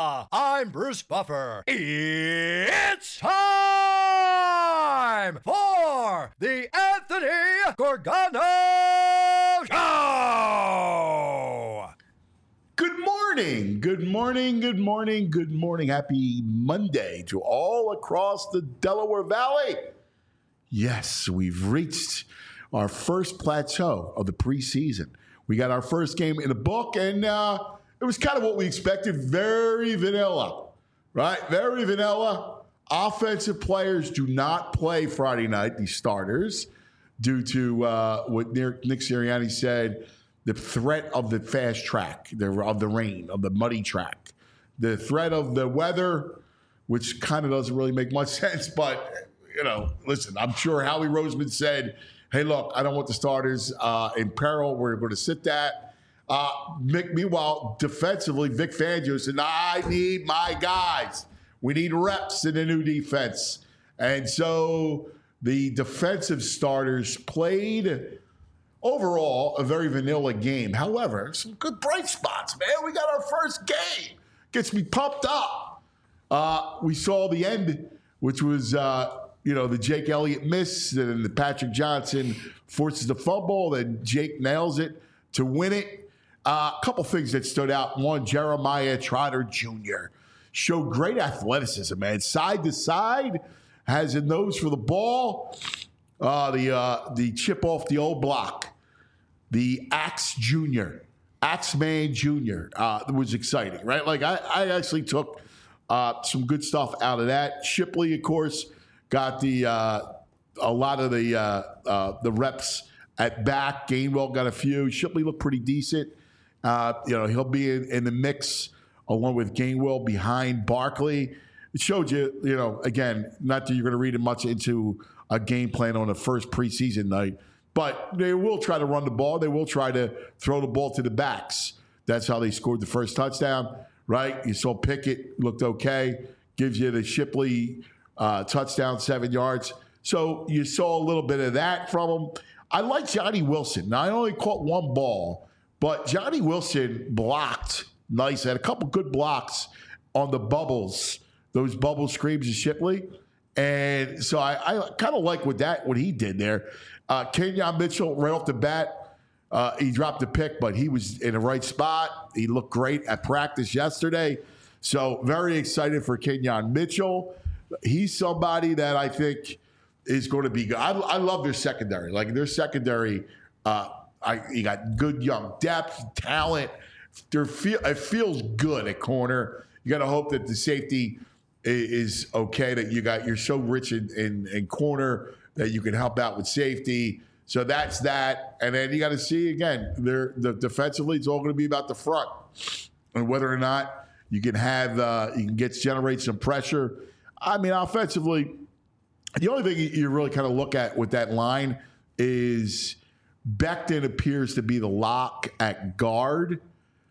I'm Bruce Buffer. It's time for the Anthony Gorgano Show! Good morning, good morning, good morning, good morning. Happy Monday to all across the Delaware Valley. Yes, we've reached our first plateau of the preseason. We got our first game in the book, and it was kind of what we expected. Very vanilla, right? Very vanilla. Offensive players do not play Friday night, the starters, due to what Nick Sirianni said, the threat of the fast track, of the rain, of the muddy track, the threat of the weather, which kind of doesn't really make much sense. But, listen, I'm sure Howie Roseman said, hey, look, I don't want the starters in peril. We're going to sit that. Meanwhile, defensively, Vic Fangio said, I need my guys. We need reps in the new defense. And so the defensive starters played overall a very vanilla game. However, some good bright spots, man. We got our first game. Gets me pumped up. We saw the end, which was, the Jake Elliott miss, then the Patrick Johnson forces the fumble, then Jake nails it to win it. A couple things that stood out. One, Jeremiah Trotter Jr. showed great athleticism, man. Side to side, has a nose for the ball. The chip off the old block. The Axeman Jr. Was exciting, right? Like I actually took some good stuff out of that. Shipley, of course, got a lot of the reps at back. Gainwell got a few. Shipley looked pretty decent. He'll be in the mix along with Gainwell behind Barkley. It showed you, again, not that you're going to read much into a game plan on the first preseason night, but they will try to run the ball. They will try to throw the ball to the backs. That's how they scored the first touchdown, right? You saw Pickett looked okay. Gives you the Shipley touchdown, 7 yards. So you saw a little bit of that from him. I like Johnny Wilson. Now, I only caught one ball, but Johnny Wilson blocked nice. Had a couple good blocks on the bubbles, those bubble screams of Shipley. And so I kind of like what he did there. Kenyon Mitchell, right off the bat, he dropped a pick, but he was in the right spot. He looked great at practice yesterday. So very excited for Kenyon Mitchell. He's somebody that I think is going to be good. I love their secondary. Like their secondary, you got good young depth, talent. It feels good at corner. You got to hope that the safety is okay, that you're so rich in corner that you can help out with safety. So that's that. And then you got to see, again, defensively, it's all going to be about the front and whether or not you can generate some pressure. I mean, offensively, the only thing you really kind of look at with that line is Becton appears to be the lock at guard.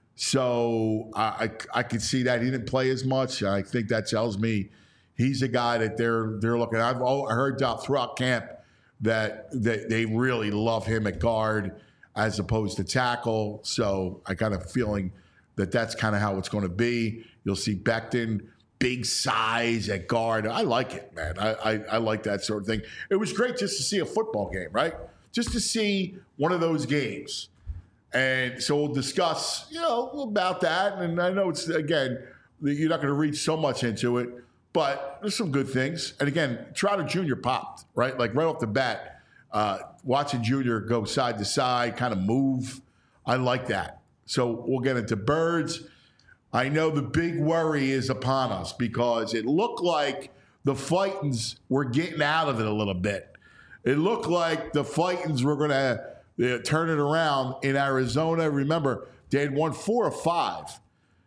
So I could see that. He didn't play as much. I think that tells me he's a guy that they're looking at. I heard throughout camp that they really love him at guard as opposed to tackle. So I kind of feeling that's kind of how it's going to be. You'll see Becton, big size at guard. I like it, man. I like that sort of thing. It was great just to see a football game, right? Just to see one of those games. And so we'll discuss, about that. And I know it's, again, you're not going to read so much into it, but there's some good things. And again, Trotter Jr. popped, right? Like right off the bat, watching Jr. go side to side, kind of move. I like that. So we'll get into birds. I know the big worry is upon us because it looked like the Fightins were getting out of it a little bit. It looked like the Fightins were going to turn it around in Arizona. Remember, they had won 4 of 5,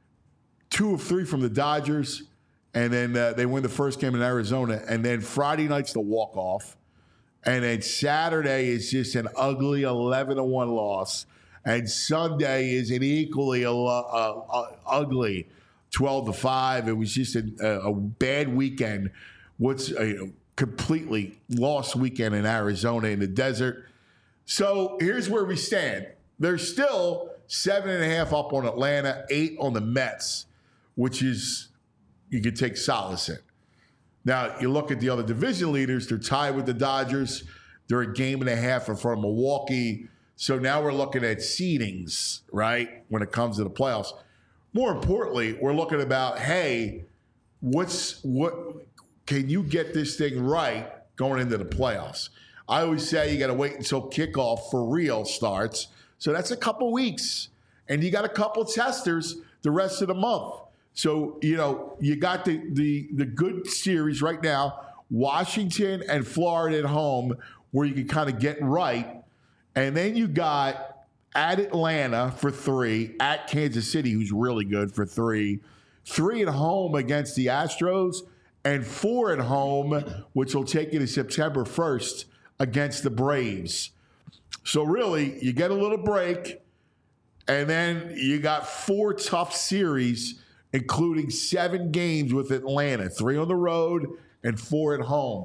2 of 3 from the Dodgers, and then they win the first game in Arizona. And then Friday night's the walk-off. And then Saturday is just an ugly 11-1 loss. And Sunday is an equally ugly 12-5. It was just a bad weekend. What's a completely lost weekend in Arizona in the desert. So here's where we stand. They're still 7.5 up on Atlanta, 8 on the Mets, which is you can take solace in. Now, you look at the other division leaders, they're tied with the Dodgers. They're a game and a half in front of Milwaukee. So now we're looking at seedings, right, when it comes to the playoffs. More importantly, we're looking about, hey, what can you get this thing right going into the playoffs? I always say you got to wait until kickoff for real starts. So that's a couple weeks. And you got a couple testers the rest of the month. So, you got the good series right now, Washington and Florida at home, where you can kind of get right. And then you got at Atlanta for 3, at Kansas City, who's really good for 3, 3 at home against the Astros, and 4 at home, which will take you to September 1st against the Braves. So really, you get a little break, and then you got 4 tough series, including 7 games with Atlanta, 3 on the road and 4 at home.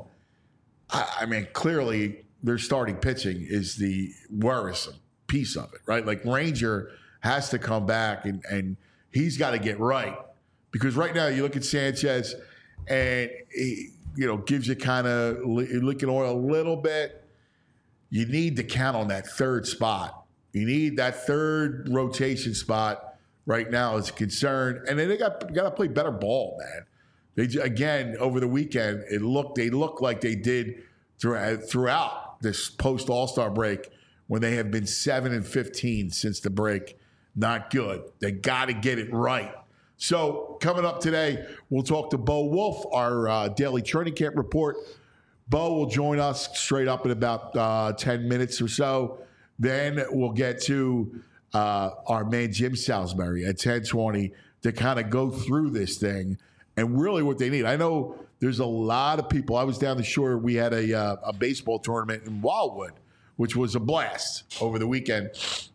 I mean, clearly their starting pitching is the worrisome piece of it, right? Like Ranger has to come back and he's got to get right. Because right now you look at Sanchez and he, gives you kind of licking oil a little bit. You need to count on that 3rd spot. You need that 3rd rotation spot right now is a concern. And then they got to play better ball, man. Again, over the weekend, they looked like they did throughout this post All-Star break when they have been 7-15 since the break. Not good. They got to get it right. So coming up today, we'll talk to Bo Wolf, our daily training camp report. Bo will join us straight up in about 10 minutes or so. Then we'll get to our man Jim Salisbury at 10:20 to kind of go through this thing and really what they need. I know there's a lot of people. I was down the shore. We had a baseball tournament in Wildwood, which was a blast over the weekend.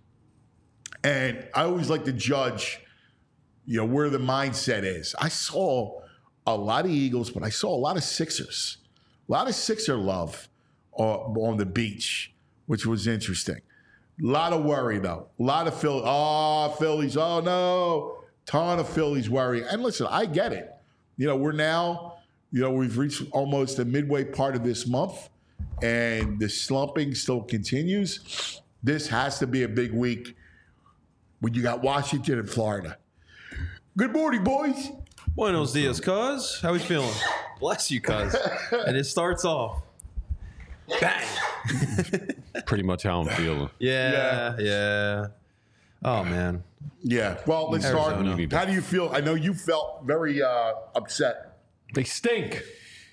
And I always like to judge, where the mindset is. I saw a lot of Eagles, but I saw a lot of Sixers. A lot of Sixer love on the beach, which was interesting. A lot of worry, though. A lot of Phillies. Oh, no. Ton of Phillies worry. And listen, I get it. We're now, we've reached almost the midway part of this month, and the slumping still continues. This has to be a big week when you got Washington and Florida. Good morning, boys. Buenos dias, cuz. How we feeling? Bless you, cuz. And it starts off. Bang. Pretty much how I'm feeling. Yeah. Oh, man. Yeah. Well, let's start. How do you feel? I know you felt very upset. They stink.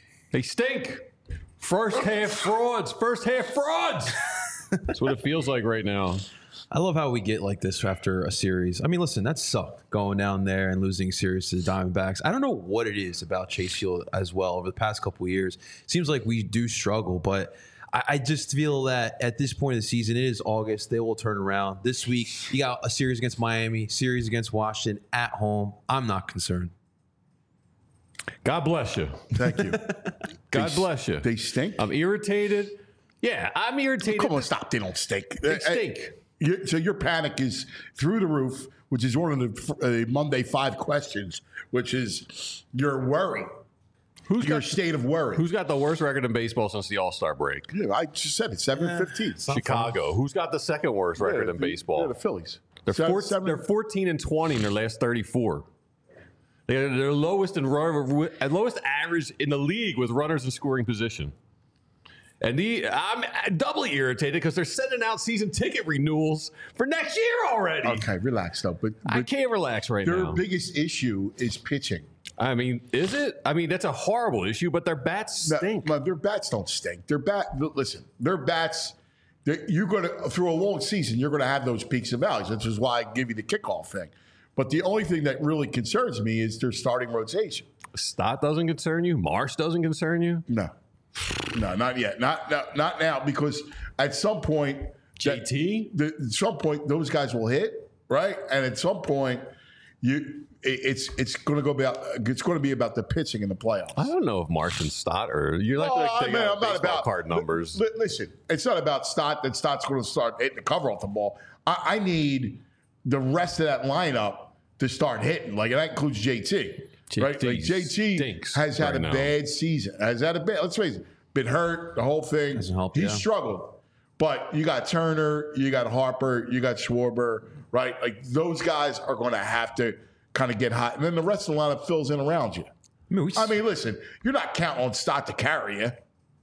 First half frauds. That's what it feels like right now. I love how we get like this after a series. I mean, listen, that sucked going down there and losing series to the Diamondbacks. I don't know what it is about Chase Field as well over the past couple of years. Seems like we do struggle, but I just feel that at this point of the season, it is August. They will turn around. This week, you got a series against Miami, series against Washington at home. I'm not concerned. God bless you. Thank you. God bless you. They stink? I'm irritated. Yeah, I'm irritated. Come on, stop. They don't stink. They stink. So your panic is through the roof, which is one of the Monday 5 questions, which is your worry. Your state of worry. Who's got the worst record in baseball since the All-Star break? Yeah, I just said it, 7-15. Chicago. Who's got the second worst record in baseball? Yeah, the Phillies. They're 14-20 in their last 34. They're their lowest average in the league with runners in scoring position. And I'm doubly irritated because they're sending out season ticket renewals for next year already. Okay, relax though. But I can't relax right now. Their biggest issue is pitching. I mean, is it? I mean, that's a horrible issue, but their bats stink. No, their bats don't stink. Listen, their bats. You're going to through a long season, you're going to have those peaks and valleys, which is why I give you the kickoff thing. But the only thing that really concerns me is their starting rotation. Stott doesn't concern you. Marsh doesn't concern you. No, not yet. Not now, because at some point, JT. At some point, those guys will hit, right? And at some point, it's going to be about the pitching in the playoffs. I don't know if Marsh and Stott are. You're like I'm not about card numbers. Listen, it's not about Stott. That Stott's going to start hitting the cover off the ball. I need the rest of that lineup to start hitting. Like, that includes JT. Right? Like, JT has had a bad season. Let's face it, been hurt, the whole thing. He's struggled. But you got Turner, you got Harper, you got Schwarber, right? Like, those guys are going to have to kind of get hot. And then the rest of the lineup fills in around you. I mean, listen, you're not counting on Stott to carry you.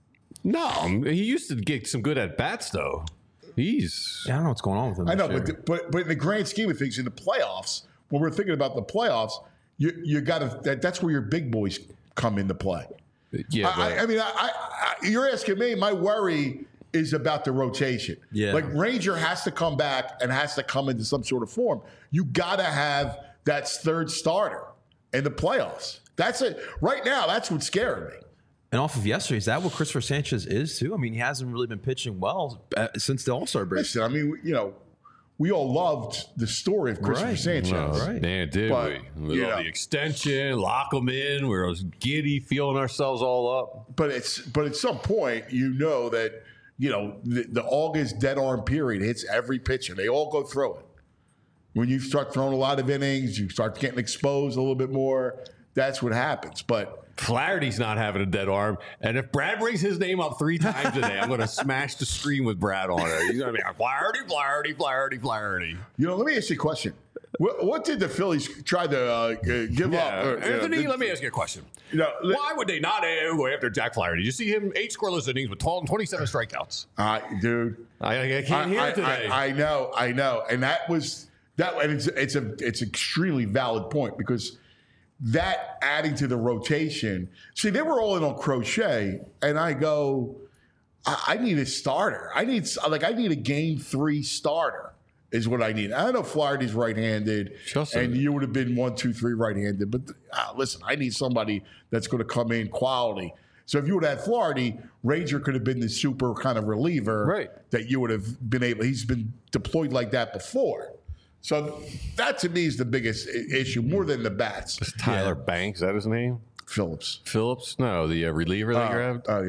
No, he used to get some good at-bats, though. I don't know what's going on with him. I know, but in the grand scheme of things, in the playoffs, when we're thinking about the playoffs, you got to. That's where your big boys come into play. Yeah, I mean, you're asking me. My worry is about the rotation. Yeah, like Ranger has to come back and has to come into some sort of form. You got to have that third starter in the playoffs. That's it. Right now, that's what's scaring me. And off of yesterday, is that what Christopher Sanchez is too? I mean, he hasn't really been pitching well since the All-Star break. Listen, I mean, we all loved the story of Christopher Sanchez. Right. Man, did we? With all the extension, lock them in. We were giddy, feeling ourselves all up. But at some point, that the August dead arm period hits every pitcher. They all go through it. When you start throwing a lot of innings, you start getting exposed a little bit more. That's what happens. But Flaherty's not having a dead arm. And if Brad brings his name up 3 times today, I'm going to smash the screen with Brad on it. He's going to be like, Flaherty, Flaherty, Flaherty, Flaherty. Let me ask you a question. What did the Phillies try to give up? Anthony, let me ask you a question. Why would they not go after Jack Flaherty? Did you see him 8 scoreless innings with 27 strikeouts? Dude. I can't hear it today. I know. And that was that. And it's an extremely valid point because that adding to the rotation. See, they were all in on Crochet, and I go, I need a starter. I need a game 3 starter is what I need. I know Flaherty's right-handed, and you would have been 1, 2, 3 right-handed. But listen, I need somebody that's going to come in quality. So if you would have had Flaherty, Ranger could have been the super kind of reliever that you would have been able. He's been deployed like that before. So that to me is the biggest issue, more than the bats. Is Tyler Banks, is that his name? Phillips? No, the reliever they grabbed. Oh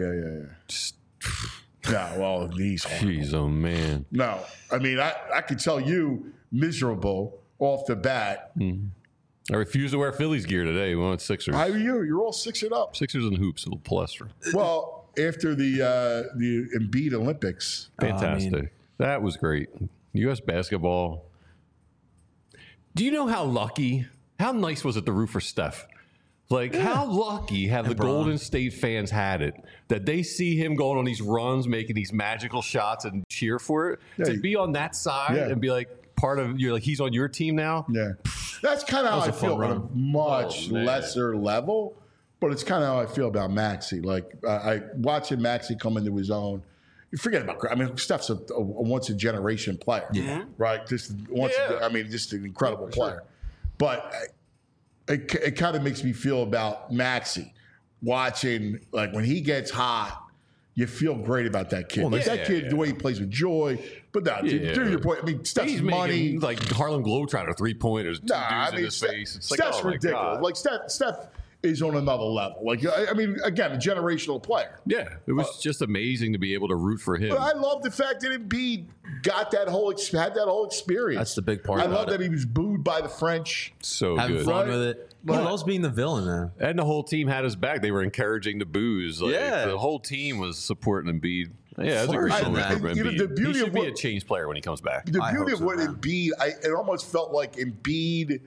yeah. No, well, he's horrible. Jeez, oh man. No, I mean I could tell you miserable off the bat. I refuse to wear Phillies gear today. We went Sixers. You're all Sixered up. Sixers and hoops, a little plaster. Well, after the Embiid Olympics, fantastic. That was great. U.S. basketball. Do you know how nice was it to root for Steph? How lucky have the Golden State fans had it that they see him going on these runs, making these magical shots and cheer for it? To be on that side and be like part of, he's on your team now? Yeah. That's kind of how I feel on a much lesser level, but it's kind of how I feel about Maxey. I watching Maxey come into his own. You forget about. Steph's a once a generation player, right? Just an incredible player. But it kind of makes me feel about Maxey watching when he gets hot. You feel great about that kid. The way he plays with joy. But no, to your point, Steph's money like Harlem Globetrotter 3-pointers, dudes in his face. It's Steph's ridiculous. Steph is on another level. Again, a generational player. Yeah, it was just amazing to be able to root for him. But I love the fact that Embiid got had that whole experience. That's the big part. I love that he was booed by the French. So having good. fun with it. He loves being the villain now. And the whole team had his back. They were encouraging the boos. The whole team was supporting Embiid. Yeah, it's a great moment for Embiid. He should be a change player when he comes back. The beauty of what Embiid, it almost felt like Embiid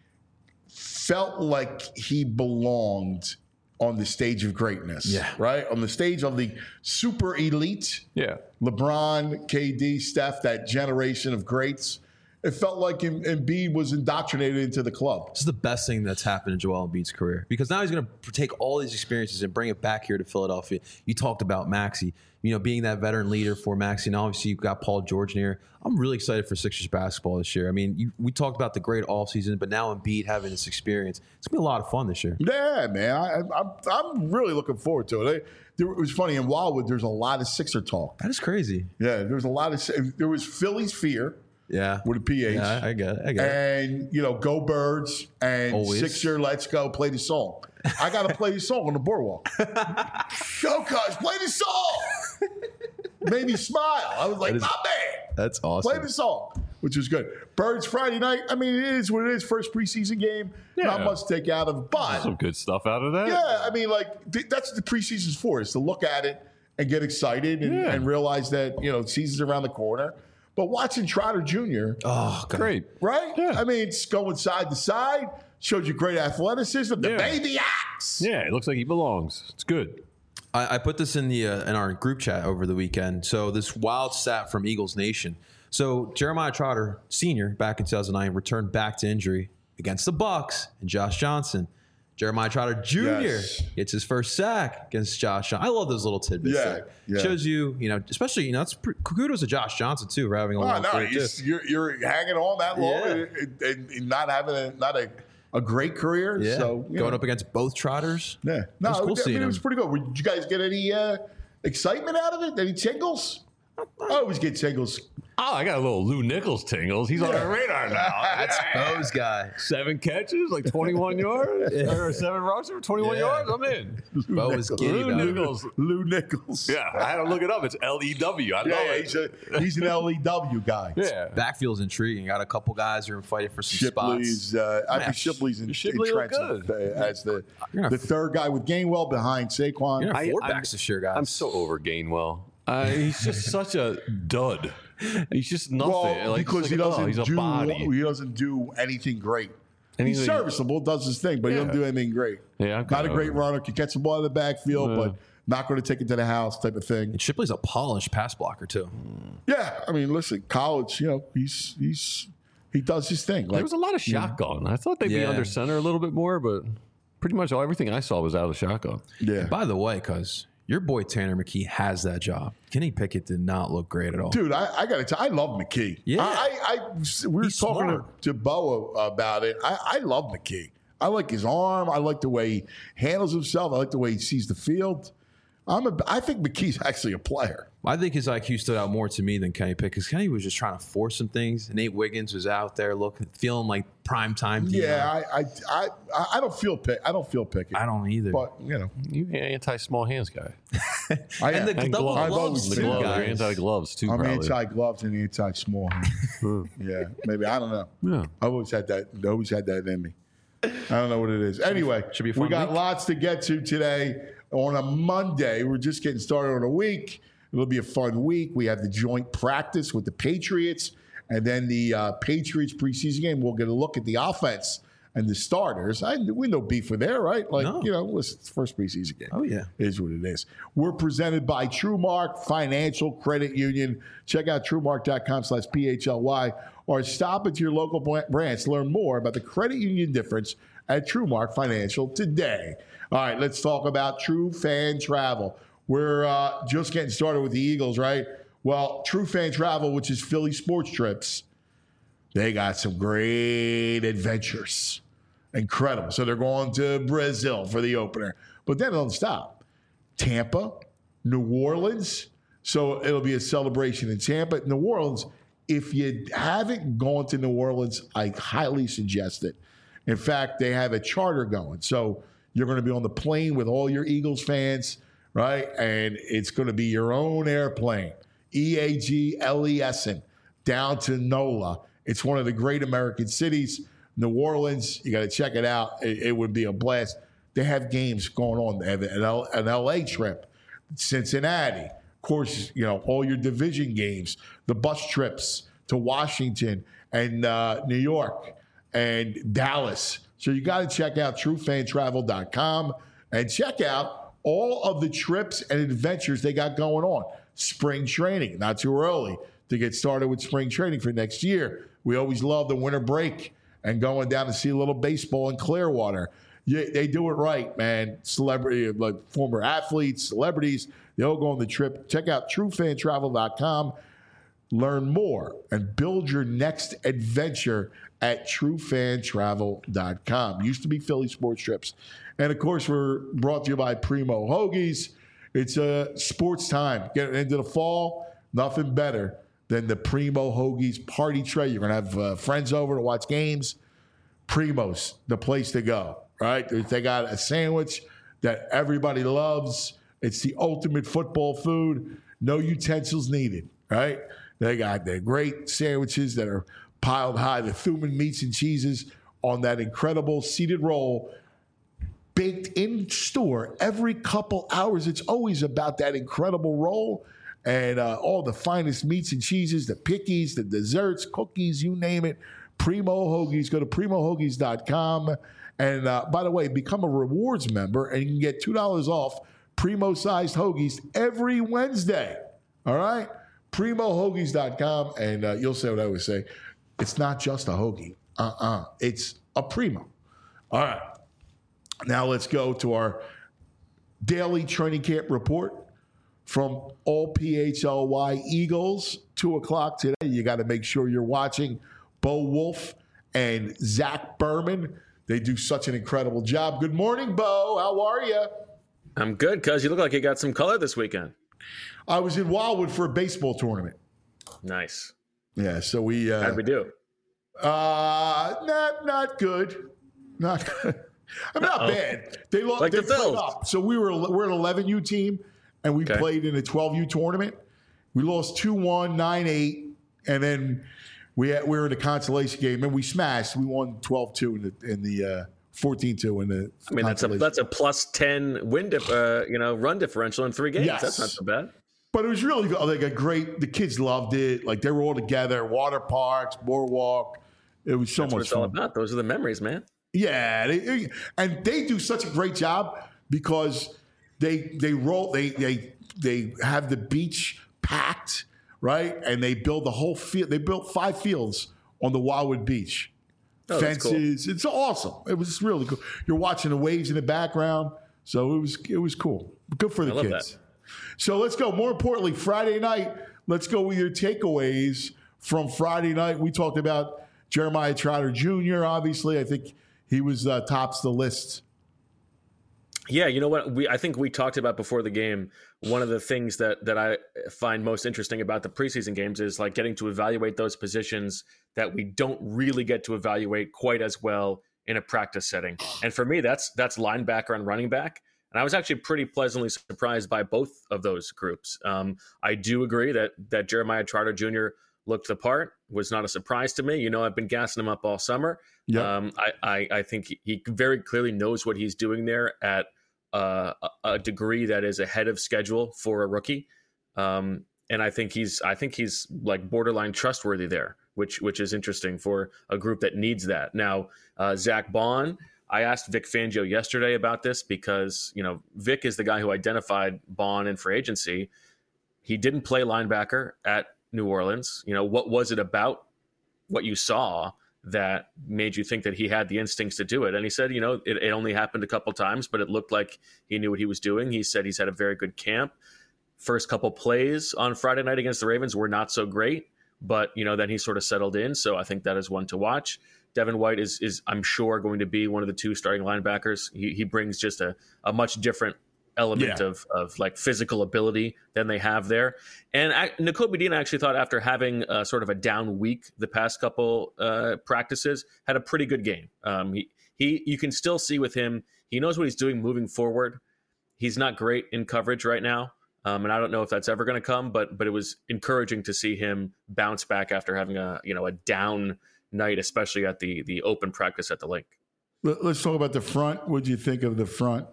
felt like he belonged on the stage of greatness, right? On the stage of the super elite, LeBron, KD, Steph, that generation of greats. It felt like Embiid was indoctrinated into the club. This is the best thing that's happened in Joel Embiid's career because now he's going to take all these experiences and bring it back here to Philadelphia. You talked about Maxey, being that veteran leader for Maxey, and obviously you've got Paul George near. I'm really excited for Sixers basketball this year. I mean, we talked about the great offseason, but now Embiid having this experience, it's going to be a lot of fun this year. Yeah, man. I'm really looking forward to it. It was funny, in Wildwood, there's a lot of Sixer talk. That is crazy. Yeah, there was Philly's Fear. Yeah. With a PH. Yeah, I get it. And, go Birds and always. Sixer, let's go, play the song. I got to play the song on the boardwalk. Go, cuz, play the song. Made me smile. I was like, not bad. That's awesome. Play the song. which was good. Birds Friday night. I mean, it is what it is. First preseason game. Yeah. Not much to take out of, but Some good stuff out of that. yeah, I mean, like that's what the preseason's for, is to look at it and get excited and realize that season's around the corner. But watching Trotter Jr. Oh, God. Great. Right? Yeah. I mean, it's going side to side. Showed you great athleticism. The baby axe. Yeah, it looks like he belongs. It's good. I put this in our group chat over the weekend. So this wild stat from Eagles Nation. So Jeremiah Trotter, senior, back in 2009, returned back to injury against the Bucs and Josh Johnson. Jeremiah Trotter Jr. gets his first sack against Josh Johnson. I love those little tidbits. Yeah. Shows you, especially, that's kudos to Josh Johnson too for having a long career too. You're hanging on that long and not having a great career. Yeah. So going up against both Trotters. Yeah. It was cool seeing it was him. pretty good. Did you guys get any excitement out of it? Any tingles? I always get tingles. Oh, I got a little Lou Nichols tingles. He's on our radar now. That's Bo's guy. 7 catches, like 21 yards, or 7 rushes for 21 yards. I'm in. Bo was giddy Lou about it. Nichols. Lou Nichols. Yeah, I had to look it up. It's L-E-W. I know it. He's an LEW guy. Yeah. Backfield's intriguing. Got a couple guys who are fighting for some Shipley's, spots. I think Shipley's Shipley looked entrenched good. as the third guy with Gainwell behind Saquon. You're gonna have 4 I'm- backs this year, guys. I'm so over Gainwell. He's just such a dud. He's just nothing. Well, because he he's a body. he doesn't do anything great. And He's serviceable, does his thing, but he doesn't do anything great. Yeah, I'm not a kinda great over it. runner. Can catch the ball in the backfield, but not going to take it to the house type of thing. And Shipley's a polished pass blocker too. Yeah, I mean, listen, college, he does his thing. There was a lot of shotgun. I thought they'd be Yeah. under center a little bit more, but pretty much everything I saw was out of shotgun. yeah. By the way, cuz your boy Tanner McKee has that job. Kenny Pickett did not look great at all. Dude, I got to tell you, I love McKee. Yeah. We were He's talking smart. to Bo about it. I love McKee. I like his arm. I like the way he handles himself. I like the way he sees the field. I think McKee's actually a player. I think his IQ stood out more to me than Kenny Pickett because Kenny was just trying to force some things. Nate Wiggins was out there feeling like prime time. Yeah, I don't feel Pickett. I don't either. But You anti-small hands guy. I and am. the And double gloves. I've always gloves The been too, gloves. guys. You're anti-gloves too, I'm probably. anti-gloves and anti-small hands. Yeah, maybe I don't know. Yeah. I always had that in me. I don't know what it is. Anyway, Should be a fun we got week. lots to get to today on a Monday. We're just getting started on a week. It'll be a fun week. We have the joint practice with the Patriots, and then the Patriots preseason game. We'll get a look at the offense and the starters. We no beef with there, right? Like, No. listen, it's the first preseason game. Oh, yeah. Is what it is. We're presented by TrueMark Financial Credit Union. Check out TrueMark.com/PHLY or stop at your local branch to learn more about the credit union difference at TrueMark Financial today. All right, let's talk about True Fan Travel. We're just getting started with the Eagles, right? Well, True Fan Travel, which is Philly Sports Trips, they got some great adventures. Incredible. So they're going to Brazil for the opener. But then it doesn't stop. Tampa, New Orleans. So it'll be a celebration in Tampa. New Orleans, if you haven't gone to New Orleans, I highly suggest it. In fact, they have a charter going. So you're going to be on the plane with all your Eagles fans, right? And it's going to be your own airplane, EAGLESN, down to NOLA. It's one of the great American cities. New Orleans, you got to check it out. It would be a blast. They have games going on. They have an LA trip, Cincinnati. Of course, all your division games, the bus trips to Washington and New York and Dallas. So you got to check out truefantravel.com and check out all of the trips and adventures they got going on. Spring training, not too early to get started with spring training for next year. We always love the winter break and going down to see a little baseball in Clearwater. Yeah, they do it right, man. Celebrity, like former athletes, celebrities, they all go on the trip. Check out truefantravel.com. Learn more and build your next adventure at truefantravel.com. Used to be Philly Sports Trips. And, of course, we're brought to you by Primo Hoagies. It's a sports time. Getting into the fall, nothing better than the Primo Hoagies party tray. You're going to have friends over to watch games. Primo's the place to go, right? They got a sandwich that everybody loves. It's the ultimate football food. No utensils needed, right? They got their great sandwiches that are piled high, the Thuman meats and cheeses on that incredible seeded roll, baked in store every couple hours. It's always about that incredible roll and all the finest meats and cheeses, the pickies, the desserts, cookies, you name it. Primo Hoagies. Go to primohoagies.com. And by the way, become a rewards member and you can get $2 off Primo-sized hoagies every Wednesday. All right? primohoagies.com. And you'll say what I always say. It's not just a hoagie. It's a Primo. All right. Now let's go to our daily training camp report from all PHLY Eagles. 2 o'clock today. You got to make sure you're watching Bo Wolf and Zach Berman. They do such an incredible job. Good morning, Bo. How are you? I'm good, cuz you look like you got some color this weekend. I was in Wildwood for a baseball tournament. Nice. Yeah, so we... How'd we do? Not good. Not good. I mean, not bad. They lost. Like they the Phils. played up. So we're an 11U team, and we played in a 12U tournament. We lost 2-1, 9-8, and then we were in a consolation game, and we smashed. We won 12-2 in the 14-2 in the. I mean, that's a plus 10 run differential in 3 games. Yes. That's not so bad. But it was really like a great. The kids loved it. Like they were all together. Water parks, boardwalk. It was so That's what much it's all fun. about. Those are the memories, man. Yeah, and they do such a great job because they have the beach packed, right? And they build the whole field. They built 5 fields on the Wildwood Beach. Oh, Fences. It's awesome. It was really cool. You're watching the waves in the background, so it was cool. Good for the I love kids. that. So let's go. More importantly, Friday night. Let's go with your takeaways from Friday night. We talked about Jeremiah Trotter Jr. Obviously, I think he was tops the list. Yeah, you know what? I think we talked about before the game. One of the things that I find most interesting about the preseason games is like getting to evaluate those positions that we don't really get to evaluate quite as well in a practice setting. And for me, that's linebacker and running back. And I was actually pretty pleasantly surprised by both of those groups. I do agree that Jeremiah Trotter Jr. looked the part, was not a surprise to me. You know, I've been gassing him up all summer. Yep. I think he very clearly knows what he's doing there at a degree that is ahead of schedule for a rookie. And I think he's like borderline trustworthy there, which is interesting for a group that needs that. Now, Zach Bond, I asked Vic Fangio yesterday about this because, you know, Vic is the guy who identified Bond in free agency. He didn't play linebacker at New Orleans. You know, what was it about what you saw that made you think that he had the instincts to do it? And he said, you know, it only happened a couple times, but it looked like he knew what he was doing. He said he's had a very good camp. First couple plays on Friday night against the Ravens were not so great, but, you know, then he sort of settled in. So I think that is one to watch. Devin White is I'm sure, going to be one of the 2 starting linebackers. He brings just a much different element of like physical ability than they have there. And Nakobe Dean, I actually thought, after having sort of a down week the past couple practices, had a pretty good game. You can still see with him, he knows what he's doing moving forward. He's not great in coverage right now. And I don't know if that's ever going to come, but it was encouraging to see him bounce back after having a down night, especially at the open practice at the lake. Let's talk about the front. What did you think of the front?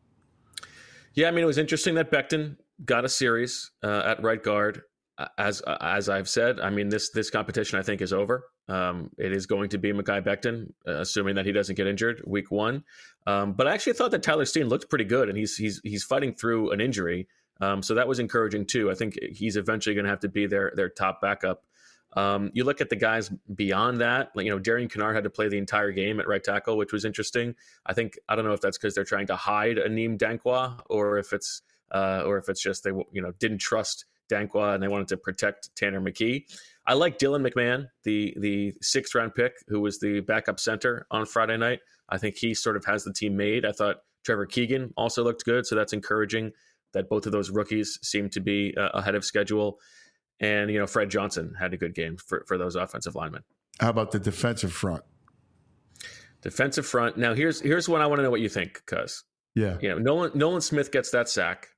Yeah, I mean, it was interesting that Becton got a series at right guard. As I've said, I mean, this competition, I think, is over. It is going to be Mekhi Becton, assuming that he doesn't get injured week 1. But I actually thought that Tyler Steen looked pretty good, and he's fighting through an injury. So that was encouraging too. I think he's eventually going to have to be their top backup. You look at the guys beyond that, like, you know, Darian Kennard had to play the entire game at right tackle, which was interesting. I don't know if that's because they're trying to hide Aneem Dankwa, or if it's just they didn't trust Dankwa and they wanted to protect Tanner McKee. I like Dylan McMahon, the 6th round pick, who was the backup center on Friday night. I think he sort of has the team made. I thought Trevor Keegan also looked good, so that's encouraging that both of those rookies seem to be ahead of schedule. And, you know, Fred Johnson had a good game for those offensive linemen. How about the defensive front? Defensive front. Now, here's one I want to know what you think, cuz. Yeah. You know, Nolan Smith gets that sack.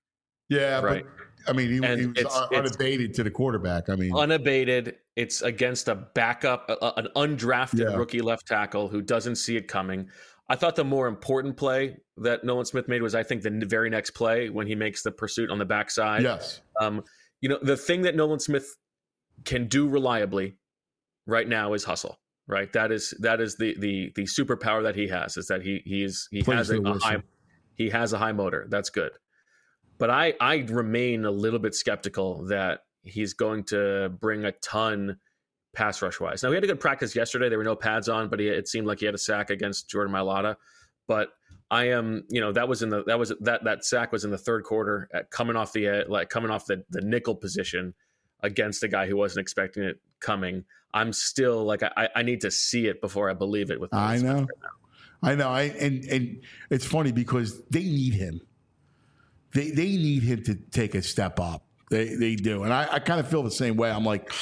Yeah, Right. but I mean, he was unabated to the quarterback. I mean, unabated. It's against a backup, an undrafted Yeah. rookie left tackle who doesn't see it coming. I thought the more important play that Nolan Smith made was, I think, the very next play when he makes the pursuit on the backside. yes. The thing that Nolan Smith can do reliably right now is hustle. Right. That is the superpower that he has, is that he has a high motor. That's good. But I remain a little bit skeptical that he's going to bring a ton pass rush wise. Now, we had a good practice yesterday. There were no pads on, but it seemed like he had a sack against Jordan Mailata. But I am, that sack was in the third quarter, coming off the nickel position against a guy who wasn't expecting it coming. I'm still like, I need to see it before I believe it. I know. And it's funny because they need him. They need him to take a step up. They do. And I kind of feel the same way. I'm like,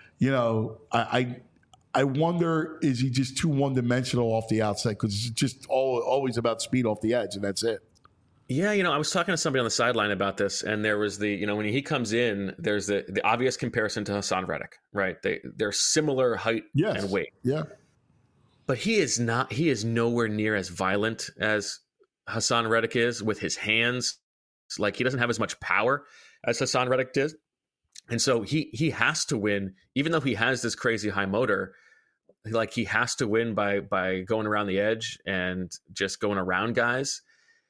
I wonder, is he just too one-dimensional off the outside? Because it's just always about speed off the edge, and that's it. Yeah, I was talking to somebody on the sideline about this, and there was when he comes in, there's the obvious comparison to Hassan Reddick, right? They're similar height and weight. Yeah. But he is nowhere near as violent as Hassan Reddick is with his hands. Like, he doesn't have as much power as Hassan Reddick did. And so he has to win, even though he has this crazy high motor. Like, he has to win by going around the edge and just going around guys.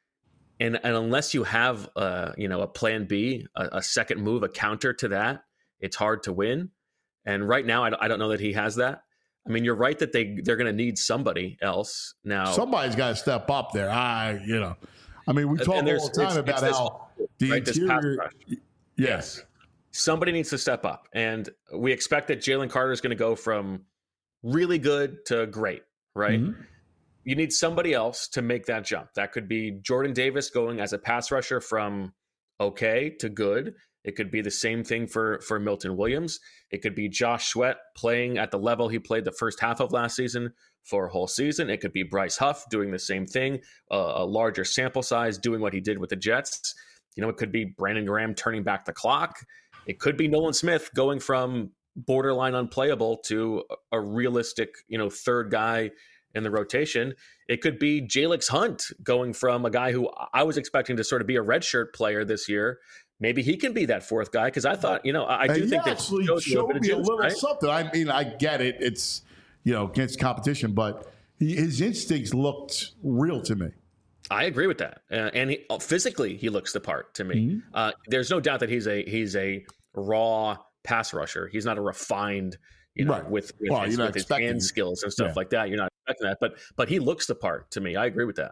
And unless you have a plan B, a second move, a counter to that, it's hard to win. And right now, I don't know that he has that. I mean, you're right that they're going to need somebody else now. Somebody's got to step up there. I mean, we talk all the time about how the interior. Yes. Somebody needs to step up. And we expect that Jalen Carter is going to go from really good to great, right? Mm-hmm. You need somebody else to make that jump. That could be Jordan Davis going as a pass rusher from okay to good. It could be the same thing for Milton Williams. It could be Josh Sweat playing at the level he played the first half of last season for a whole season. It could be Bryce Huff doing the same thing, a larger sample size, doing what he did with the Jets. It could be Brandon Graham turning back the clock. It could be Nolan Smith going from borderline unplayable to a realistic, third guy in the rotation. It could be Jalix Hunt going from a guy who I was expecting to sort of be a redshirt player this year. Maybe he can be that fourth guy, because I thought, I do think that actually showed me a little something. I mean, I get it. It's, against competition, but his instincts looked real to me. I agree with that. And physically, he looks the part to me. Mm-hmm. There's no doubt that he's a raw pass rusher. He's not a refined, right. with his hand skills and stuff like that. You're not expecting that, but he looks the part to me. I agree with that.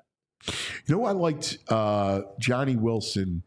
I liked Johnny Wilson.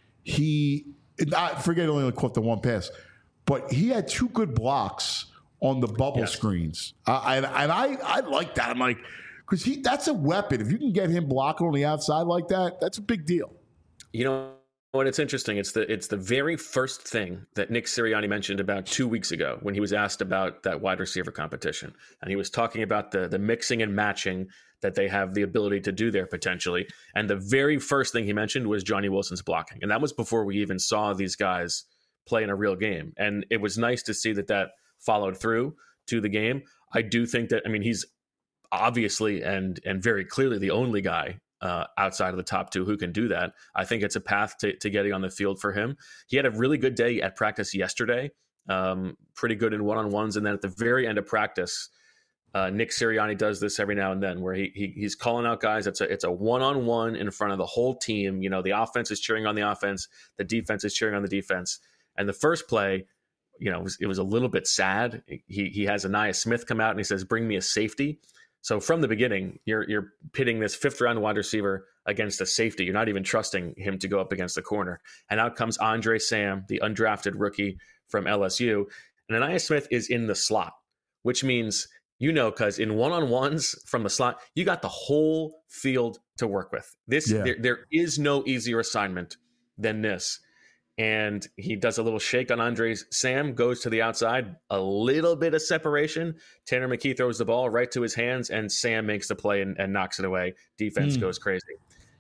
I forget, only caught the one pass, but he had two good blocks on the bubble screens. And I like that. I'm like, because that's a weapon. If you can get him blocking on the outside like that, that's a big deal. What it's interesting. It's the very first thing that Nick Sirianni mentioned about 2 weeks ago when he was asked about that wide receiver competition, and he was talking about the mixing and matching that they have the ability to do there potentially. And the very first thing he mentioned was Johnny Wilson's blocking, and that was before we even saw these guys play in a real game. And it was nice to see that followed through to the game. I do think that, he's obviously and very clearly the only guy outside of the top two who can do that. I think it's a path to getting on the field for him. He had a really good day at practice yesterday, pretty good in one-on-ones. And then at the very end of practice, Nick Sirianni does this every now and then where he's calling out guys. It's a one-on-one in front of the whole team. The offense is cheering on the offense. The defense is cheering on the defense. And the first play, it was a little bit sad. He has Aniyah Smith come out and he says, "Bring me a safety." So from the beginning, you're pitting this fifth-round wide receiver against a safety. You're not even trusting him to go up against the corner. And out comes Andre Sam, the undrafted rookie from LSU. And Aniyah Smith is in the slot, which means, because in one-on-ones from the slot, you got the whole field to work with. There is no easier assignment than this. And he does a little shake on Andre Sam, goes to the outside, a little bit of separation. Tanner McKee throws the ball right to his hands, and Sam makes the play and knocks it away. Defense goes crazy.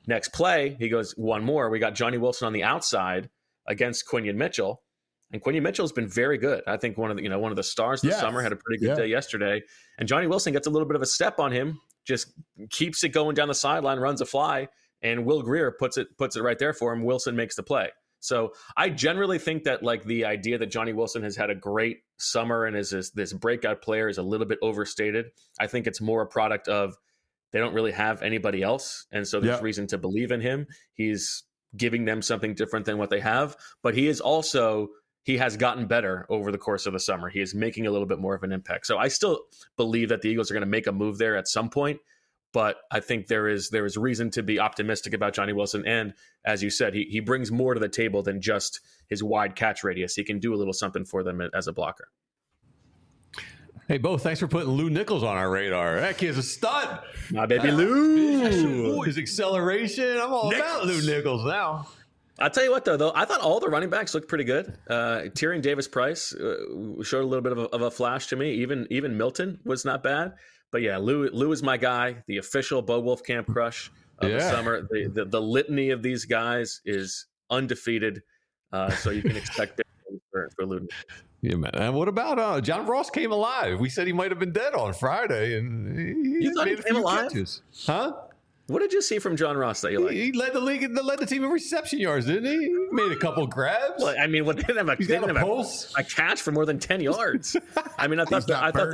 Next play, he goes one more. We got Johnny Wilson on the outside against Quinion Mitchell. And Quinion Mitchell's been very good. I think one of the stars this summer, had a pretty good day yesterday. And Johnny Wilson gets a little bit of a step on him, just keeps it going down the sideline, runs a fly, and Will Grier puts it right there for him. Wilson makes the play. So I generally think that like the idea that Johnny Wilson has had a great summer and is this breakout player is a little bit overstated. I think it's more a product of they don't really have anybody else. And so there's reason to believe in him. He's giving them something different than what they have, but he has gotten better over the course of the summer. He is making a little bit more of an impact. So I still believe that the Eagles are going to make a move there at some point, but I think there is reason to be optimistic about Johnny Wilson. And as you said, he brings more to the table than just his wide catch radius. He can do a little something for them as a blocker. Hey, Bo, thanks for putting Lou Nichols on our radar. That kid's a stud. My baby Lou. His acceleration. I'm all about Lou Nichols now. I'll tell you what, though, I thought all the running backs looked pretty good. Tyrion Davis-Price showed a little bit of a flash to me. Even Milton was not bad. But yeah, Lou is my guy, the official Bo Wolfcamp crush of the summer. The litany of these guys is undefeated, so you can expect big things for Lou. Yeah, man. And what about John Ross came alive? We said he might have been dead on Friday, and you thought he came alive? Catches. Huh? What did you see from John Ross that you liked? He led the league, led the team in reception yards, didn't he? He made a couple grabs. Well, I mean, they didn't have a catch for more than 10 yards. I mean, I thought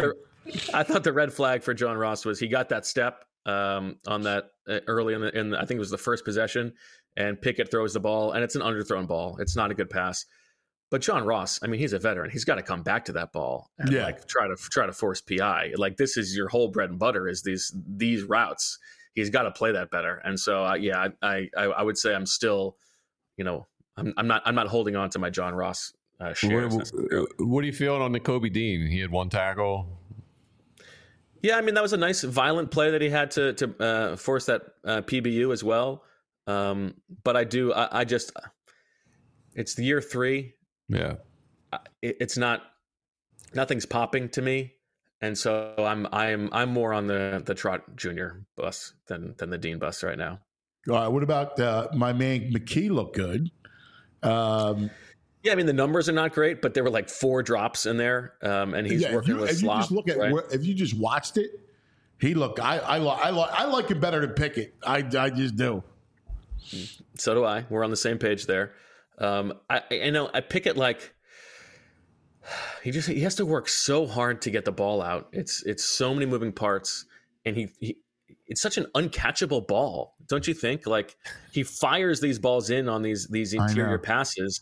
the red flag for John Ross was he got that step on that early in I think it was the first possession, and Pickett throws the ball, and it's an underthrown ball. It's not a good pass. But John Ross, I mean, he's a veteran. He's got to come back to that ball and try to force PI. Like, this is your whole bread and butter is these routes. He's got to play that better. And so, I would say I'm still, I'm not holding on to my John Ross shares. What are you feeling on Nakobe Dean? He had one tackle. Yeah, I mean, that was a nice violent play that he had to force that PBU as well. But I just, it's the year 3. Yeah, it's not, nothing's popping to me. And so I'm more on the Trot Jr. bus than the Dean bus right now. All right. What about my man McKee? Looked good. Yeah, I mean the numbers are not great, but there were like 4 drops in there, and he's working with slop. If you just look at if you just watched it, he looked. I like it better than Pickett. I just do. So do I. We're on the same page there. I Pickett like. He has to work so hard to get the ball out. It's so many moving parts, and he it's such an uncatchable ball, don't you think? Like he fires these balls in on these interior passes.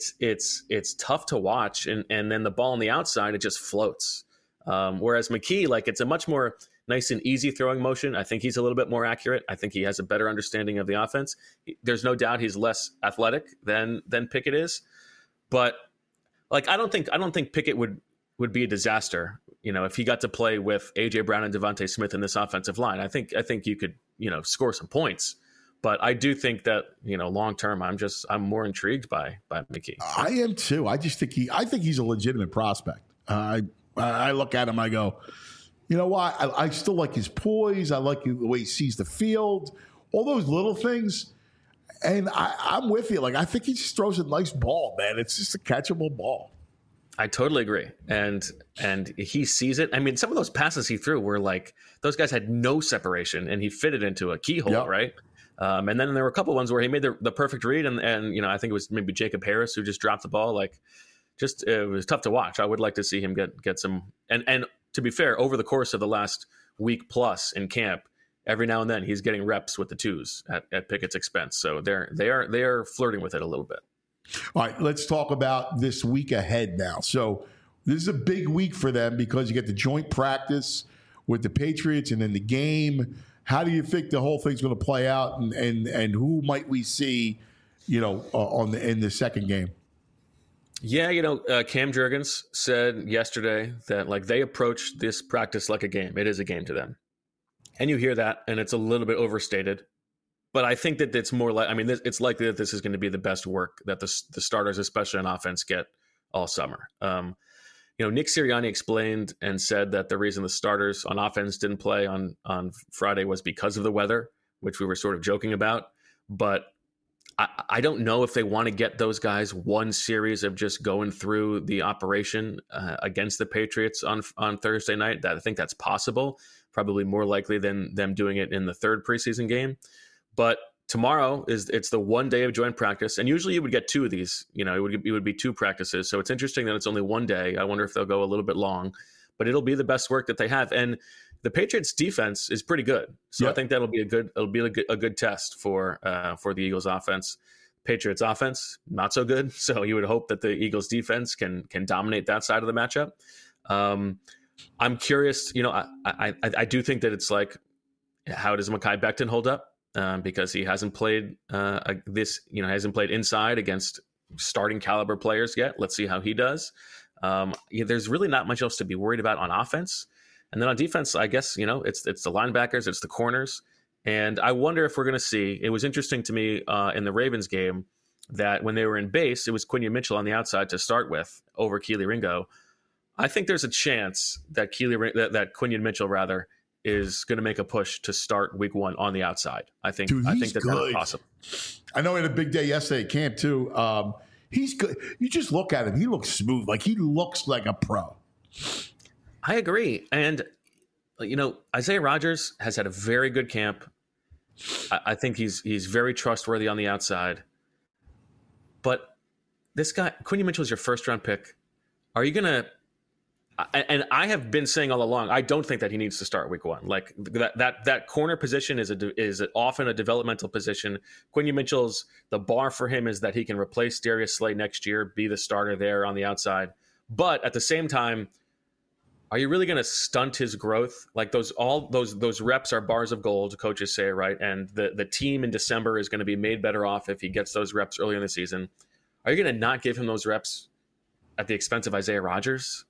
It's tough to watch, and then the ball on the outside it just floats. Whereas McKee, like it's a much more nice and easy throwing motion. I think he's a little bit more accurate. I think he has a better understanding of the offense. There's no doubt he's less athletic than Pickett is, but. Like I don't think Pickett would be a disaster, if he got to play with AJ Brown and Devontae Smith in this offensive line. I think you could, score some points. But I do think that, long term I'm more intrigued by McKee. I am too. I just think he's a legitimate prospect. I look at him, I go, you know what? I still like his poise. I like the way he sees the field, all those little things. And I'm with you. Like, I think he just throws a nice ball, man. It's just a catchable ball. I totally agree. And he sees it. I mean, some of those passes he threw were like, those guys had no separation, and he fitted into a keyhole, right? And then there were a couple ones where he made the perfect read, and I think it was maybe Jacob Harris who just dropped the ball. Like, it was tough to watch. I would like to see him get some. And to be fair, over the course of the last week plus in camp, every now and then he's getting reps with the 2s at Pickett's expense. So they are flirting with it a little bit. All right, let's talk about this week ahead now. So this is a big week for them because you get the joint practice with the Patriots and then the game. How do you think the whole thing's going to play out, and who might we see, in the second game? Yeah, Cam Jurgens said yesterday that like they approach this practice like a game. It is a game to them. And you hear that, and it's a little bit overstated. But I think that it's more like, it's likely that this is going to be the best work that the starters, especially on offense, get all summer. Nick Sirianni explained and said that the reason the starters on offense didn't play on Friday was because of the weather, which we were sort of joking about. but I don't know if they want to get those guys one series of just going through the operation against the Patriots on Thursday night. I think that's possible, probably more likely than them doing it in the third preseason game. But tomorrow it's the one day of joint practice, and usually you would get two of these. It would be two practices. So it's interesting that it's only one day. I wonder if they'll go a little bit long, but it'll be the best work that they have. And the Patriots defense is pretty good. So I think that'll be a good test for the Eagles offense. Patriots offense, not so good. So you would hope that the Eagles defense can dominate that side of the matchup. I'm curious, I do think that it's like, how does Mekhi Becton hold up? Because he hasn't played hasn't played inside against starting caliber players yet. Let's see how he does. There's really not much else to be worried about on offense. And then on defense, I guess, it's the linebackers, it's the corners. And I wonder if we're going to see, it was interesting to me in the Ravens game that when they were in base, it was Quinion Mitchell on the outside to start with over Kelee Ringo. I think there's a chance that Quinion Mitchell is going to make a push to start week 1 on the outside. I think that's possible. I know he had a big day yesterday at camp too. He's good. You just look at him. He looks smooth. Like he looks like a pro. I agree. And, Isaiah Rodgers has had a very good camp. I think he's very trustworthy on the outside. But this guy, Quinion Mitchell, is your first round pick. Are you going to, and I have been saying all along, I don't think that he needs to start week 1. Like that corner position is often a developmental position. Quinion Mitchell's, the bar for him is that he can replace Darius Slay next year, be the starter there on the outside. But at the same time, are you really going to stunt his growth? Like those reps are bars of gold, coaches say, right? And the team in December is going to be made better off if he gets those reps early in the season. Are you going to not give him those reps at the expense of Isaiah Rodgers?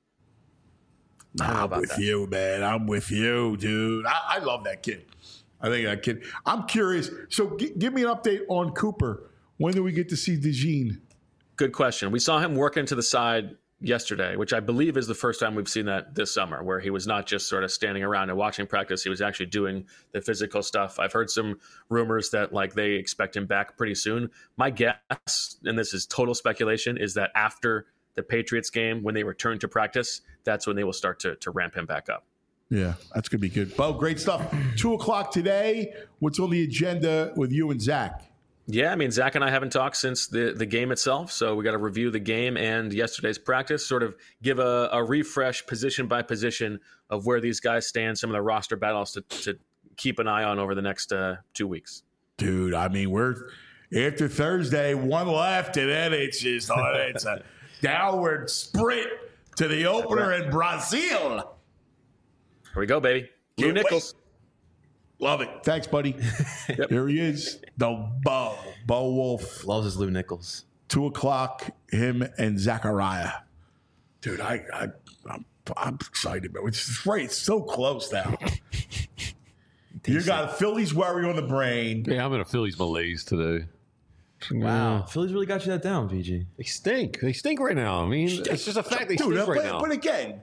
I'm with you, man. I'm with you, dude. I love that kid. I think that kid. I'm curious. So give me an update on Cooper. When do we get to see DeJean? Good question. We saw him working to the side yesterday, which I believe is the first time we've seen that this summer, where he was not just sort of standing around and watching practice. He was actually doing the physical stuff. I've heard some rumors that they expect him back pretty soon. My guess, and this is total speculation, is that after the Patriots game, when they return to practice, that's when they will start to ramp him back up. Yeah, that's going to be good. Bo, great stuff. 2:00 today. What's on the agenda with you and Zach? Yeah, I mean, Zach and I haven't talked since the game itself, so we got to review the game and yesterday's practice, sort of give a refresh position by position of where these guys stand, some of the roster battles to keep an eye on over the next 2 weeks. Dude, I mean, we're after Thursday, one left, and then it's a downward sprint to the opener in Brazil. Here we go, baby. Lou Nichols. Love it. Thanks, buddy. Yep. Here he is, the Bo Wolf. Loves his Lou Nichols. 2:00, him and Zachariah. Dude, I'm excited, man. It's right. It's so close now. You got a Phillies worry on the brain. Yeah, I'm in a Phillies malaise today. Wow. Phillies really got you that down, VG. They stink. They stink right now. I mean, it's just a fact they stink right now. But again,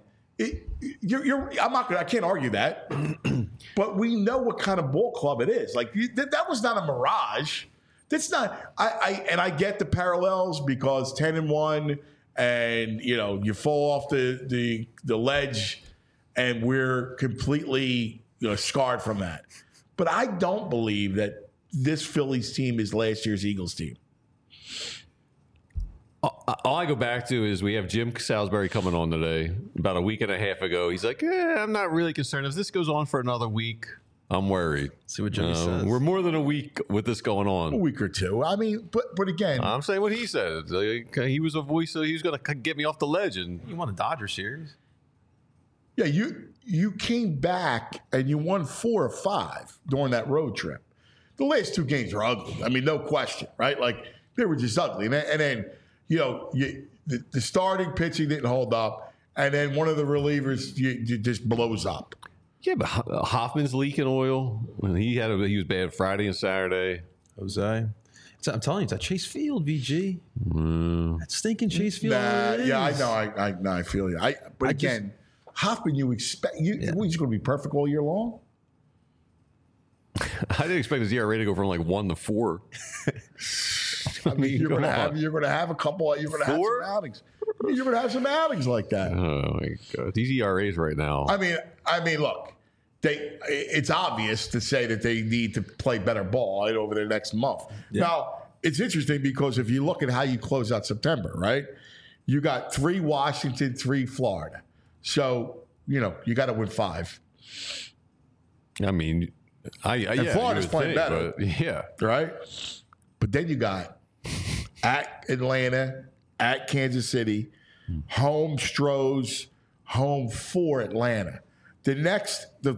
I can't argue that. But we know what kind of ball club it is. Like that was not a mirage. That's not. I get the parallels because 10-1, and you fall off the ledge, and we're completely scarred from that. But I don't believe that this Phillies team is last year's Eagles team. All I go back to is we have Jim Salisbury coming on today. About a week and a half ago, he's like, I'm not really concerned. If this goes on for another week, I'm worried. See what Jimmy says. We're more than a week with this going on. A week or two. I mean, but again. I'm saying what he said. He was a voice, so he was going to get me off the ledge. And you won the Dodger series. Yeah, you came back and you won 4 or 5 during that road trip. The last 2 games were ugly. I mean, no question, right? Like, they were just ugly. And then the starting pitching didn't hold up, and then one of the relievers you just blows up. Yeah, but Hoffman's leaking oil. He was bad Friday and Saturday. Jose, I'm telling you, it's at Chase Field, VG. That stinking Chase Field. I know. I feel you. But again, Hoffman, you expect he's going to be perfect all year long. I didn't expect his ERA to go from like 1 to 4. I mean, you're going to have a couple. You're going to have some outings. I mean, you're going to have some outings like that. Oh my God, these ERAs right now. I mean, look, it's obvious to say that they need to play better ball right over the next month. Yeah. Now, it's interesting because if you look at how you close out September, right? You got 3 Washington, 3 Florida. So, you got to win 5. I mean, Florida's playing better. Yeah. Right? But then you got at Atlanta, at Kansas City, home Stros, home for Atlanta. The next, the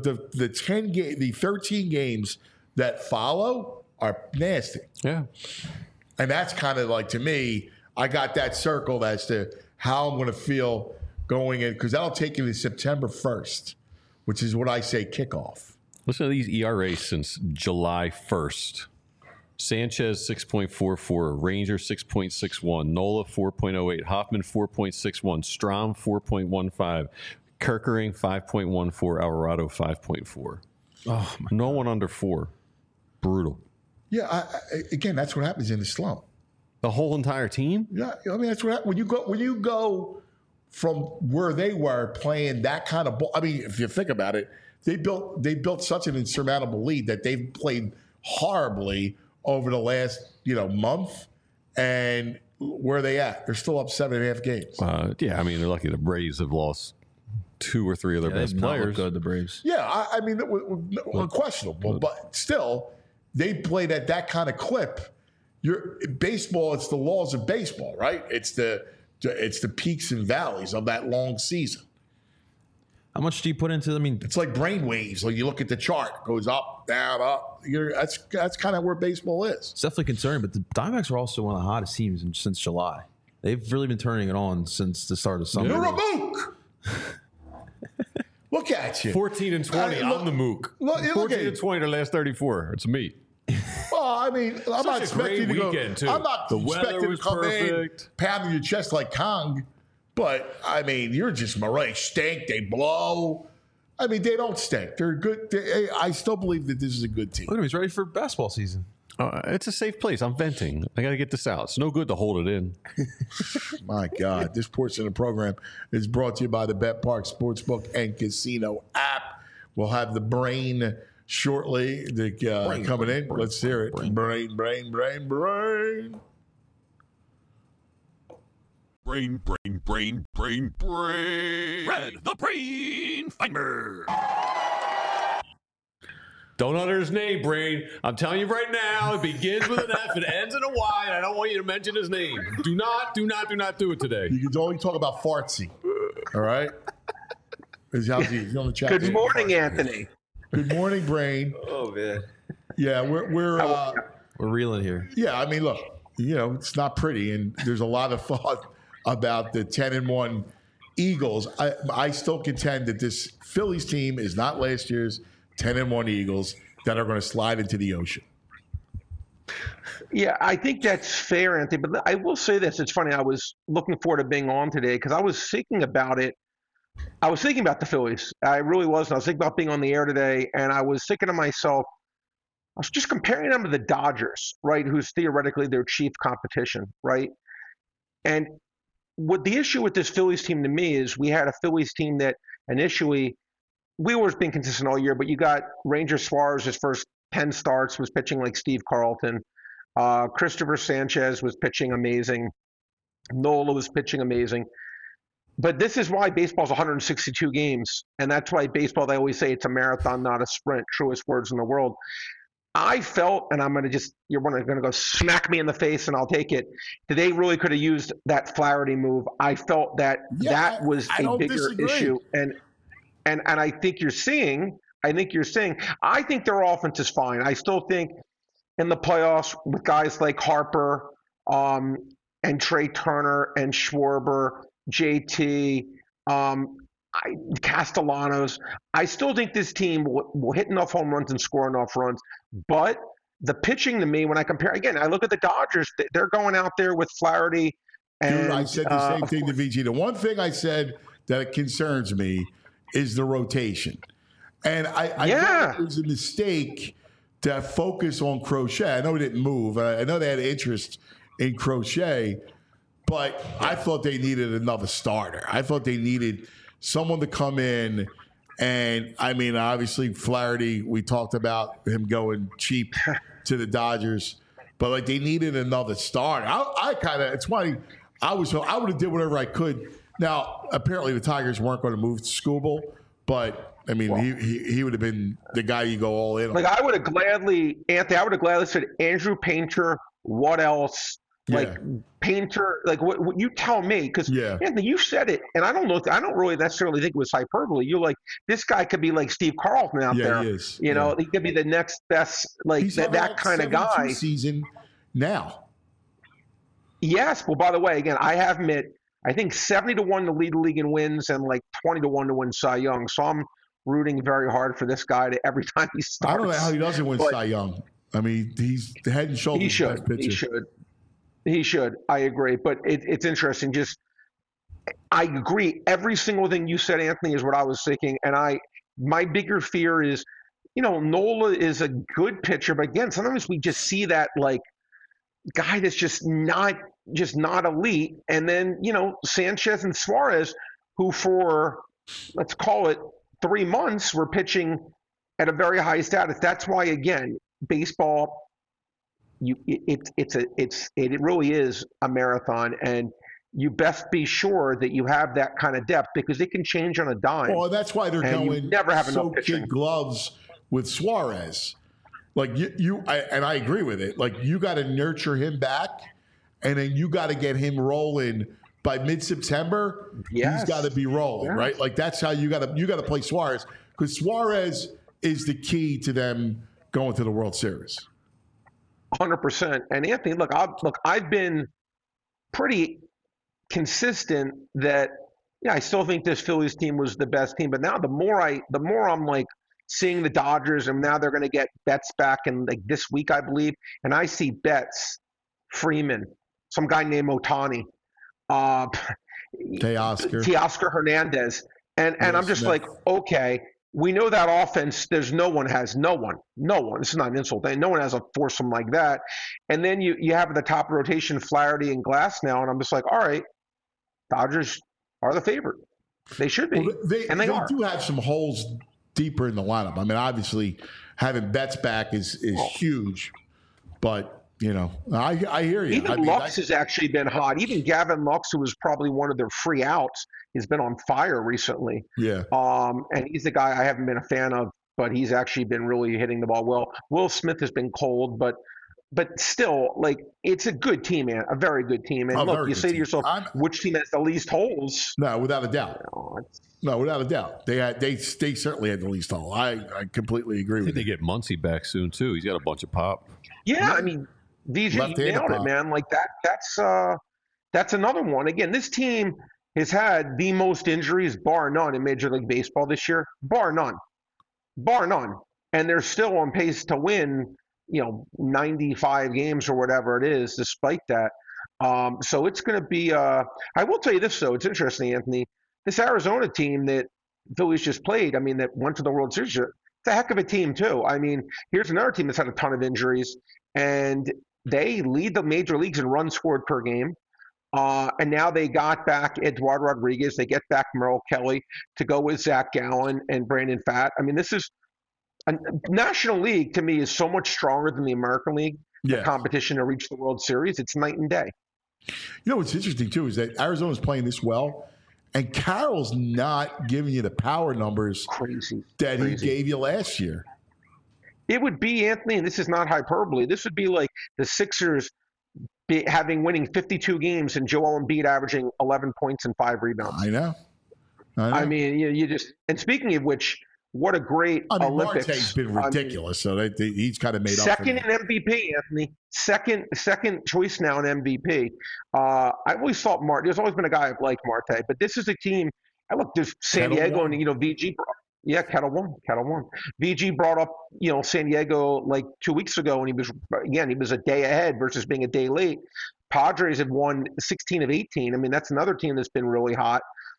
13 games that follow are nasty. Yeah. And that's kind of like, to me, I got that circled as to how I'm going to feel going in, because that'll take you to September 1st, which is what I say kickoff. Listen to these ERAs since July 1st. Sanchez 6.44, Ranger 6.61, Nola 4.08, Hoffman 4.61, Strom 4.15, Kerkering 5.14, Alvarado 5.4. Oh, no one under 4. Brutal. Yeah, again, that's what happens in the slump. The whole entire team? Yeah, I mean, that's what when you go from where they were playing that kind of ball. I mean, if you think about it, they built such an insurmountable lead that they've played horribly over the last month. And where are they at? They're still up 7.5 games. Yeah, I mean, they're lucky the Braves have lost 2 or 3 of their best players. Good, the Braves. Yeah, I mean, unquestionable, but still, they played at that kind of clip. Baseball, it's the laws of baseball, right? It's the peaks and valleys of that long season. How much do you put into? I mean, it's like brain waves. Like you look at the chart, it goes up, down, up. That's kind of where baseball is. It's definitely concerning. But the Diamondbacks are also one of the hottest teams since July. They've really been turning it on since the start of summer. You're a mook. Look at you. 14 and 20. I'm the mook. 14 and 20 the last 34. It's me. Well, I mean, I'm not expecting to go. Too. I'm not expecting to come in pounding your chest like Kong. But, I mean, you're just Murray. Stink. They blow. I mean, they don't stink. They're good. I still believe that this is a good team. Look at him. He's ready for basketball season. It's a safe place. I'm venting. I got to get this out. It's no good to hold it in. My God. This portion of the program is brought to you by the Bet Park Sportsbook and Casino app. We'll have the brain shortly coming in. Let's hear it. Brain. Brain, Red, the Brain Finder. Don't utter his name, Brain. I'm telling you right now, it begins with an F, it ends in a Y, and I don't want you to mention his name. Do not do it today. You can only talk about Fartsy. All right? He's on the chat. Good morning, Anthony. Good morning, Brain. Oh, man. Yeah, we're reeling here. Yeah, I mean, look, it's not pretty, and there's a lot of thought about the 10-1 Eagles. I still contend that this Phillies team is not last year's 10-1 Eagles that are going to slide into the ocean. Yeah, I think that's fair, Anthony. But I will say this. It's funny. I was looking forward to being on today because I was thinking about it. I was thinking about the Phillies. I really was. I was thinking about being on the air today, and I was thinking to myself, I was just comparing them to the Dodgers, right, who's theoretically their chief competition, right? And what the issue with this Phillies team to me is we had a Phillies team that initially we were being consistent all year, but you got Ranger Suarez, his first 10 starts, was pitching like Steve Carlton. Christopher Sanchez was pitching amazing. Nola was pitching amazing. But this is why baseball's 162 games, and that's why baseball, they always say it's a marathon, not a sprint, truest words in the world. I felt, and I'm going to you're going to go smack me in the face and I'll take it. They really could have used that Flaherty move. I felt that was a bigger issue. And I think you're seeing, I think their offense is fine. I still think in the playoffs with guys like Harper and Trey Turner and Schwarber, JT, Castellanos, I still think this team will hit enough home runs and score enough runs. But the pitching to me, when I compare, again, I look at the Dodgers, they're going out there with Flaherty. And, dude, I said the same thing to VG. The one thing I said that concerns me is the rotation. And I thought it was a mistake to focus on Crochet. I know he didn't move. I know they had interest in Crochet, but I thought they needed another starter. I thought they needed someone to come in. And, I mean, obviously, Flaherty, we talked about him going cheap to the Dodgers. But, like, they needed another starter. I kind of – it's funny. I would have did whatever I could. Now, apparently the Tigers weren't going to move to Skubal, but – I mean, he would have been the guy you go all in on. Like, I would have gladly said Andrew Painter, what else? Like, Painter, like, what you tell me, because Anthony, you said it, and I don't really necessarily think it was hyperbole. You're like, this guy could be like Steve Carlton out there. He is. You know, he could be the next best, like, that kind of guy. Season now. Yes. Well, by the way, again, I have admit, I think 70-1 to lead the league in wins and like 20-1 to win Cy Young. So I'm rooting very hard for this guy to every time he starts. I don't know how he doesn't win Cy Young. I mean, he's the head and shoulders best pitcher. He should. I agree. But it's interesting. I agree. Every single thing you said, Anthony, is what I was thinking. And my bigger fear is, Nola is a good pitcher, but again, sometimes we just see that like guy that's just not elite. And then, Sanchez and Suarez, who for, let's call it 3 months, were pitching at a very high status. That's why, again, baseball, it really is a marathon, and you best be sure that you have that kind of depth because it can change on a dime. Well, that's why they're going never have enough kid gloves with Suarez. Like I agree with it. Like you got to nurture him back, and then you got to get him rolling by mid-September. Yes. He's got to be rolling, right? Like that's how you got to play Suarez, because Suarez is the key to them going to the World Series. 100%. And Anthony, I've been pretty consistent that I still think this Phillies team was the best team. But now the more I'm like seeing the Dodgers, and now they're going to get Betts back in like this week, I believe, and I see Betts, Freeman, some guy named Otani, Teoscar Hernandez, and I'm just like, okay. We know that offense, no one. This is not an insult. No one has a foursome like that. And then you have at the top of the rotation Flaherty and Glass now, and I'm just like, all right, Dodgers are the favorite. They should be. Well, they do have some holes deeper in the lineup. I mean, obviously, having Betts back is huge. But, I hear you. Even Lux has actually been hot. Even Gavin Lux, who was probably one of their free outs, has been on fire recently. Yeah. And he's the guy I haven't been a fan of, but he's actually been really hitting the ball well. Will Smith has been cold, but still, like, it's a good team, man. A very good team. And look, you say to yourself, which team has the least holes? No, without a doubt. No, without a doubt. They certainly had the least hole. I completely agree with you. I think they get Muncy back soon, too. He's got a bunch of pop. Yeah, I mean, VJ nailed it, man. Like that's another one. Again, this team has had the most injuries, bar none, in Major League Baseball this year. Bar none. And they're still on pace to win, 95 games or whatever it is, despite that. So it's going to be I will tell you this, though. It's interesting, Anthony. This Arizona team that Phillies just played, I mean, that went to the World Series, it's a heck of a team, too. I mean, here's another team that's had a ton of injuries, and they lead the major leagues in runs scored per game. And now they got back Eduardo Rodriguez. They get back Merrill Kelly to go with Zach Gallen and Brandon Pfaadt. I mean, this is a National League, to me, is so much stronger than the American League. The competition to reach the World Series. It's night and day. What's interesting, too, is that Arizona's playing this well, and Carroll's not giving you the power numbers that he gave you last year. It would be, Anthony, and this is not hyperbole, this would be like the Sixers winning 52 games and Joel Embiid averaging 11 points and 5 rebounds. I know. I mean, you just – and speaking of which, what a great Olympics. Marte's been ridiculous, so he's kind of made up. Second in MVP, Anthony. Second choice now in MVP. I always thought there's always been a guy I've liked Marte, but this is a team – look, there's San Diego and, VG – yeah, Kettle One. VG brought up, San Diego like 2 weeks ago, and he was a day ahead versus being a day late. Padres have won 16 of 18. I mean, that's another team that's been really hot.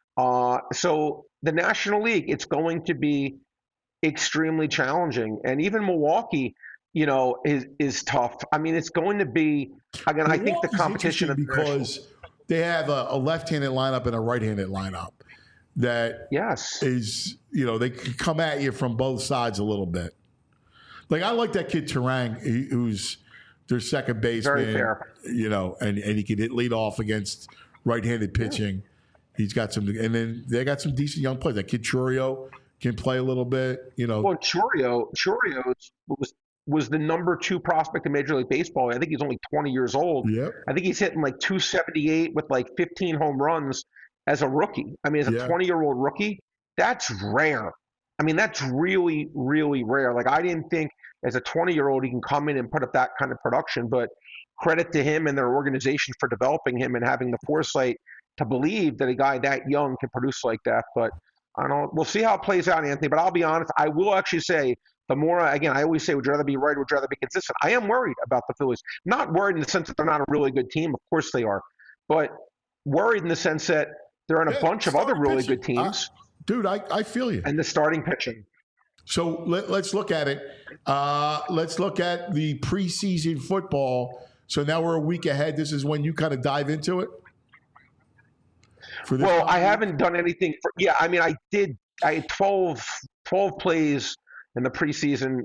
So the National League, it's going to be extremely challenging. And even Milwaukee, is tough. I mean, it's going to be, again, I think the Milwaukee's competition of interesting because they have a left-handed lineup and a right-handed lineup that yes, is, they can come at you from both sides a little bit. Like, I like that kid Terang, who's their second baseman. Very fair. And he can lead off against right-handed pitching. He's got some, and then they got some decent young players. That kid Churio can play a little bit. Well, Churio was the number 2 prospect in Major League Baseball. I think he's only 20 years old. Yep. I think he's hitting like 278 with like 15 home runs as a rookie. I mean, as a 20-year-old rookie, that's rare. I mean, that's really, really rare. Like, I didn't think as a 20-year-old he can come in and put up that kind of production, but credit to him and their organization for developing him and having the foresight to believe that a guy that young can produce like that. But I don't know. We'll see how it plays out, Anthony. But I'll be honest, I will actually say, the more, again, I always say, would you rather be right or would you rather be consistent? I am worried about the Phillies. Not worried in the sense that they're not a really good team. Of course they are. But worried in the sense that they're in a bunch of other really good teams. Dude, I feel you. And the starting pitching. So let's look at it. Let's look at the preseason football. So now we're a week ahead. This is when you kind of dive into it? Well, I haven't done anything. I mean, I had 12 plays in the preseason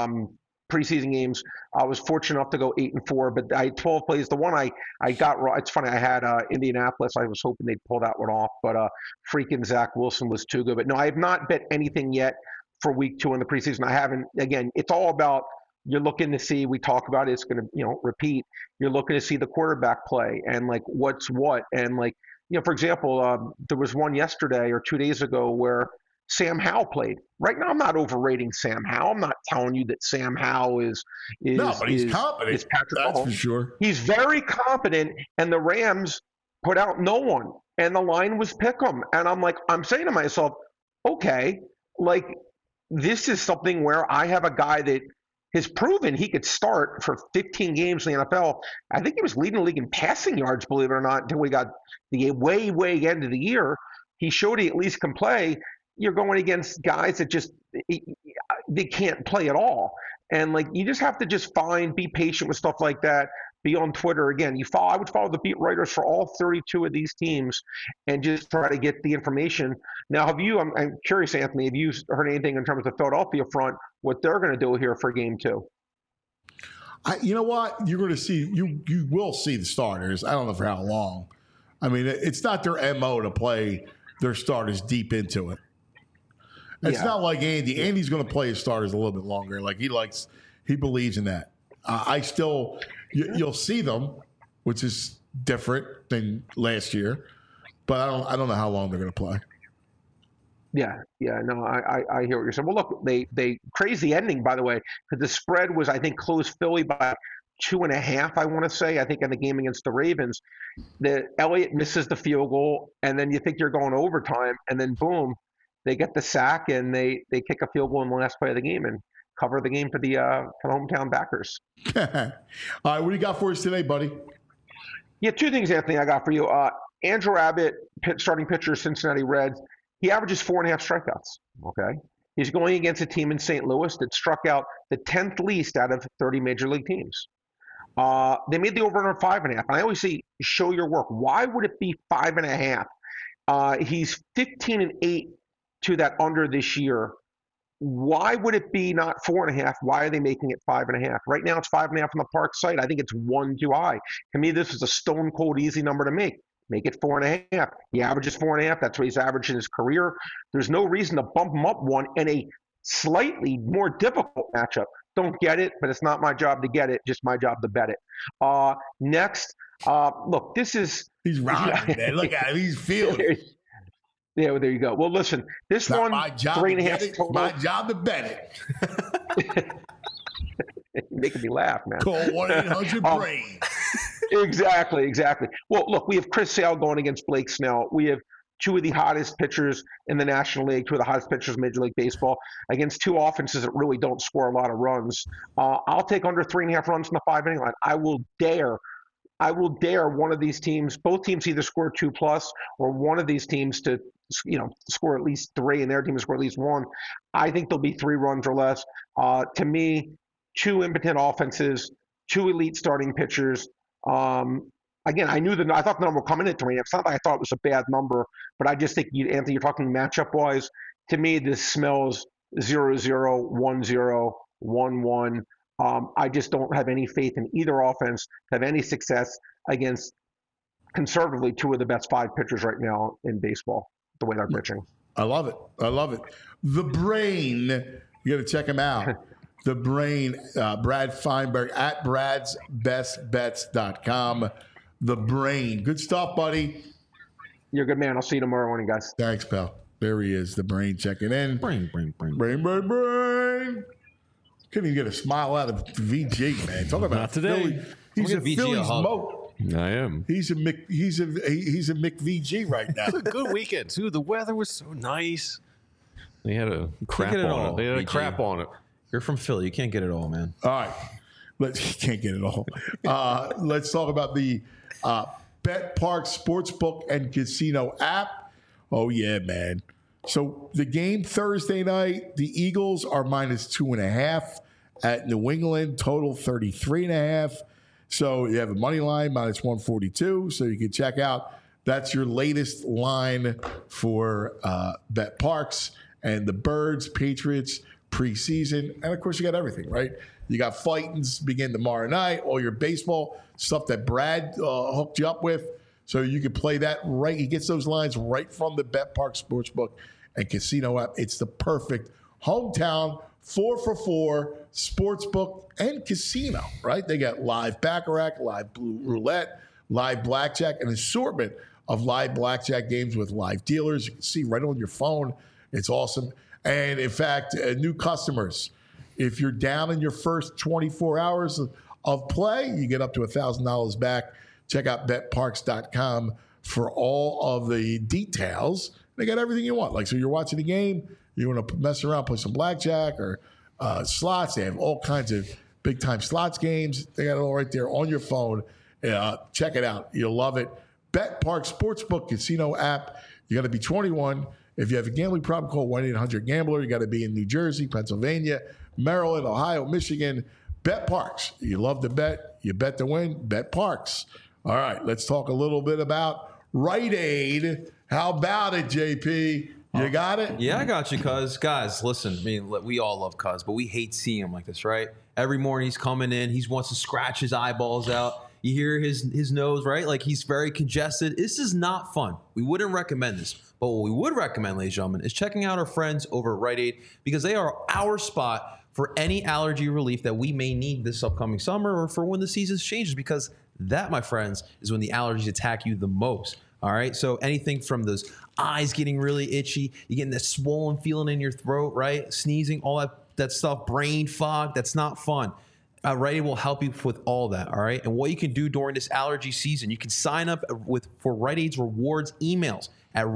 games. I was fortunate enough to go 8-4, but I had 12 plays. The one I got wrong. It's funny. I had Indianapolis. I was hoping they'd pull that one off, but freaking Zach Wilson was too good. But no, I have not bet anything yet for week 2 in the preseason. I haven't. Again, it's all about, you're looking to see, we talk about it, it's going to, repeat. You're looking to see the quarterback play and like what's what. And like, for example, there was one yesterday or 2 days ago where Sam Howell played. Right now, I'm not overrating Sam Howell. I'm not telling you that Sam Howell is no, but he's competent. Is Patrick That's Mahomes. for sure. He's very competent, and the Rams put out no one, and the line was pick 'em. And I'm saying to myself, okay, like, this is something where I have a guy that has proven he could start for 15 games in the NFL. I think he was leading the league in passing yards, believe it or not, until we got the way end of the year. He showed he at least can play. You're going against guys that just they can't play at all. And like, you just have to just be patient with stuff like that. Be on Twitter. Again, I would follow the beat writers for all 32 of these teams and just try to get the information. Now, I'm curious, Anthony, have you heard anything in terms of the Philadelphia front, what they're going to do here for game 2? You know what? You're going to see, you will see the starters. I don't know for how long. I mean, it's not their MO to play their starters deep into it. It's not like Andy. Andy's going to play his starters a little bit longer. Like, he believes in that. You'll see them, which is different than last year, but I don't know how long they're going to play. Yeah, no, I hear what you're saying. Well, look, they crazy ending, by the way, because the spread was, I think, closed Philly by 2.5, I want to say, I think, in the game against the Ravens. Elliott misses the field goal, and then you think you're going overtime, and then boom, they get the sack, and they kick a field goal in the last play of the game and cover the game for the hometown backers. All right, what do you got for us today, buddy? Yeah, 2 things, Anthony, I got for you. Andrew Abbott, starting pitcher, Cincinnati Reds, he averages 4.5 strikeouts, okay? He's going against a team in St. Louis that struck out the 10th least out of 30 major league teams. They made the over-under 5.5. And I always say, show your work. Why would it be 5.5? He's 15-8 to that under this year. Why would it be not 4.5? Why are they making it 5.5? Right now it's 5.5 on the Park site. I think it's one too high. To me, this is a stone cold easy number to make. Make it 4.5. He averages 4.5. That's what he's averaged in his career. There's no reason to bump him up one in a slightly more difficult matchup. Don't get it, but it's not my job to get it. Just my job to bet it. Next, look, this is he's rocking, man. Look at him. He's feeling it. Yeah, well, there you go. Well, listen, this not one, my job 3.5 total. My job to bet it. You're making me laugh, man. Call 1-800-BRAIN. Exactly. Well, look, we have Chris Sale going against Blake Snell. We have 2 of the hottest pitchers in the National League, 2 of the hottest pitchers in Major League Baseball, against 2 offenses that really don't score a lot of runs. I'll take under 3.5 runs in the 5-inning line. I will dare one of these teams, both teams either score 2+, or one of these teams to score at least 3, and their team to score at least 1. I think there'll be 3 runs or less. To me, 2 impotent offenses, 2 elite starting pitchers. Again, I thought the number would come in at 3. It's not like I thought it was a bad number, but I just think, Anthony, you're talking matchup-wise. To me, this smells 0-0, 1-0, 1-1. I just don't have any faith in either offense to have any success against, conservatively, 2 of the best 5 pitchers right now in baseball, the way they're pitching. I love it. I love it. The Brain, you got to check him out. The Brain, Brad Feinberg at bradsbestbets.com. The Brain. Good stuff, buddy. You're a good man. I'll see you tomorrow morning, guys. Thanks, pal. There he is, the Brain checking in. Brain. Brain. Couldn't even get a smile out of VG, man. Talk about Not today. Philly. He's a I'm gonna VG Phillies a hug. moat. I am. He's a Mick VG right now. Good weekend too. The weather was so nice. They had a crap get it on all, it. They had a BG. crap on it. You're from Philly. You can't get it all, man. All right. You can't get it all. Let's talk about the Bet Park Sportsbook and Casino app. Oh, yeah, man. So the game Thursday night, the Eagles are minus 2.5 at New England, total 33.5. So you have a money line minus 142. So you can check out. That's your latest line for Bet Parks and the Birds, Patriots preseason. And of course, you got everything, right? You got fightings begin tomorrow night, all your baseball stuff that Brad hooked you up with. So you can play that right. He gets those lines right from the Bet Park Sportsbook and Casino app. It's the perfect hometown 4-for-4 sportsbook and casino, right? They got live baccarat, live blue roulette, live blackjack, an assortment of live blackjack games with live dealers. You can see right on your phone. It's awesome. And in fact, new customers, if you're down in your first 24 hours of play, you get up to $1,000 back. Check out betparks.com for all of the details. They got everything you want. Like, so you're watching the game, you want to mess around, play some blackjack or slots. They have all kinds of big-time slots games. They got it all right there on your phone. Check it out. You'll love it. Bet Park Sportsbook Casino app. You got to be 21. If you have a gambling problem, call 1-800-GAMBLER. You got to be in New Jersey, Pennsylvania, Maryland, Ohio, Michigan. Bet Parks. You love to bet. You bet to win. Bet Parks. All right, let's talk a little bit about Rite Aid. How about it, JP? You got it? Yeah, I got you, cuz. Guys, listen, I mean, we all love cuz, but we hate seeing him like this, right? Every morning he's coming in. He wants to scratch his eyeballs out. You hear his nose, right? Like he's very congested. This is not fun. We wouldn't recommend this. But what we would recommend, ladies and gentlemen, is checking out our friends over at Rite Aid because they are our spot for any allergy relief that we may need this upcoming summer or for when the season changes, because that, my friends, is when the allergies attack you the most. All right. So anything from those eyes getting really itchy, you getting that swollen feeling in your throat, right? Sneezing, all that stuff, brain fog, that's not fun. Rite Aid will help you with all that, all right? And what you can do during this allergy season, you can sign up for Rite Aid's rewards emails at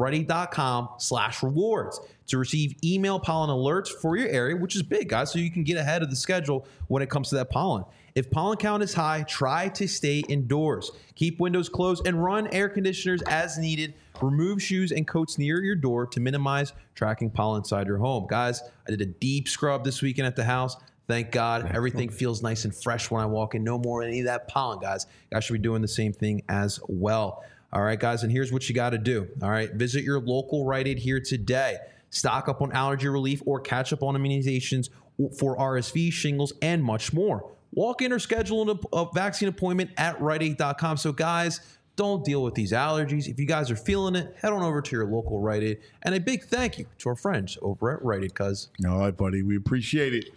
riteaid.com/rewards to receive email pollen alerts for your area, which is big, guys, so you can get ahead of the schedule when it comes to that pollen. If pollen count is high, try to stay indoors. Keep windows closed and run air conditioners as needed. Remove shoes and coats near your door to minimize tracking pollen inside your home. Guys, I did a deep scrub this weekend at the house. Thank God. Everything feels nice and fresh when I walk in. No more any of that pollen, guys. You guys should be doing the same thing as well. All right, guys, and here's what you got to do. All right, visit your local Rite Aid here today. Stock up on allergy relief or catch up on immunizations for RSV, shingles, and much more. Walk in or schedule a vaccine appointment at riteaid.com. So, guys, don't deal with these allergies. If you guys are feeling it, head on over to your local Rite Aid. And a big thank you to our friends over at Rite Aid, cuz. All right, buddy. We appreciate it.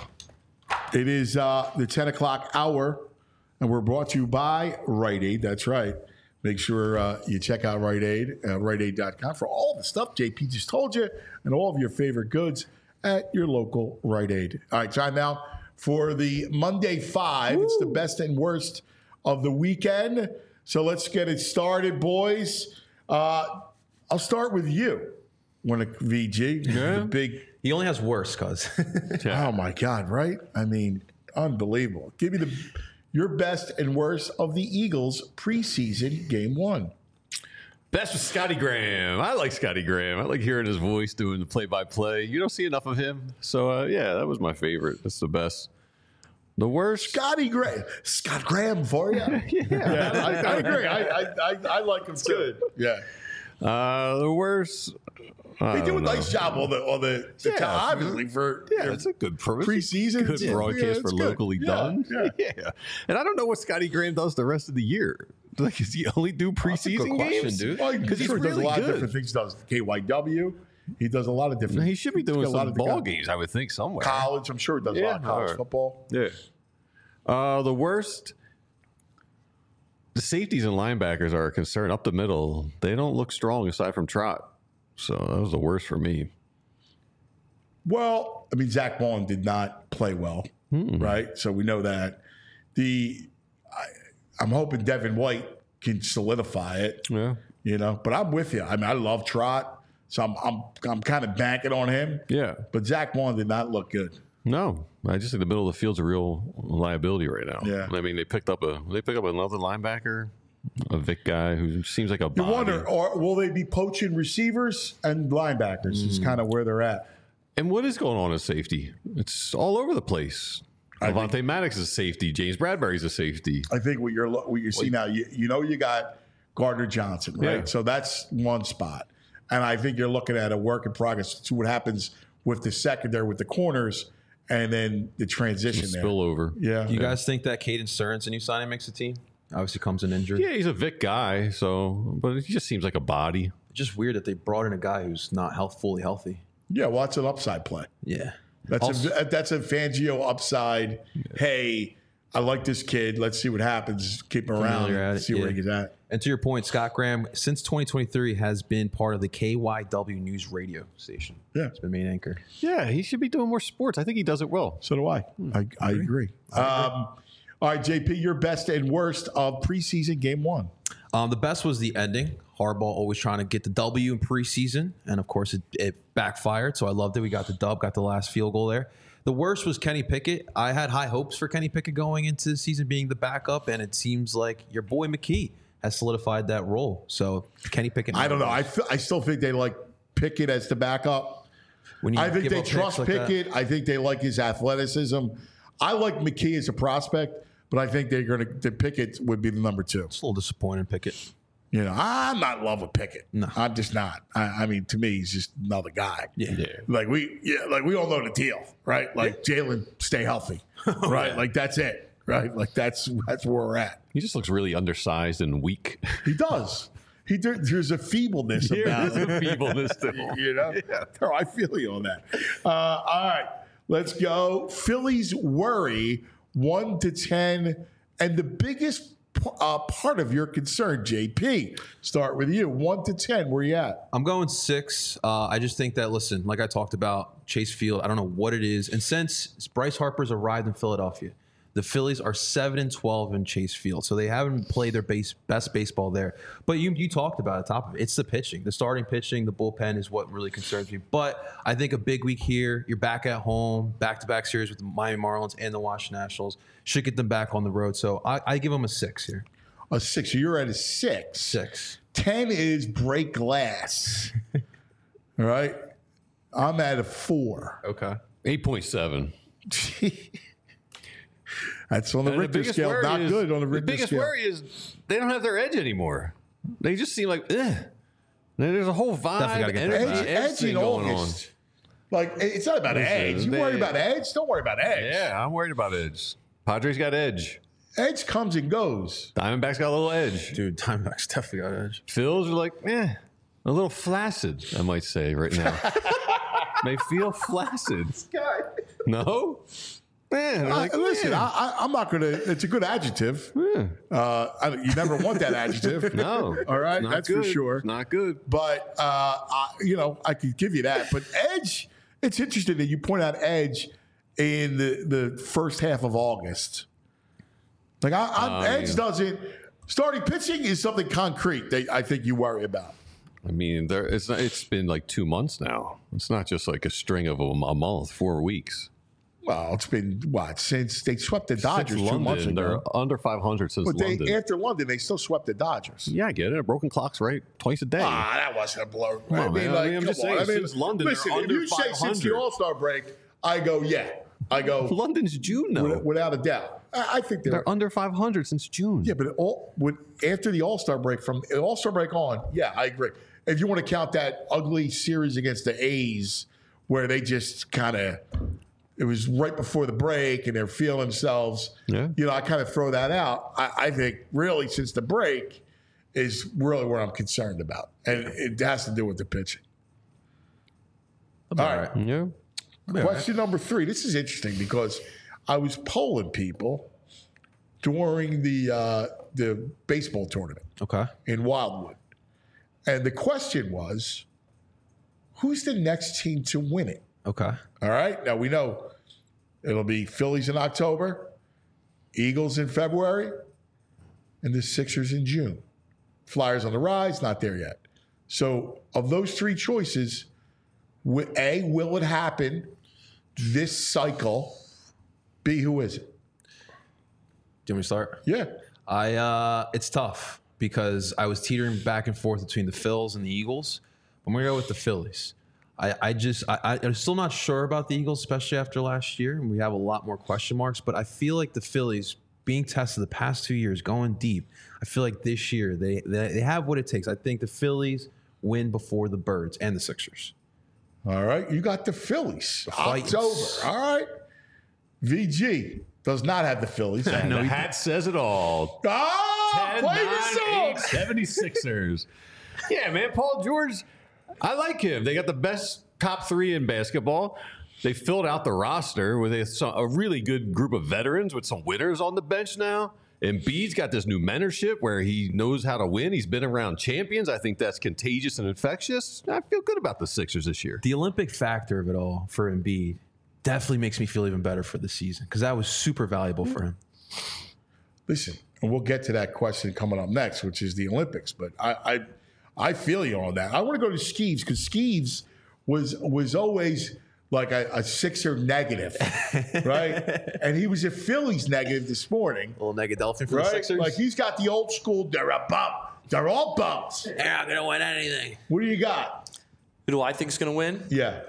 It is the 10 o'clock hour, and we're brought to you by Rite Aid. That's right. Make sure you check out Rite Aid, riteaid.com, for all the stuff JP just told you and all of your favorite goods at your local Rite Aid. All right, time now for the Monday Five. Woo. It's the best and worst of the weekend. So let's get it started, boys. I'll start with you. VG, yeah. The big. He only has worse, cuz. Oh my God! Right? I mean, unbelievable. Give me your best and worst of the Eagles preseason game one. Best was Scotty Graham. I like Scotty Graham. I like hearing his voice doing the play-by-play. You don't see enough of him, so yeah, that was my favorite. That's the best. The worst. Scott Graham for you. Yeah, I agree. I like him too. Good. Yeah. The worst. They do a nice job on the obviously for it's a good preseason. Good broadcast for good. locally done. Yeah. And I don't know what Scotty Graham does the rest of the year. Like, does he only do preseason games? dude. Well, Because he's he does really a lot good. of different things. He does KYW. He does a lot of different. He should be doing he's got a lot some of ball guys. games, I would think, somewhere. College, I'm sure he does a lot of college football. Yeah. The worst. The safeties and linebackers are a concern. Up the middle, they don't look strong aside from Trot. So that was the worst for me. Well, I mean, Zach Vaughn did not play well, right? So we know that. I'm hoping Devin White can solidify it. Yeah. You know, but I'm with you. I mean, I love Trot, so I'm kind of banking on him. Yeah. But Zach Vaughn did not look good. No, I just think the middle of the field's a real liability right now. Yeah. I mean, they picked up another linebacker, a Vic guy who seems like a You body. wonder, or will they be poaching receivers and linebackers? Is kind of where they're at. And what is going on at safety? It's all over the place. Avonte Maddox is a safety. James Bradbury's a safety. I think what you see now, you got Gardner Johnson, right? Yeah. So that's one spot, and I think you're looking at a work in progress to see what happens with the secondary, with the corners, and then the transition there. Spillover. Yeah. Do you guys think that Caden Stearns, a new signing, makes the team? Obviously comes in injured. Yeah, he's a Vic guy, but he just seems like a body. It's just weird that they brought in a guy who's not fully healthy. Yeah, well, that's an upside play. Yeah. That's a Fangio upside. Yeah. Hey, I like this kid. Let's see what happens. Keep him around. See where he gets at. And to your point, Scott Graham, since 2023, has been part of the KYW News radio station. Yeah. It's been main anchor. Yeah, he should be doing more sports. I think he does it well. So do I. I agree. All right, JP, your best and worst of preseason game one. The best was the ending. Harbaugh always trying to get the W in preseason, and of course it backfired. So I loved it. We got the dub, got the last field goal there. The worst was Kenny Pickett. I had high hopes for Kenny Pickett going into the season being the backup, and it seems like your boy McKee has solidified that role. So Kenny Pickett. I don't know. I still think they like Pickett as the backup. I think they trust Pickett. I think they like his athleticism. I like McKee as a prospect, but I think the Pickett would be the number two. It's a little disappointing, Pickett. You know, I'm not in love with Pickett. No. I'm just not. I mean, to me, he's just another guy. Yeah. Like we all know the deal, right? Like Jalen, stay healthy, right? Like that's it, right? Like that's where we're at. He just looks really undersized and weak. He does. There's a feebleness about him. There's a feebleness to him. You know? Yeah. No, I feel you on that. All right, let's go. Phillies worry 1 to 10, and the biggest part of your concern, JP. Start with you. 1 to 10. Where you at? I'm going 6. I just think that, listen, like I talked about, Chase Field, I don't know what it is. And since Bryce Harper's arrived in Philadelphia, the Phillies are 7-12 in Chase Field. So they haven't played their best baseball there. But you talked about it, top of it. It's the pitching. The starting pitching, the bullpen is what really concerns me. But I think a big week here, you're back at home, back-to-back series with the Miami Marlins and the Washington Nationals. Should get them back on the road. So I give them a 6 here. A 6. So you're at a 6. 6. 10 is break glass. All right. I'm at a 4. Okay. 8.7. That's on the Richter scale. Not good on the Richter scale. The biggest worry is they don't have their edge anymore. They just seem like, there's a whole vibe, edge in August. Like, it's not about edge. You worry about edge? Don't worry about edge. Yeah, I'm worried about edge. Padres got edge. Edge comes and goes. Diamondbacks got a little edge. Dude, Diamondbacks definitely got edge. Phils are like, a little flaccid, I might say right now. They feel flaccid. No? Man, listen, I'm not going to. It's a good adjective. Yeah. You never want that adjective. No. All right? That's good. for sure. It's not good. But, I could give you that. But edge, it's interesting that you point out edge in the first half of August. Like, edge doesn't. Starting pitching is something concrete that I think you worry about. I mean, it's been like 2 months now. It's not just like a string of a month, 4 weeks. Well, it's been, since they swept the Dodgers 2 months ago. They're under 500 since London. After London, they still swept the Dodgers. Yeah, I get it. A broken clock's right twice a day. That wasn't a blow. I'm just saying, since London, listen, they're under if you 500. say since the All-Star break, I go, yeah. I go London's June, though. without a doubt. I think They're under 500 since June. Yeah, but after the All-Star break, from the All-Star break on, yeah, I agree. If you want to count that ugly series against the A's where they just kind of, it was right before the break and they're feeling themselves, I kind of throw that out. I think really since the break is really what I'm concerned about. And it has to do with the pitching. All right. Yeah. Question number 3. This is interesting because I was polling people during the baseball tournament in Wildwood. And the question was, who's the next team to win it? Okay. All right. Now, we know it'll be Phillies in October, Eagles in February, and the Sixers in June. Flyers on the rise, not there yet. So, of those 3 choices, A, will it happen this cycle? B, who is it? Do you want me to start? Yeah. It's tough because I was teetering back and forth between the Phils and the Eagles. I'm going to go with the Phillies. I'm still not sure about the Eagles, especially after last year. And we have a lot more question marks, but I feel like the Phillies being tested the past 2 years, going deep, I feel like this year they have what it takes. I think the Phillies win before the Birds and the Sixers. All right. You got the Phillies. Titans. October. All right. VG does not have the Phillies. And the hat says it all. 10, Play 9, the song. 8, 76ers. Yeah, man. Paul George, I like him. They got the best top 3 in basketball. They filled out the roster with a really good group of veterans with some winners on the bench now. Embiid's got this new mentorship where he knows how to win. He's been around champions. I think that's contagious and infectious. I feel good about the Sixers this year. The Olympic factor of it all for Embiid definitely makes me feel even better for the season because that was super valuable for him. Listen, and we'll get to that question coming up next, which is the Olympics. But I feel you on that. I want to go to Skeeves because Skeeves was always like a Sixer negative, right? And he was a Phillies negative this morning. A little negadelphia for the Right? Sixers. Like he's got the old school, they're a bump. They're all bumps. They're not going to win anything. What do you got? Who do I think is going to win? Yeah.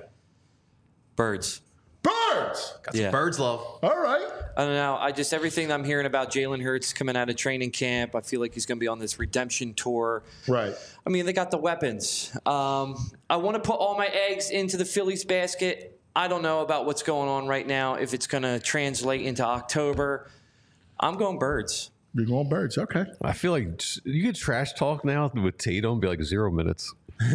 Birds. Birds. Got some Birds love. All right. I don't know. Everything I'm hearing about Jalen Hurts coming out of training camp, I feel like he's going to be on this redemption tour. Right. I mean, they got the weapons. I want to put all my eggs into the Phillies basket. I don't know about what's going on right now, if it's going to translate into October. I'm going Birds. You're going Birds. Okay. I feel like you could trash talk now with Tatum and be like 0 minutes.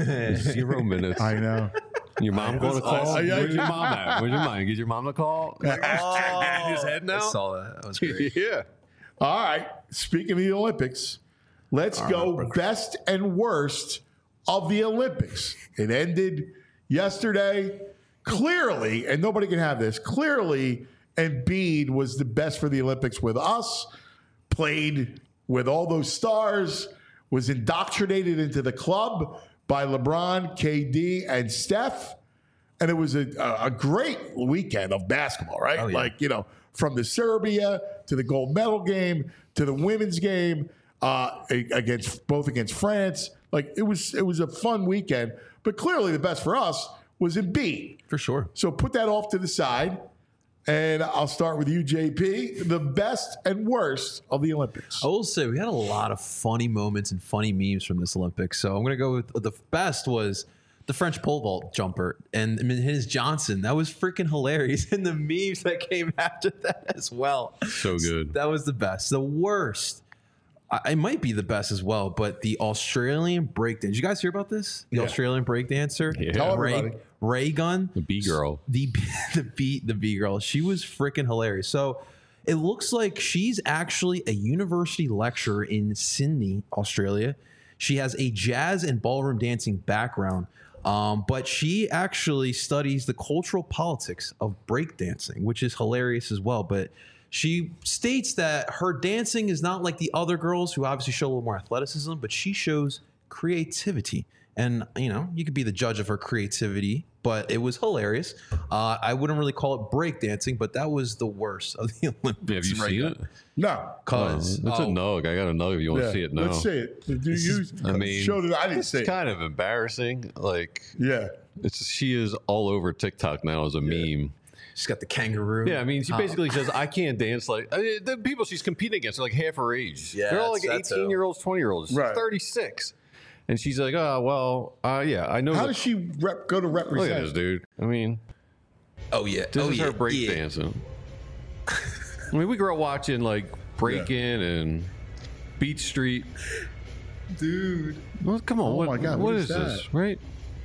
0 minutes. I know. Your mom going to call? Where's your mom at? Where's your mom? Get your mom to call? Like, in his head now? I saw that. That was great. Yeah. All right. Speaking of the Olympics, let's go best and worst of the Olympics. It ended yesterday. Clearly, and nobody can have this, clearly Embiid was the best for the Olympics with us, played with all those stars, was indoctrinated into the club by LeBron, KD, and Steph. And it was a great weekend of basketball, right? Oh, yeah. Like, from the Serbia to the gold medal game to the women's game against France. Like, it was a fun weekend. But clearly the best for us was Embiid. For sure. So put that off to the side. And I'll start with you, JP. The best and worst of the Olympics. I will say we had a lot of funny moments and funny memes from this Olympics. So I'm going to go with the best was the French pole vault jumper and his Johnson. That was freaking hilarious. And the memes that came after that as well. So good. That was the best. The worst, it might be the best as well, but the Australian breakdance. Did you guys hear about this? The Australian breakdancer? Yeah. Tell everybody. Ray Gunn. The B girl. The B girl. She was freaking hilarious. So it looks like she's actually a university lecturer in Sydney, Australia. She has a jazz and ballroom dancing background, but she actually studies the cultural politics of breakdancing, which is hilarious as well. But she states that her dancing is not like the other girls who obviously show a little more athleticism, but she shows creativity. And, you could be the judge of her creativity, but it was hilarious. I wouldn't really call it breakdancing, but that was the worst of the Olympics. Have you seen it? No. Because It's a nug. I got a nug if you want to see it now. Let's see it. Do you showed it? I didn't see It's it. kind of embarrassing. Like, Yeah. she is all over TikTok now as a meme. She's got the kangaroo. Yeah, I mean, she basically says, I can't dance like the people she's competing against are like half her age. Yeah, they're all like that's 18-year-olds, 20-year-olds. She's Right. 36. And she's like, oh, well, yeah, I know. How does she go to Look at represent? this, dude. I mean, Oh yeah. this oh, is yeah. her breakdancing. I mean, we grew up watching like Breakin' and Beach Street. Dude. Well, come on. Oh my God, what what is is that? this, right?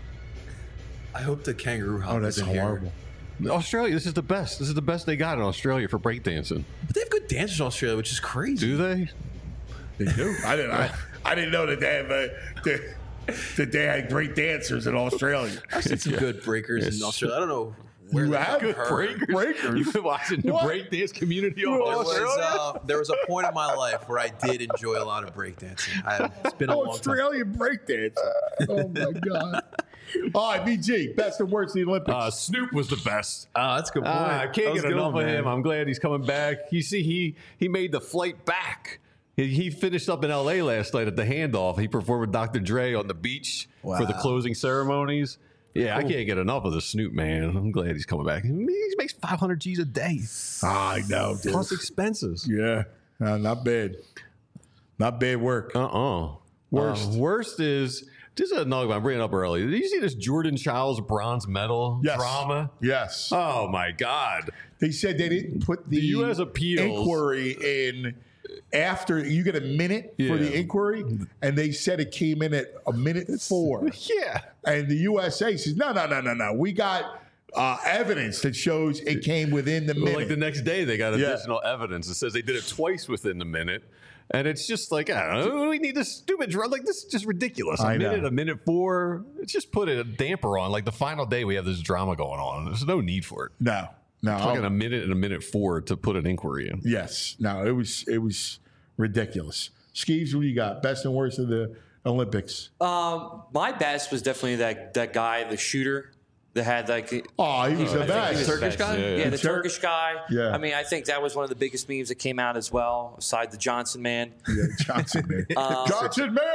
I hope the kangaroo hop Oh, that's is in horrible. here. Australia, this is the best. This is the best they got in Australia for breakdancing. But they have good dancers in Australia, which is crazy. Do they? They do. I didn't know that they have that they had great dancers in Australia. I've seen some good breakers in Australia. I don't know where You they have? got Good her. breakers? You've been watching the What? breakdance community on There Australia? there was a point in my life where I did enjoy a lot of breakdancing. It's been a long time. Australian breakdance. Oh my God. All right, BG, best and worst of the Olympics. Snoop was the best. Oh, that's a good point. I That can't was get a good enough one, of him. man. I'm glad he's coming back. You see, he made the flight back. He finished up in L.A. last night at the handoff. He performed with Dr. Dre on the beach for the Wow. closing ceremonies. Yeah, I can't get enough of the Snoop, man. I'm glad he's coming back. He makes 500 G's a day, I know, dude. plus expenses. Yeah, not bad. Not bad work. Worst. Worst is, this is another one I'm bringing up early. Did you see this Jordan Childs bronze medal Yes. drama? Yes. Oh, my God. They said they didn't put the U.S. appeals inquiry in after you get a minute for the Yeah. inquiry, and they said it came in at a minute 4. Yeah. And the USA says, no. We got evidence that shows it came within the minute. Like the next day, they got Yeah. additional evidence that says they did it twice within the minute. And it's just like, I don't know, we need this stupid drug. Like, this is just ridiculous. I know. A minute 4. It's just put a damper on. Like, the final day, we have this drama going on. There's no need for it. No. Fucking a minute and a minute 4 to put an inquiry in. Yes. No, it was ridiculous. Skeeves, what do you got? Best and worst of the Olympics? My best was definitely that guy, the shooter that had like. Oh, he was the I think he best. was Turkish best. guy? Yeah, the Tur- Turkish guy. Yeah. I mean, I think that was one of the biggest memes that came out as well, aside the Johnson man. Yeah, Johnson man. Johnson man!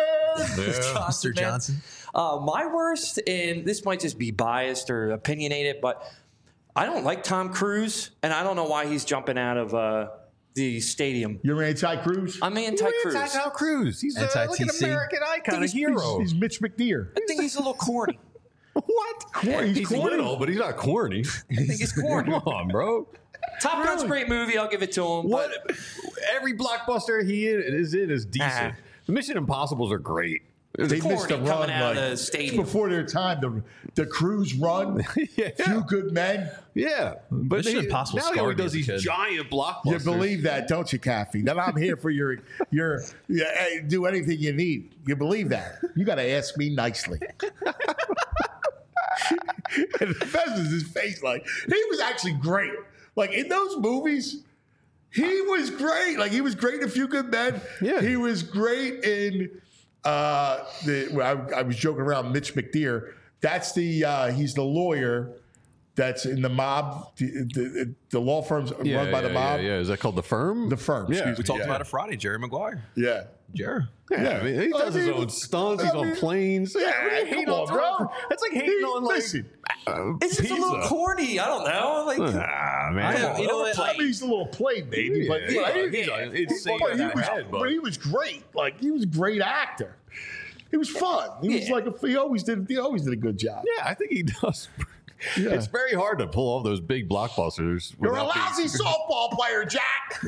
Mr. Johnson. My worst, and this might just be biased or opinionated, but I don't like Tom Cruise, and I don't know why he's jumping out of the stadium. You're anti-Cruz? I'm anti-Cruise. Tom Cruise. He's like an Anti-TC. American icon, a hero. He's Mitch McDeer. I think he's a little corny. What? He's corny. little, but he's not corny. I think he's corny. Come on, bro. Top Gun's a great movie. I'll give it to him. What? But Every blockbuster he is in is decent. The Mission Impossibles are great. They missed a corny run. coming out of Like, the stadium. before their time. The Cruise run. Yeah. Few good men. Yeah, but Mission Impossible now he scarred me does as a these kid. giant blockbusters. You believe that, don't you, Kathy? That I'm here for your hey, do anything you need. You believe that? You got to ask me nicely. And the best is his face. Like, he was actually great. Like, in those movies, he was great. Like, he was great in A Few Good Men. Yeah. He was great in I was joking around, Mitch McDeer. That's he's the lawyer that's in the mob, the law firms run by the mob. Yeah. Is that called The Firm? The Firm, Yeah. excuse We me. talked about it Friday. Jerry Maguire. Yeah. Jerry. Yeah, I mean, he does his I mean, own stunts. He's I on mean, planes. yeah, what are you hating come on, on, bro. Tom? That's like hating on like Listen, it's just a little pizza. corny. I don't know. Like, man. you know what? I mean, he's a little play baby, but Yeah, right? he's insane But in that head, but he was great. Like, he was a great actor. He was fun. He was like he always did a good job. Yeah, I think he does. Yeah. It's very hard to pull off those big blockbusters. You're a without being- lousy softball player, Jack.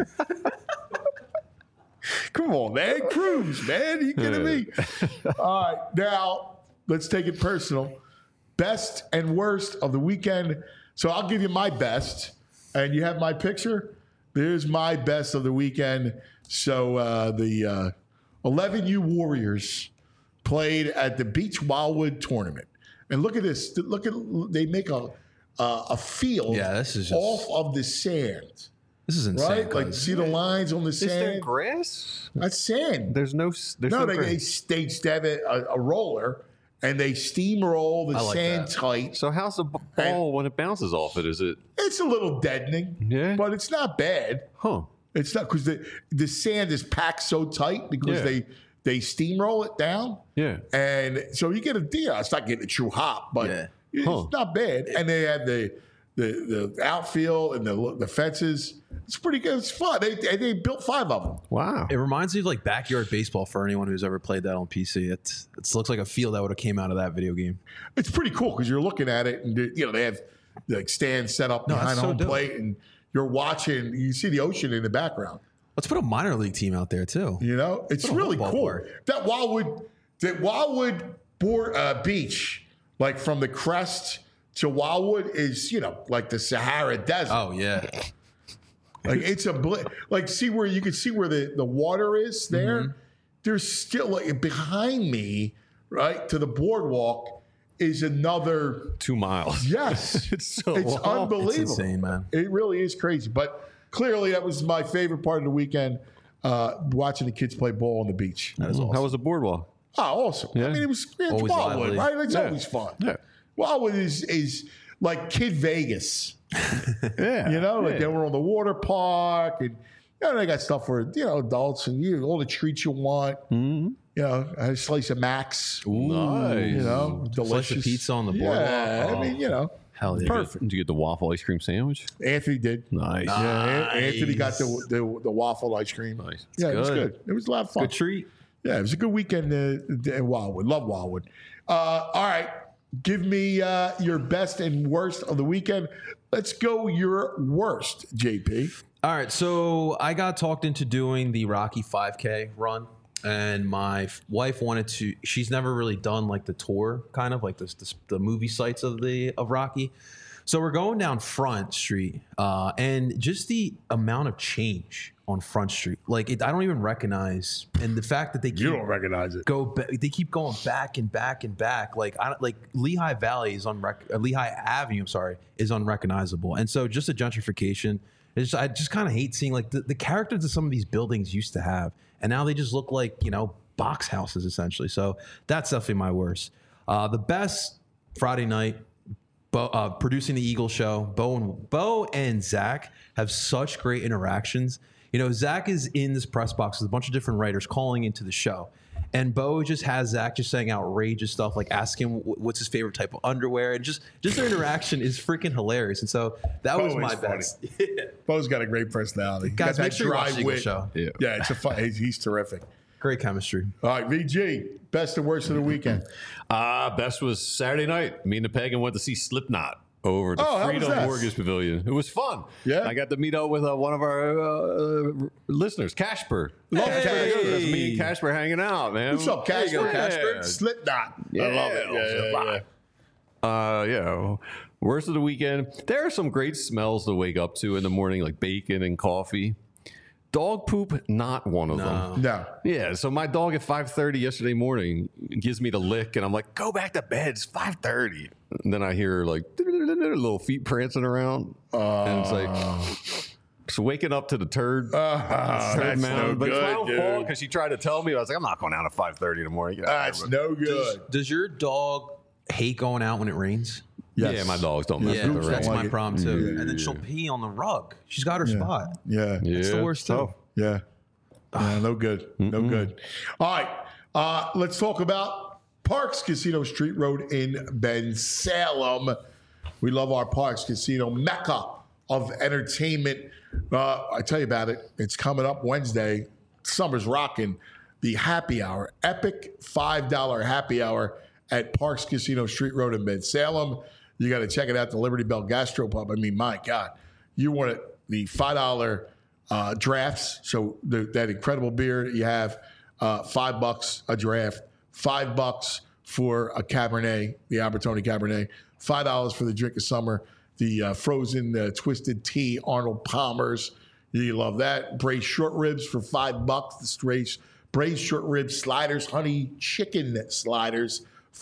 Come on, man. Cruz, man. You kidding me? All right. Now, let's take it personal. Best and worst of the weekend. So I'll give you my best. And you have my picture. There's my best of the weekend. So the 11U Warriors played at the Beach Wildwood tournament. And look at this. They make a field this is just- off of the sand. This is insane. Right? Like, see the lines on the Is there sand? grass? That's sand. There's no. There's No, no they grass. have a roller, and they steamroll the I like sand that. tight. So how's the ball when it bounces off it? Is it? It's a little deadening, Yeah. but it's not bad. Huh. It's not because the sand is packed so tight because Yeah. they steamroll it down. Yeah. And so you get a deal. It's not getting a true hop, but Yeah. it's Huh. not bad. And they had the outfield and the fences. It's pretty good. It's fun. They built 5 of them. Wow. It reminds me of like backyard baseball for anyone who's ever played that on PC. It looks like a field that would have came out of that video game. It's pretty cool because you're looking at it and they have like stands set up behind that's so home dope. plate and you're watching. You see the ocean in the background. Let's put a minor league team out there too. It's really whole cool. ballpark. That Wildwood Beach, like from the crest to Wildwood, is like the Sahara Desert. Oh yeah. Like it's like see where you can see where the water is there. Mm-hmm. There's still like behind me, right to the boardwalk is another 2 miles. Yes, It's so it's long. unbelievable. It's insane, man. It really is crazy. But clearly, that was my favorite part of the weekend. Watching the kids play ball on the beach. That is awesome. How was the boardwalk? Oh, awesome. Yeah. I mean, it's Always Wildwood, lively. right? It's Yeah. always fun. Yeah. Wildwood is like Kid Vegas. Yeah. Like they were on the water park and they got stuff for adults and all the treats you want. Mm-hmm. A slice of Max. Nice. Delicious Slice of pizza on the boardwalk. Yeah, Oh. I mean, Hell yeah. perfect. Did you get the waffle ice cream sandwich? Anthony did. Nice. Yeah, Anthony got the waffle ice cream. Nice. Yeah, it was good. good. It was a lot of fun. Good treat. Yeah, it was a good weekend in Wildwood. Love Wildwood. All right. Give me your best and worst of the weekend. Let's go your worst, JP. All right, so I got talked into doing the Rocky 5K run, and my wife wanted to. She's never really done like the tour, kind of like the movie sites of Rocky. So we're going down Front Street, and just the amount of change on Front Street, like I don't even recognize, and the fact that they keep, recognize it. they keep going back and back and back. Like Lehigh Valley is Lehigh Avenue, I'm sorry, is unrecognizable, and so just the gentrification. I just kind of hate seeing like the characters that some of these buildings used to have, and now they just look like box houses essentially. So that's definitely my worst. The best, Friday night. Producing the Eagle show, Bo and Zach have such great interactions. Zach is in this press box with a bunch of different writers calling into the show. And Bo just has Zach just saying outrageous stuff, like asking what's his favorite type of underwear. And just their interaction is freaking hilarious. And so that was my best. Bo's got a great personality. Guys, Got make that sure you watch dry the Eagle wit. show. Yeah. It's a fun. He's terrific. Great chemistry. All right, VG, best and worst of the weekend. Best was Saturday night. Me and the Pagan went to see Slipknot over at the Oh, how was Freedom that? Mortgage Pavilion. It was fun. Yeah? I got to meet up with one of our listeners, Casper. Love That's Casper. pretty good. That's me and Casper hanging out, man. What's up, Casper? Yeah. Casper? Slipknot. I love it. Yeah. Worst of the weekend. There are some great smells to wake up to in the morning, like bacon and coffee. Dog poop, not one of them. No. Yeah, so my dog at 5:30 yesterday morning gives me the lick, and I'm like, "Go back to bed. It's 5:30." And then I hear like little feet prancing around, and it's like, so waking up to the turd That's no but it's my good, own dude. fault because she tried to tell me. I was like, "I'm not going out at 5:30 in the morning." Get out of That's here. no good. Does your dog hate going out when it rains? Yes. Yeah, my dogs don't mess Yeah, with the that's rain. my like it. problem too. Yeah. And then she'll pee on the rug. She's got her spot. Yeah. It's the worst too. Yeah. No good. No good. All right. Let's talk about Parks Casino Street Road in Ben Salem. We love our Parks Casino, mecca of entertainment. I tell you about it. It's coming up Wednesday. Summer's rocking. The happy hour, epic $5 happy hour at Parks Casino Street Road in Ben Salem. You got to check it out, the Liberty Bell Gastropub. I mean, my God, you want it, the $5 drafts. So that incredible beer that you have, $5 a draft, $5 for a Cabernet, the Albertoni Cabernet, $5 for the drink of summer, the frozen twisted tea, Arnold Palmer's. You love that. Braised short ribs for $5. The braised short ribs sliders, honey chicken sliders,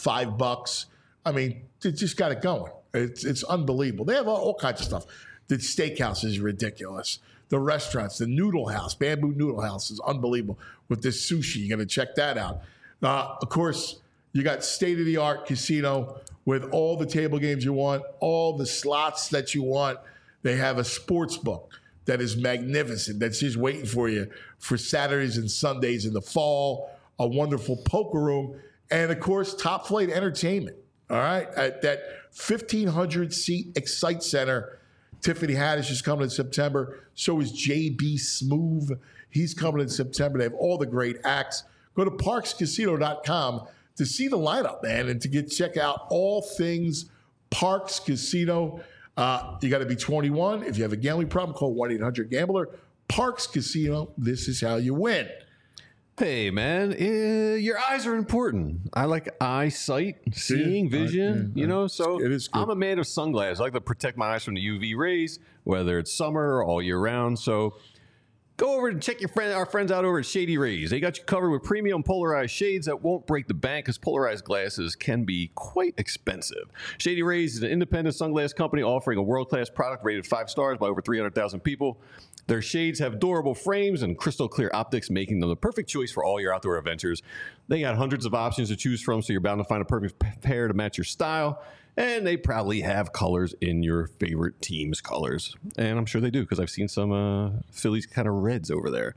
$5. I mean, they just got it going. It's unbelievable. They have all kinds of stuff. The steakhouse is ridiculous. The restaurants, the Noodle House, Bamboo Noodle House is unbelievable with this sushi. You're going to check that out. Of course, you got state-of-the-art casino with all the table games you want, all the slots that you want. They have a sports book that is magnificent, that's just waiting for you for Saturdays and Sundays in the fall, a wonderful poker room, and, of course, top-flight entertainment. All right, at that 1,500-seat Excite Center. Tiffany Haddish is coming in September. So is JB Smoove. He's coming in September. They have all the great acts. Go to parkscasino.com to see the lineup, man, and to check out all things Parks Casino. You got to be 21. If you have a gambling problem, call 1-800-GAMBLER. Parks Casino, this is how you win. Hey, man, your eyes are important. I like eyesight, seeing, vision, so it is good. I'm a man of sunglasses. I like to protect my eyes from the UV rays, whether it's summer or all year round. So go over and check our friends out over at Shady Rays. They got you covered with premium polarized shades that won't break the bank because polarized glasses can be quite expensive. Shady Rays is an independent sunglass company offering a world-class product rated 5 stars by over 300,000 people. Their shades have durable frames and crystal clear optics, making them the perfect choice for all your outdoor adventures. They got hundreds of options to choose from, so you're bound to find a perfect pair to match your style. And they probably have colors in your favorite team's colors. And I'm sure they do, because I've seen some Phillies kind of reds over there.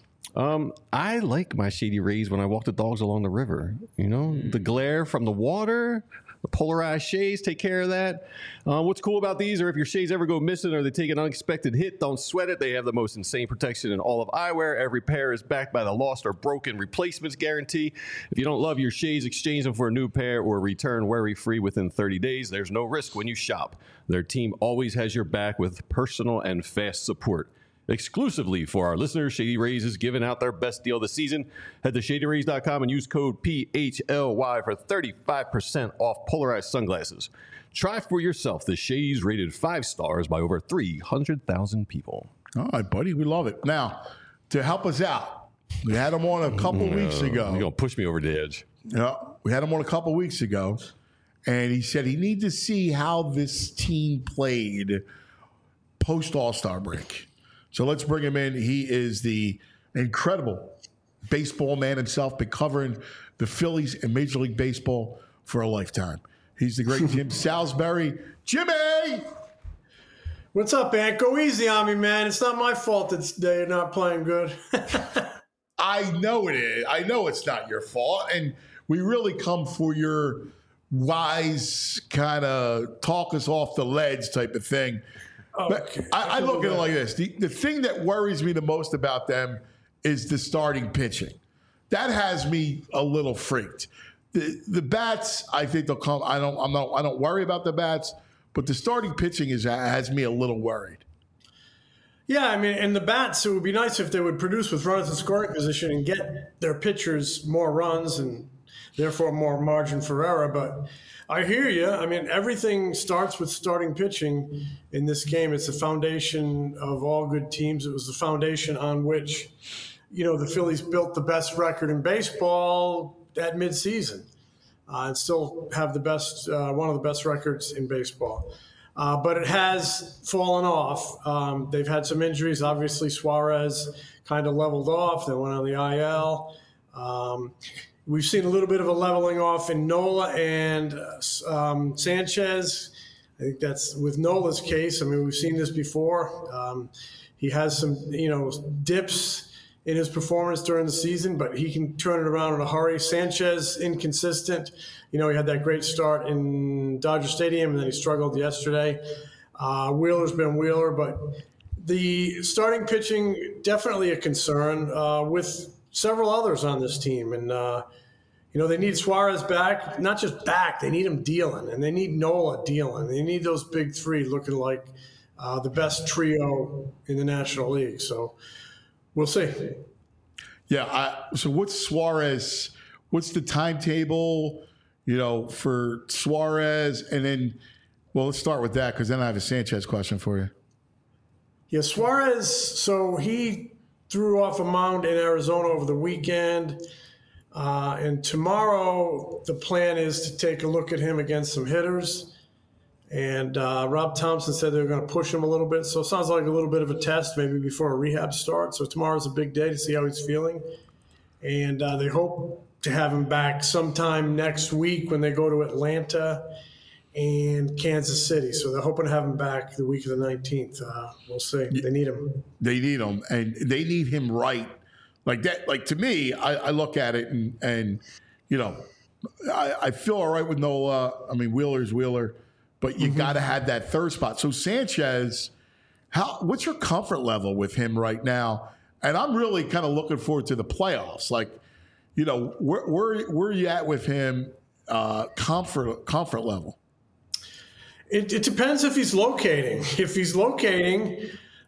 I like my Shady Rays when I walk the dogs along the river. The glare from the water, the polarized shades take care of that. What's cool about these are if your shades ever go missing or they take an unexpected hit, don't sweat it. They have the most insane protection in all of eyewear. Every pair is backed by the lost or broken replacements guarantee. If you don't love your shades, exchange them for a new pair or return worry-free within 30 days. There's no risk when you shop. Their team always has your back with personal and fast support. Exclusively for our listeners, Shady Rays is giving out their best deal this season. Head to ShadyRays.com and use code PHLY for 35% off polarized sunglasses. Try for yourself the shades rated 5 stars by over 300,000 people. All right, buddy. We love it. Now, to help us out, we had him on a couple weeks ago. You're going to push me over the edge. Yeah, we had him on a couple weeks ago, and he said he needs to see how this team played post All-Star break. So let's bring him in. He is the incredible baseball man himself, been covering the Phillies and Major League Baseball for a lifetime. He's the great Jim Salisbury. Jimmy! What's up, Ant? Go easy on me, man. It's not my fault that they're not playing good. I know it is. I know it's not your fault. And we really come for your wise kind of talk us off the ledge type of thing. But I look at it like this. The thing that worries me the most about them is the starting pitching. That has me a little freaked. The bats, I think they'll come. I don't worry about the bats, but the starting pitching has me a little worried. Yeah, I mean, and the bats, it would be nice if they would produce with runners in scoring position and get their pitchers more runs and therefore more margin for error. But I hear you. I mean, everything starts with starting pitching in this game. It's the foundation of all good teams. It was the foundation on which, the Phillies built the best record in baseball at midseason and still have the best, one of the best records in baseball. But it has fallen off. They've had some injuries. Obviously, Suarez kind of leveled off. They went on the IL. We've seen a little bit of a leveling off in Nola and Sanchez. I think that's with Nola's case. I mean, we've seen this before. He has some, dips in his performance during the season, but he can turn it around in a hurry. Sanchez, inconsistent. He had that great start in Dodger Stadium, and then he struggled yesterday. Wheeler's been Wheeler, but the starting pitching, definitely a concern with several others on this team. And, they need Suarez back, not just back, they need him dealing, and they need Nola dealing. They need those big three looking like the best trio in the National League. So we'll see. Yeah. So what's Suarez? What's the timetable, for Suarez? And then, well, let's start with that because then I have a Sanchez question for you. Yeah, Suarez, so he threw off a mound in Arizona over the weekend. And tomorrow, the plan is to take a look at him against some hitters. And Rob Thompson said they're going to push him a little bit. So it sounds like a little bit of a test maybe before a rehab starts. So tomorrow's a big day to see how he's feeling. And they hope to have him back sometime next week when they go to Atlanta and Kansas City. So they're hoping to have him back the week of the 19th. We'll see. They need him. They need him, and they need him right. Like that, like to me, I look at it and I feel all right with Nola. I mean, Wheeler's Wheeler, but you got to have that third spot. So Sanchez, what's your comfort level with him right now? And I'm really kind of looking forward to the playoffs. Like, you know, where are you at with him? Comfort level. It depends if he's locating. If he's locating,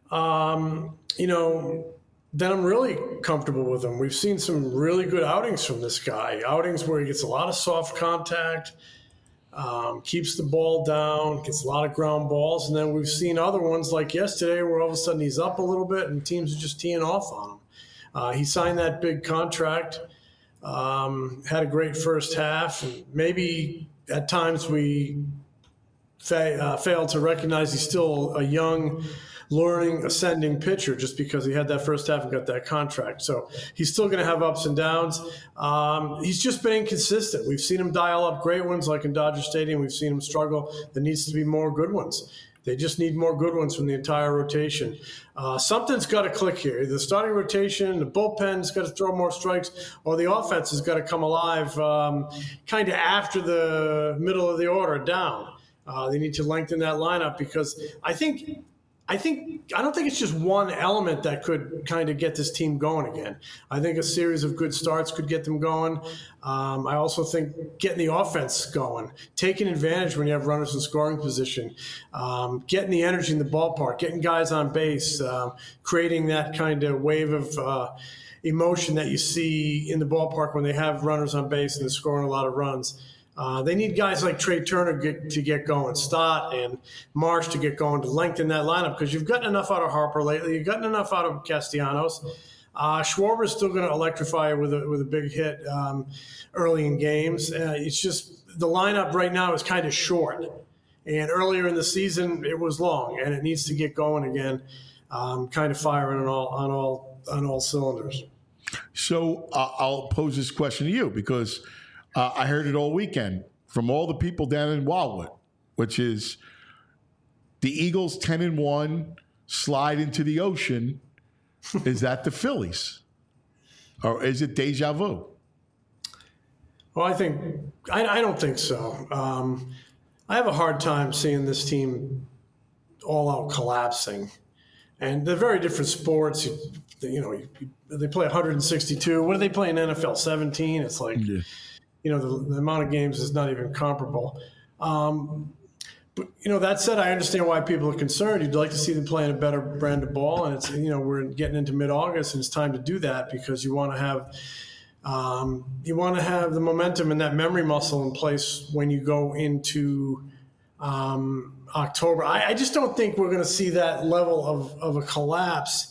you know, then I'm really comfortable with him. We've seen some really good outings from this guy. Outings where he gets a lot of soft contact, keeps the ball down, gets a lot of ground balls. And then we've seen other ones like yesterday where all of a sudden he's up a little bit and teams are just teeing off on him. He signed that big contract, had a great first half. And maybe at times we failed to recognize he's still a young, learning, ascending pitcher just because he had that first half and got that contract. So he's still going to have ups and downs. He's just been inconsistent. We've seen him dial up great ones like in Dodger Stadium. We've seen him struggle. There needs to be more good ones. They just need more good ones from the entire rotation. Something's got to click here. The starting rotation, the bullpen's got to throw more strikes, or the offense has got to come alive kind of after the middle of the order down. They need to lengthen that lineup because I don't think it's just one element that could kind of get this team going again. I think a series of good starts could get them going. I also think getting the offense going, taking advantage when you have runners in scoring position, getting the energy in the ballpark, getting guys on base, creating that kind of wave of emotion that you see in the ballpark when they have runners on base and they're scoring a lot of runs. They need guys like Trey Turner to get going, Stott and Marsh to get going, to lengthen that lineup because you've gotten enough out of Harper lately. You've gotten enough out of Castellanos. Schwarber's still going to electrify with a big hit early in games. It's just the lineup right now is kind of short. And earlier in the season, it was long, and it needs to get going again, kind of firing on all cylinders. So I'll pose this question to you because I heard it all weekend from all the people down in Wildwood, which is the Eagles 10-1 slide into the ocean. Is that the Phillies? Or is it deja vu? Well, I don't think so. I have a hard time seeing this team all out collapsing. And they're very different sports. They play 162. What do they play in NFL? 17? It's like... Yeah. The amount of games is not even comparable. But, that said, I understand why people are concerned. You'd like to see them playing a better brand of ball. And it's, we're getting into mid-August and it's time to do that because you want to have the momentum and that memory muscle in place when you go into October. I just don't think we're going to see that level of a collapse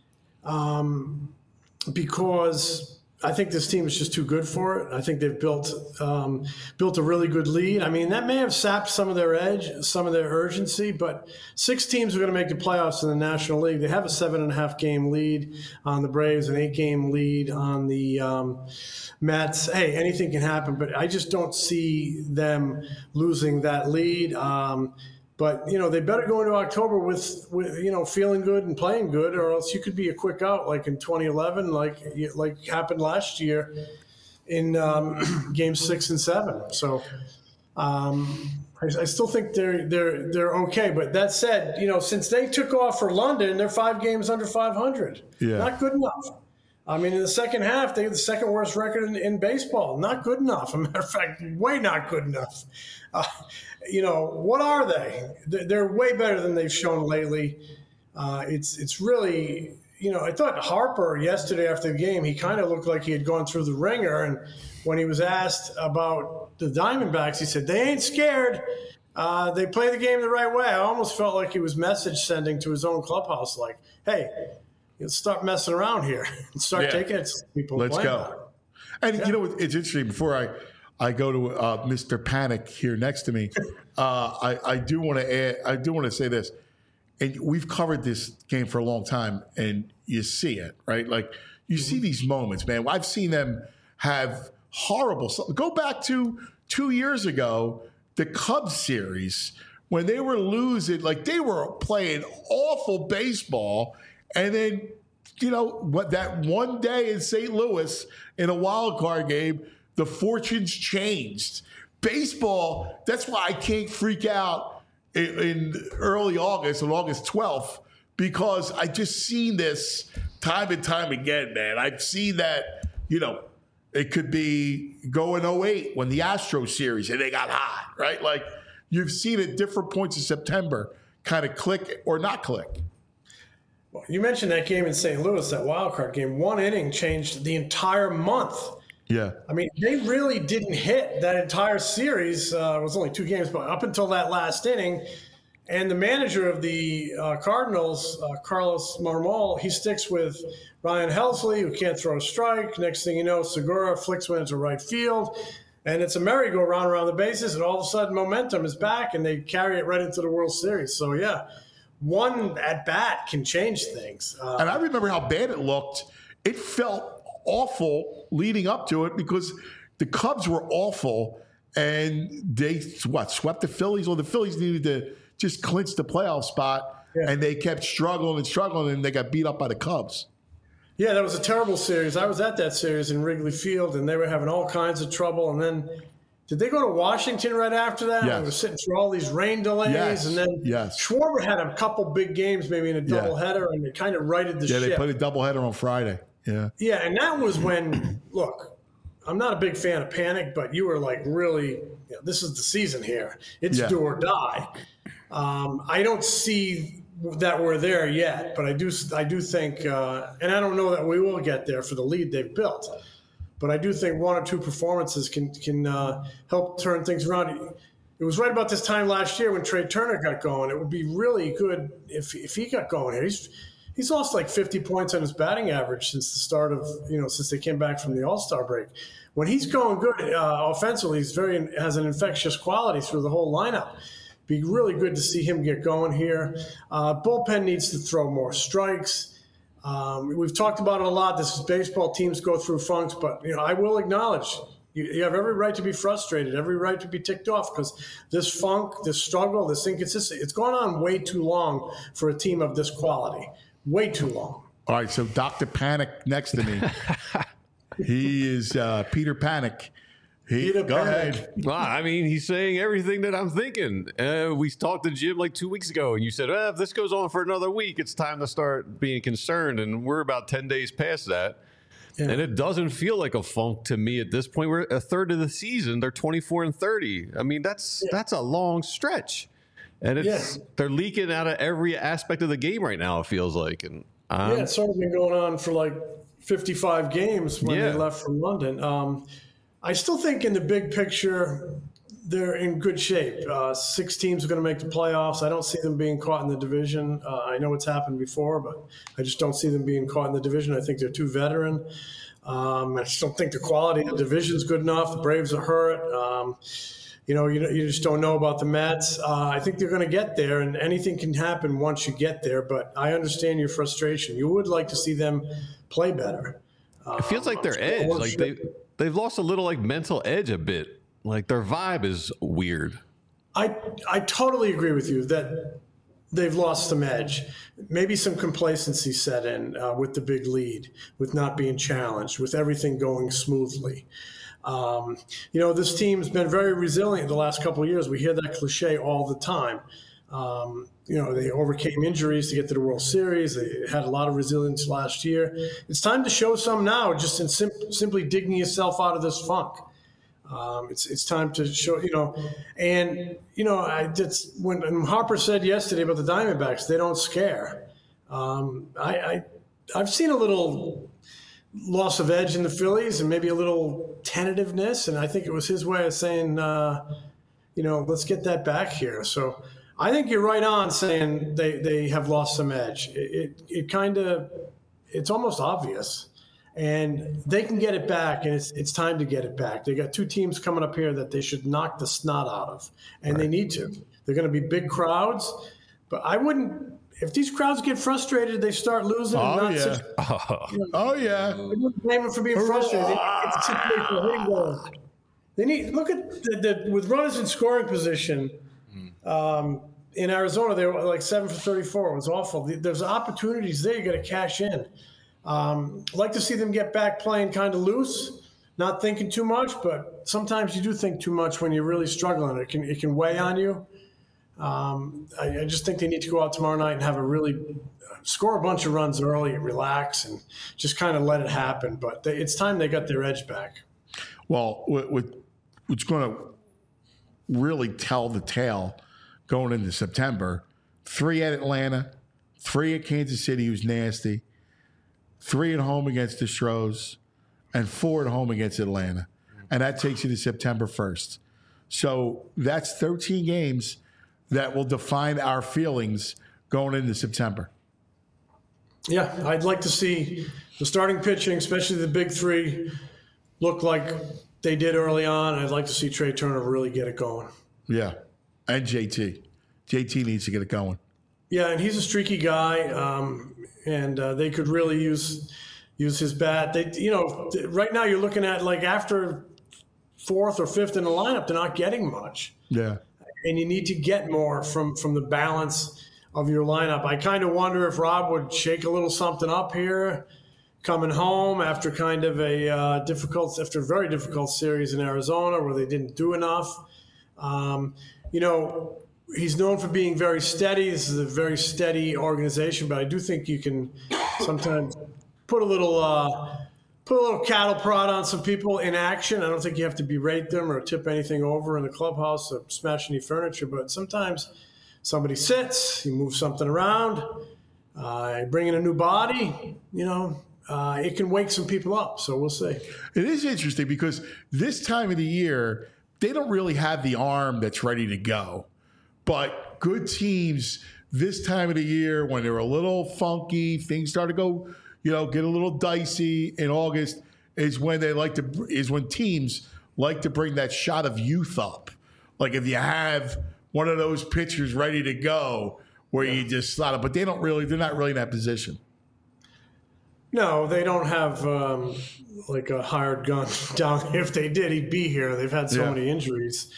because I think this team is just too good for it. I think they've built a really good lead. I mean, that may have sapped some of their edge, some of their urgency, but 6 teams are going to make the playoffs in the National League. They have a 7.5-game lead on the Braves, an 8-game lead on the Mets. Hey, anything can happen, but I just don't see them losing that lead. But, they better go into October with feeling good and playing good, or else you could be a quick out like in 2011, like happened last year in games 6 and 7. So I still think they're okay. But that said, since they took off for London, they're 5 games under 500. Yeah. Not good enough. I mean, in the second half, they had the second worst record in baseball. Not good enough. As a matter of fact, way not good enough. What are they? They're way better than they've shown lately. It's really, I thought Harper yesterday after the game, he kind of looked like he had gone through the ringer. And when he was asked about the Diamondbacks, he said, they ain't scared. They play the game the right way. I almost felt like he was message sending to his own clubhouse, like, hey, stop messing around here and start taking it to people. Let's go. And it's interesting. Before I go to Mr. Panic here next to me, I do want to say this, and we've covered this game for a long time, and you see it, right? Like you see these moments, man. I've seen them have horrible stuff. Go back to 2 years ago, the Cubs series when they were losing, like they were playing awful baseball. And then, that one day in St. Louis in a wild card game, the fortunes changed. Baseball, that's why I can't freak out in early August, on August 12th, because I just seen this time and time again, man. I've seen that, it could be go in 08 when the Astros series and they got hot, right? Like you've seen at different points in September kind of click or not click. Well, you mentioned that game in St. Louis, that wild card game. One inning changed the entire month. Yeah. I mean, they really didn't hit that entire series. It was only 2 games, but up until that last inning. And the manager of the Cardinals, Carlos Marmol, he sticks with Ryan Helsley, who can't throw a strike. Next thing you know, Segura flicks one into right field. And it's a merry-go-round around the bases, and all of a sudden momentum is back, and they carry it right into the World Series. So, yeah, one at-bat can change things. And I remember how bad it looked. It felt awful leading up to it because the Cubs were awful, and they, swept the Phillies? Well, the Phillies needed to just clinch the playoff spot, and they kept struggling, and they got beat up by the Cubs. Yeah, that was a terrible series. I was at that series in Wrigley Field, and they were having all kinds of trouble. And then, did they go to Washington right after that? Yes. They were sitting through all these rain delays. Yes. And then Schwarber had a couple big games, maybe in a doubleheader, and it kind of righted the ship. Yeah, they put a doubleheader on Friday. Yeah. Yeah, and that was when, look, I'm not a big fan of panic, but you were like, really, this is the season here. It's do or die. I don't see that we're there yet, but I do think, and I don't know that we will get there for the lead they've built, but I do think 1 or 2 performances can help turn things around. It was right about this time last year when Trey Turner got going. It would be really good if he got going here. He's lost like 50 points on his batting average since the start of, since they came back from the All-Star break. When he's going good offensively, has an infectious quality through the whole lineup. Be really good to see him get going here. Bullpen needs to throw more strikes. We've talked about it a lot. This is baseball. Teams go through funks, but I will acknowledge you have every right to be frustrated, every right to be ticked off, because this funk, this struggle, this inconsistency, it's gone on way too long for a team of this quality. Way too long. All right, so Dr. Panic next to me. He is Peter Panic. Go ahead. Well, I mean, he's saying everything that I'm thinking. We talked to Jim like 2 weeks ago, and you said, if this goes on for another week, it's time to start being concerned. And we're about 10 days past that. Yeah. And it doesn't feel like a funk to me at this point. We're a third of the season. They're 24-30. I mean, that's a long stretch. And they're leaking out of every aspect of the game right now, it feels like. And it's sort of been going on for like 55 games when they left from London. I still think in the big picture, they're in good shape. 6 teams are going to make the playoffs. I don't see them being caught in the division. I know it's happened before, but I just don't see them being caught in the division. I think they're too veteran. I just don't think the quality of the division is good enough. The Braves are hurt. You just don't know about the Mets. I think they're going to get there, and anything can happen once you get there. But I understand your frustration. You would like to see them play better. It feels like their edge, like they've lost a little like mental edge a bit. Like their vibe is weird. I totally agree with you that they've lost some edge. Maybe some complacency set in with the big lead, with not being challenged, with everything going smoothly. This team's been very resilient the last couple of years. We hear that cliche all the time. They overcame injuries to get to the World Series. They had a lot of resilience last year. It's time to show some now, just in simply digging yourself out of this funk. It's time to show, when Harper said yesterday about the Diamondbacks, they don't scare. I've seen a little loss of edge in the Phillies and maybe a little tentativeness, and I think it was his way of saying, let's get that back here. So I think you're right on saying they have lost some edge. It's almost obvious, and they can get it back, and it's time to get it back. They got 2 teams coming up here that they should knock the snot out of, and they need to. They're going to be big crowds, but I wouldn't. If these crowds get frustrated, they start losing. I wouldn't blame them for being frustrated. They need look at with runners in scoring position. In Arizona, they were like 7 for 34. It was awful. There's opportunities there. You got to cash in. I'd like to see them get back playing kind of loose, not thinking too much, but sometimes you do think too much when you're really struggling. It can weigh on you. I just think they need to go out tomorrow night and have score a bunch of runs early, relax, and just kind of let it happen. But it's time they got their edge back. Well, what's going to really tell the tale going into September, 3 at Atlanta, 3 at Kansas City, who's nasty, 3 at home against the Stros, and 4 at home against Atlanta. And that takes you to September 1st. So that's 13 games that will define our feelings going into September. Yeah, I'd like to see the starting pitching, especially the big 3, look like they did early on. I'd like to see Trey Turner really get it going. Yeah, and JT. JT needs to get it going. Yeah, and he's a streaky guy, and they could really use his bat. Right now you're looking at like after 4th or 5th in the lineup, they're not getting much. Yeah, and you need to get more from the balance of your lineup. I kind of wonder if Rob would shake a little something up here, coming home after kind of a very difficult series in Arizona where they didn't do enough. He's known for being very steady. This is a very steady organization, but I do think you can sometimes put a little cattle prod on some people in action. I don't think you have to berate them or tip anything over in the clubhouse or smash any furniture, but sometimes somebody sits, you move something around, bring in a new body, it can wake some people up. So we'll see. It is interesting because this time of the year, they don't really have the arm that's ready to go. But good teams this time of the year, when they're a little funky, things start to go, get a little dicey in August, is when teams like to bring that shot of youth up. Like if you have one of those pitchers ready to go where you just slot it, but they're not really in that position. No, they don't have like a hired gun down. If they did, he'd be here. They've had so many injuries.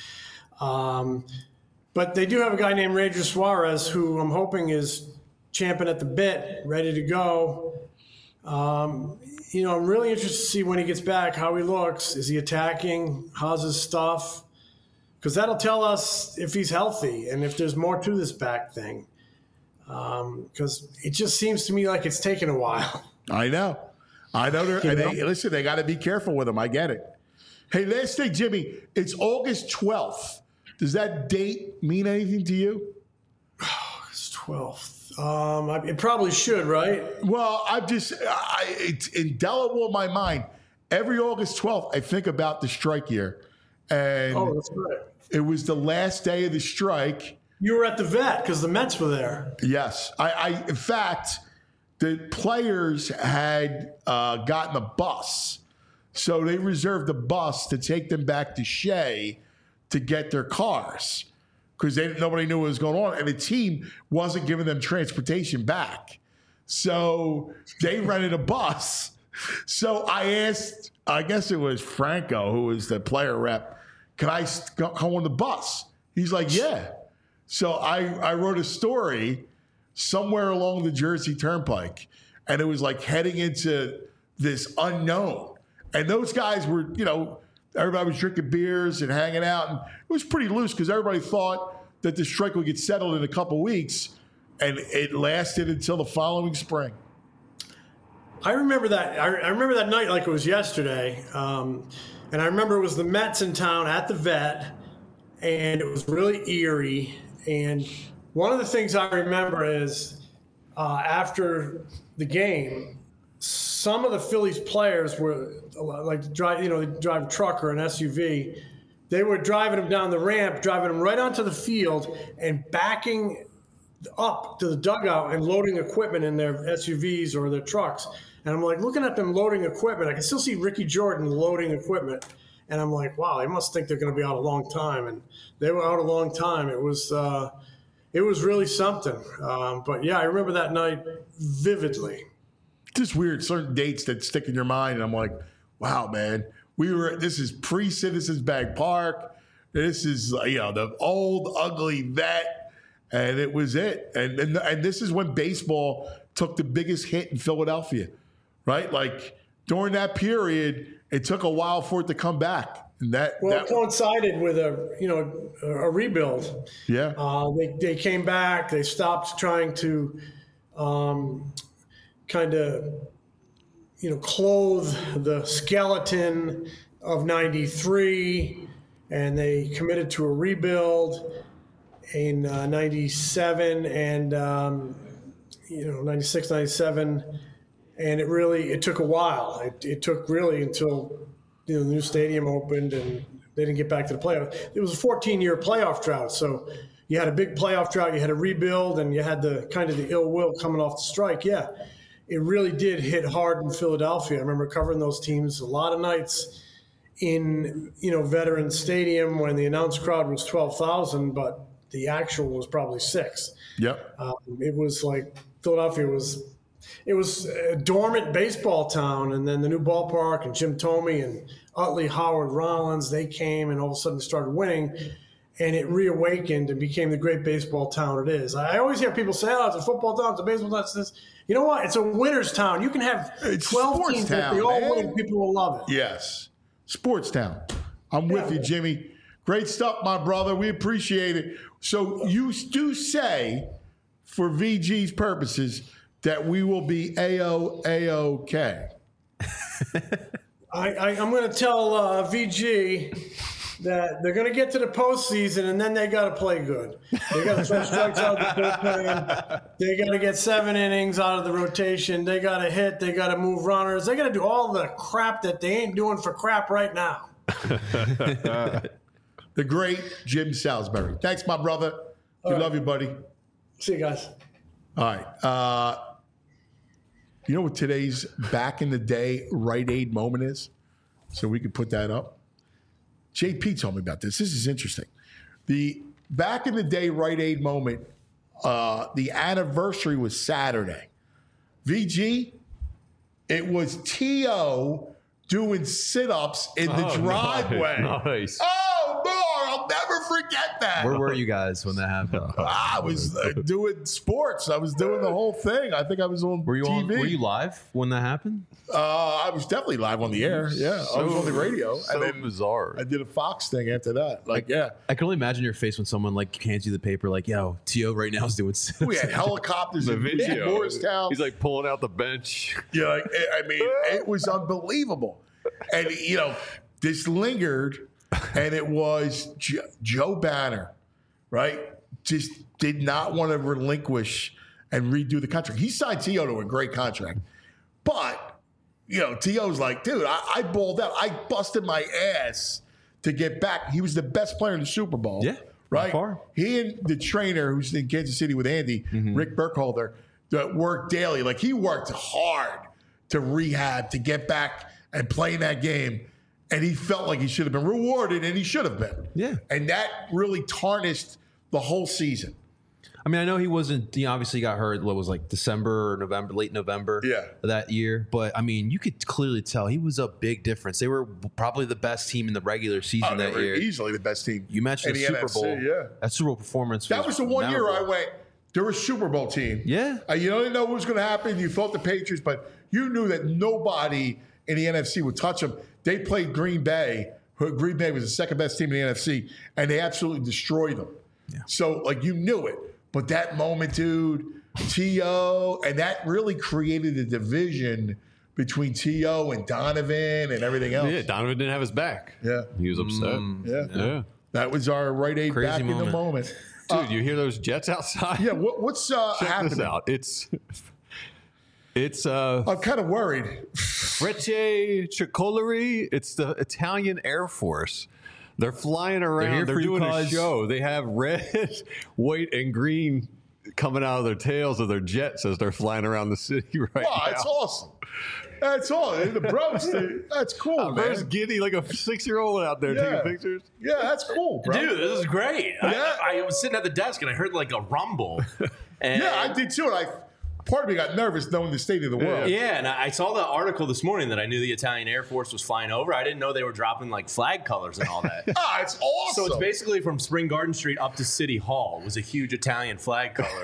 But they do have a guy named Ranger Suarez who I'm hoping is champing at the bit, ready to go. I'm really interested to see when he gets back, how he looks. Is he attacking? How's his stuff? Because that'll tell us if he's healthy and if there's more to this back thing. Because it just seems to me like it's taken a while. I know. Listen, they got to be careful with him. I get it. Hey, last thing, Jimmy, it's August 12th. Does that date mean anything to you? August 12th. It probably should, right? Well, it's indelible in my mind. Every August 12th, I think about the strike year. And that's right. It was the last day of the strike. You were at the vet because the Mets were there. Yes. In fact, the players had gotten a bus. So they reserved the bus to take them back to Shea to get their cars because nobody knew what was going on. And the team wasn't giving them transportation back. So they rented a bus. So I asked, I guess it was Franco, who was the player rep, can I come on the bus? He's like, yeah. So I wrote a story somewhere along the Jersey Turnpike, and it was like heading into this unknown. And those guys were, everybody was drinking beers and hanging out, and it was pretty loose because everybody thought that the strike would get settled in a couple weeks, and it lasted until the following spring. I remember that. I remember that night like it was yesterday, and I remember it was the Mets in town at the vet, and it was really eerie. And one of the things I remember is after the game, some of the Phillies players were like they drive a truck or an SUV. They were driving them down the ramp, driving them right onto the field, and backing up to the dugout and loading equipment in their SUVs or their trucks. And I'm like looking at them loading equipment. I can still see Ricky Jordan loading equipment. And I'm like, wow, they must think they're going to be out a long time. And they were out a long time. It was really something. But yeah, I remember that night vividly. Just weird, certain dates that stick in your mind. And I'm like, wow, man, this is pre-Citizens Bank Park. This is, the old, ugly vet. And it was it. And this is when baseball took the biggest hit in Philadelphia, right? Like during that period, it took a while for it to come back. And that it coincided with a rebuild. Yeah. They came back. They stopped trying to kind of clothe the skeleton of '93, and they committed to a rebuild in '97 and 96, 97, and it took a while. It took really until the new stadium opened and they didn't get back to the playoffs. It was a 14-year playoff drought, so you had a big playoff drought, you had a rebuild, and you had the kind of the ill will coming off the strike. Yeah, it really did hit hard in Philadelphia. I remember covering those teams a lot of nights in Veterans Stadium when the announced crowd was 12,000, but the actual was probably 6. Yep. It was like Philadelphia was a dormant baseball town, and then the new ballpark and Jim Thome and Utley, Howard, Rollins, they came and all of a sudden started winning, and it reawakened and became the great baseball town it is. I always hear people say, it's a football town, it's a baseball town, it's this. You know what? It's a winner's town. You can have 12 teams, if they all win, people will love it. Yes. Sports town. I'm with you, Jimmy. Great stuff, my brother. We appreciate it. So you do say, for VG's purposes, that we will be A-OK. I'm going to tell VG that they're going to get to the postseason, and then they got to play good. They got to throw strikes out of the bullpen. They got to get 7 innings out of the rotation. They got to hit. They got to move runners. They got to do all the crap that they ain't doing for crap right now. The great Jim Salisbury. Thanks, my brother. We love you, buddy. See you guys. All right. You know what today's back in the day Rite Aid moment is? So we could put that up. JP told me about this. This is interesting. The back in the day Rite Aid moment, the anniversary was Saturday. VG, it was T.O. doing sit-ups in the driveway. Nice. Oh, boy, I'll never forget that. Where were you guys when that happened? I was doing sports. I was doing the whole thing. I think I was on TV. Were you live when that happened? I was definitely live on the air. Yeah, I was on the radio. So and then bizarre. I did a Fox thing after that. I can only imagine your face when someone hands you the paper, yo, T.O. right now is doing sit-ups. We had helicopters The in video. Morristown. He's pulling out the bench. Yeah, it was unbelievable. And, this lingered, and it was Joe Banner, right? Just did not want to relinquish and redo the contract. He signed T.O. to a great contract. But, T.O.'s like, dude, I balled out. I busted my ass to get back. He was the best player in the Super Bowl. Yeah. Right? By far. He and the trainer who's in Kansas City with Andy, Rick Burkholder, that worked daily. He worked hard to rehab, to get back and play in that game. And he felt like he should have been rewarded, and he should have been. Yeah. And that really tarnished the whole season. I mean, I know he wasn't, obviously got hurt, December or November, late November of that year. But, I mean, you could clearly tell he was a big difference. They were probably the best team in the regular season that year. Easily the best team. You mentioned the Super Bowl. Yeah. That Super Bowl performance That was the one year I went, they were a Super Bowl team. Yeah. You didn't know what was going to happen. You felt the Patriots, but you knew that nobody in the NFC would touch them. They played Green Bay. Green Bay was the second best team in the NFC, and they absolutely destroyed them. Yeah. So, you knew it. But that moment, dude, T.O., and that really created a division between T.O. and Donovan and everything else. Yeah, Donovan didn't have his back. Yeah. He was upset. Yeah. That was our Rite Aid Crazy back moment. in the moment. Dude, you hear those jets outside? Yeah, what's Check happening? this out. It's I'm kind of worried. Frecce Tricolori. It's the Italian Air Force. They're flying around. They're doing a show. They have red, white, and green coming out of their tails of their jets as they're flying around the city right now. That's awesome. That's all. The bros, that's cool, man. Bro's giddy like a 6-year-old out there taking pictures. Yeah, that's cool, bro. Dude, this is great. Yeah. I was sitting at the desk and I heard a rumble. And Yeah, I did too. And part of me got nervous knowing the state of the world. Yeah, and I saw the article this morning that I knew the Italian Air Force was flying over. I didn't know they were dropping flag colors and all that. It's awesome. So it's basically from Spring Garden Street up to City Hall was a huge Italian flag color.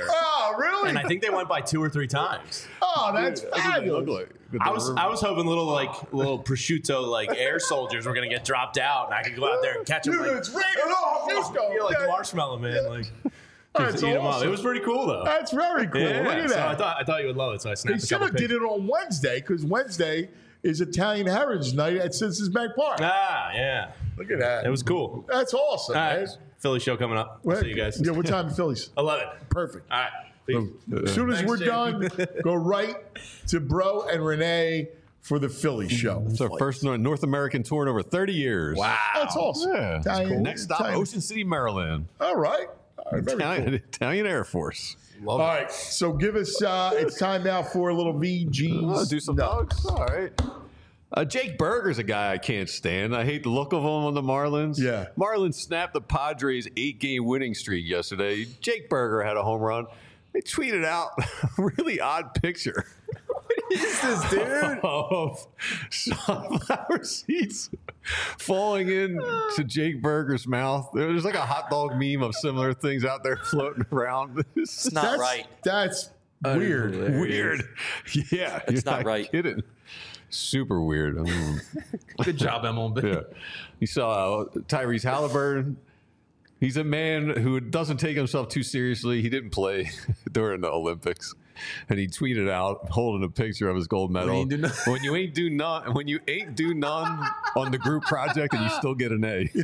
Oh, really? And I think they went by 2 or 3 times. Oh, that's fabulous. I was hoping little prosciutto air soldiers were gonna get dropped out, and I could go out there and catch them. Dude, it's raining off Houston. Yeah, like Marshmallow Man, That's eat 'em up. awesome. It was pretty cool though. That's very cool. Yeah, Look at so that. I thought you would love it, so I They snapped a should couple have did pictures. it on Wednesday because Wednesday is Italian Heritage Night at Citizens Bank Park. Ah, yeah. Look at that. It was cool. That's awesome. All right. Man. Philly show coming up. I'll see you guys. Yeah, what time in Phillies? 11. Perfect. All right. Peace. As soon as Thanks, we're Jay. done, go right to Bro and Renee for the Philly show. It's our first North American tour in over 30 years. Wow. That's awesome. Yeah, that's Italian- cool. Next stop, Italian- Ocean City, Maryland. All right. Very cool. Italian Air Force. All right. So give us, it's time now for a little VG's. Do some dogs. All right. Jake Berger's a guy I can't stand. I hate the look of him on the Marlins. Yeah. Marlins snapped the Padres' 8-game winning streak yesterday. Jake Berger had a home run. They tweeted out a really odd picture. What is this, dude? Of sunflower seeds falling into Jake Berger's mouth. There's like a hot dog meme of similar things out there floating around. It's not right. That's weird. Weird. Yeah. It's you're not right. Kidding. Super weird. I mean, Good job, MLB. yeah. You saw Tyrese Halliburton. He's a man who doesn't take himself too seriously. He didn't play during the Olympics, and he tweeted out holding a picture of his gold medal. When you ain't do none on the group project, and you still get an A.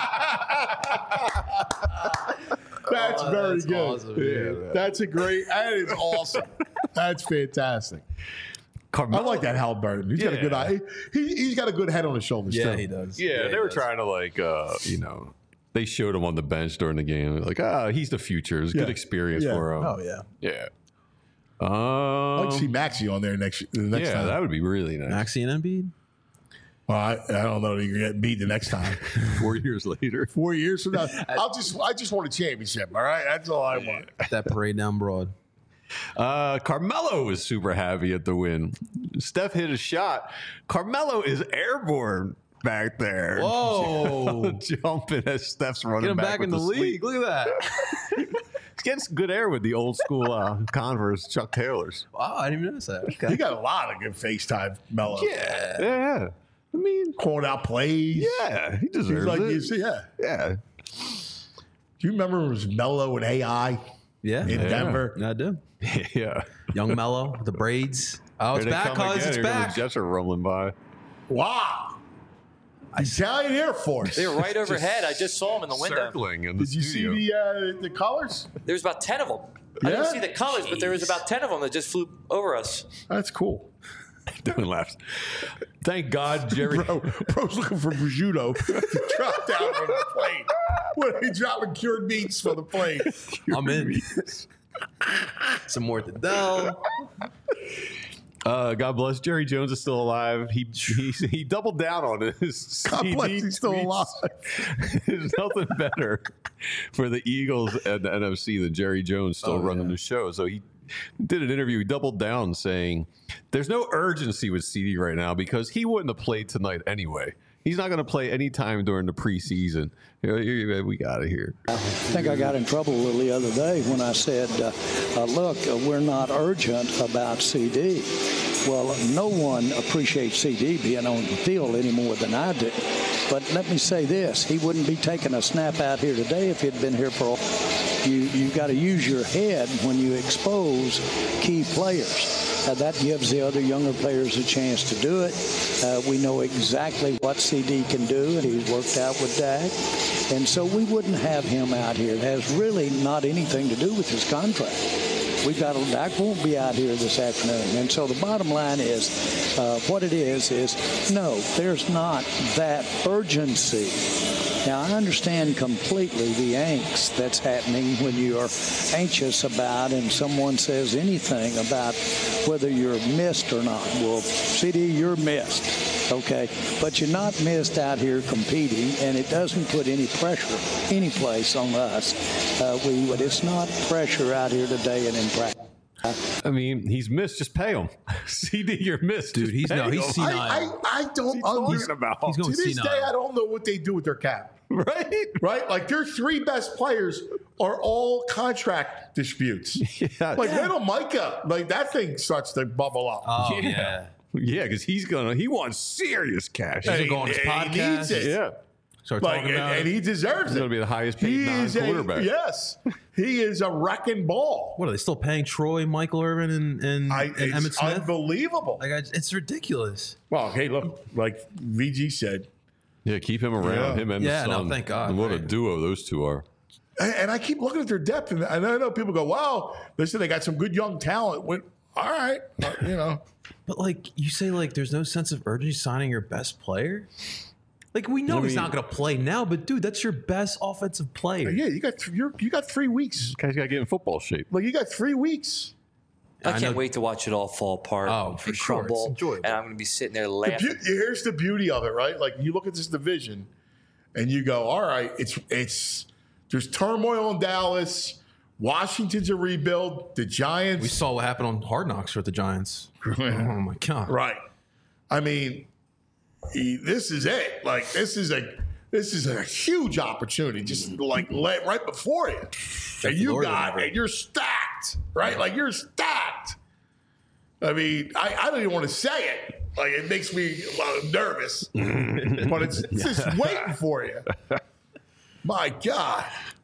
That's very good. awesome, Yeah, that's a great. That is awesome. That's fantastic. I like that Halliburton. He's got a good eye. He's got a good head on his shoulders too. Yeah, he does. Yeah, they were does. trying to they showed him on the bench during the game. Like, he's the future. It's a good experience for him. Oh, yeah. Yeah. I'd like to see Maxey on there next time. That would be really nice. Maxey and Embiid? Well, I don't know that he can get beat the next time. 4 years later. 4 years from now, I just want a championship. All right, that's all I want. That parade down Broad. Carmelo was super happy at the win. Steph hit a shot. Carmelo is airborne back there. Whoa. Jumping as Steph's running Get him back with in the sleep. league. Look at that. He's getting some good air with the old school Converse Chuck Taylors. Wow, I didn't even notice that. Okay. He got a lot of good FaceTime, Melo. Yeah. I mean, calling out plays. Yeah, he deserves it. Yeah. Do you remember it was Melo and AI? Yeah. In Denver? I do. Yeah. Young Mello, the braids. Oh, it's Here they back, come cuz. again. It's Here come back. The Jets are rolling by. Wow. Italian Air Force. They were right overhead. I just saw them in the window. Circling in the Did you studio. see the colors? There was about 10 of them. I didn't Yeah? see the colors, but there was about 10 of them that just flew over us. That's cool. Dylan laughs. Thank God, Jerry. Bro's looking for prosciutto to drop down from the plane. What are they dropping cured meats from the plane? I'm in. Some more to Dell. God bless. Jerry Jones is still alive. He doubled down on his God CD bless, he's still tweets. alive. There's nothing better for the Eagles and the NFC than Jerry Jones still running the show. So he did an interview. He doubled down saying there's no urgency with CD right now because he wouldn't have played tonight anyway. He's not going to play any time during the preseason. We got it here. I think I got in trouble a little the other day when I said, look, we're not urgent about CD. Well, no one appreciates CD being on the field any more than I do. But let me say this. He wouldn't be taking a snap out here today if he'd been here for you got to use your head when you expose key players. That gives the other younger players a chance to do it. We know exactly what CD can do, and he's worked out with Dak. And so we wouldn't have him out here. It has really not anything to do with his contract. Dak won't be out here this afternoon. And so the bottom line is, what it is no, there's not that urgency. Now, I understand completely the angst that's happening when you are anxious about and someone says anything about whether you're missed or not. Well, CD, you're missed, okay? But you're not missed out here competing, and it doesn't put any pressure any place on us. It's not pressure out here today and in practice. I mean, he's missed. Just pay him. CD, you're missed. Dude, he's senile. senile. I don't understand. About? He's going To this senile. day, I don't know what they do with their cap. Right? Like their three best players are all contract disputes. Like little Micah, like that thing starts to bubble up. Oh, yeah. Yeah, because he wants serious cash. He's gonna go on his podcast. He needs it. Yeah. Start Like, talking about and it. he deserves He's it. going to be the highest paid non-quarterback. Yes. He is a wrecking ball. What are they still paying Troy, Michael Irvin, and It's Emmitt Smith? unbelievable. Like, it's ridiculous. Well, hey, look, like VG said. Yeah, keep him around. Yeah. Him and Yeah, the no, son. thank God, And what a right. duo those two are. And I keep looking at their depth, and I know people go, "Wow, listen, they got some good young talent." All right, you know. But like you say, like there's no sense of urgency signing your best player. Like we know he's not going to play now, but dude, that's your best offensive player. Yeah, you got 3 weeks. This guy's got to get in football shape. Like you got 3 weeks. I can't wait to watch it all fall apart. Oh, for and sure. It's crumble, enjoyable. and I'm going to be sitting there laughing. Here's the beauty of it, right? Like you look at this division, and you go, "All right, it's there's turmoil in Dallas. Washington's a rebuild. The Giants." We saw what happened on Hard Knocks with the Giants. Oh my god! Right. I mean, this is it. Like this is a huge opportunity, just like right before you, and you're stacked, right? Like you're stacked. I mean, I don't even want to say it. Like it makes me nervous, but it's just waiting for you. My God.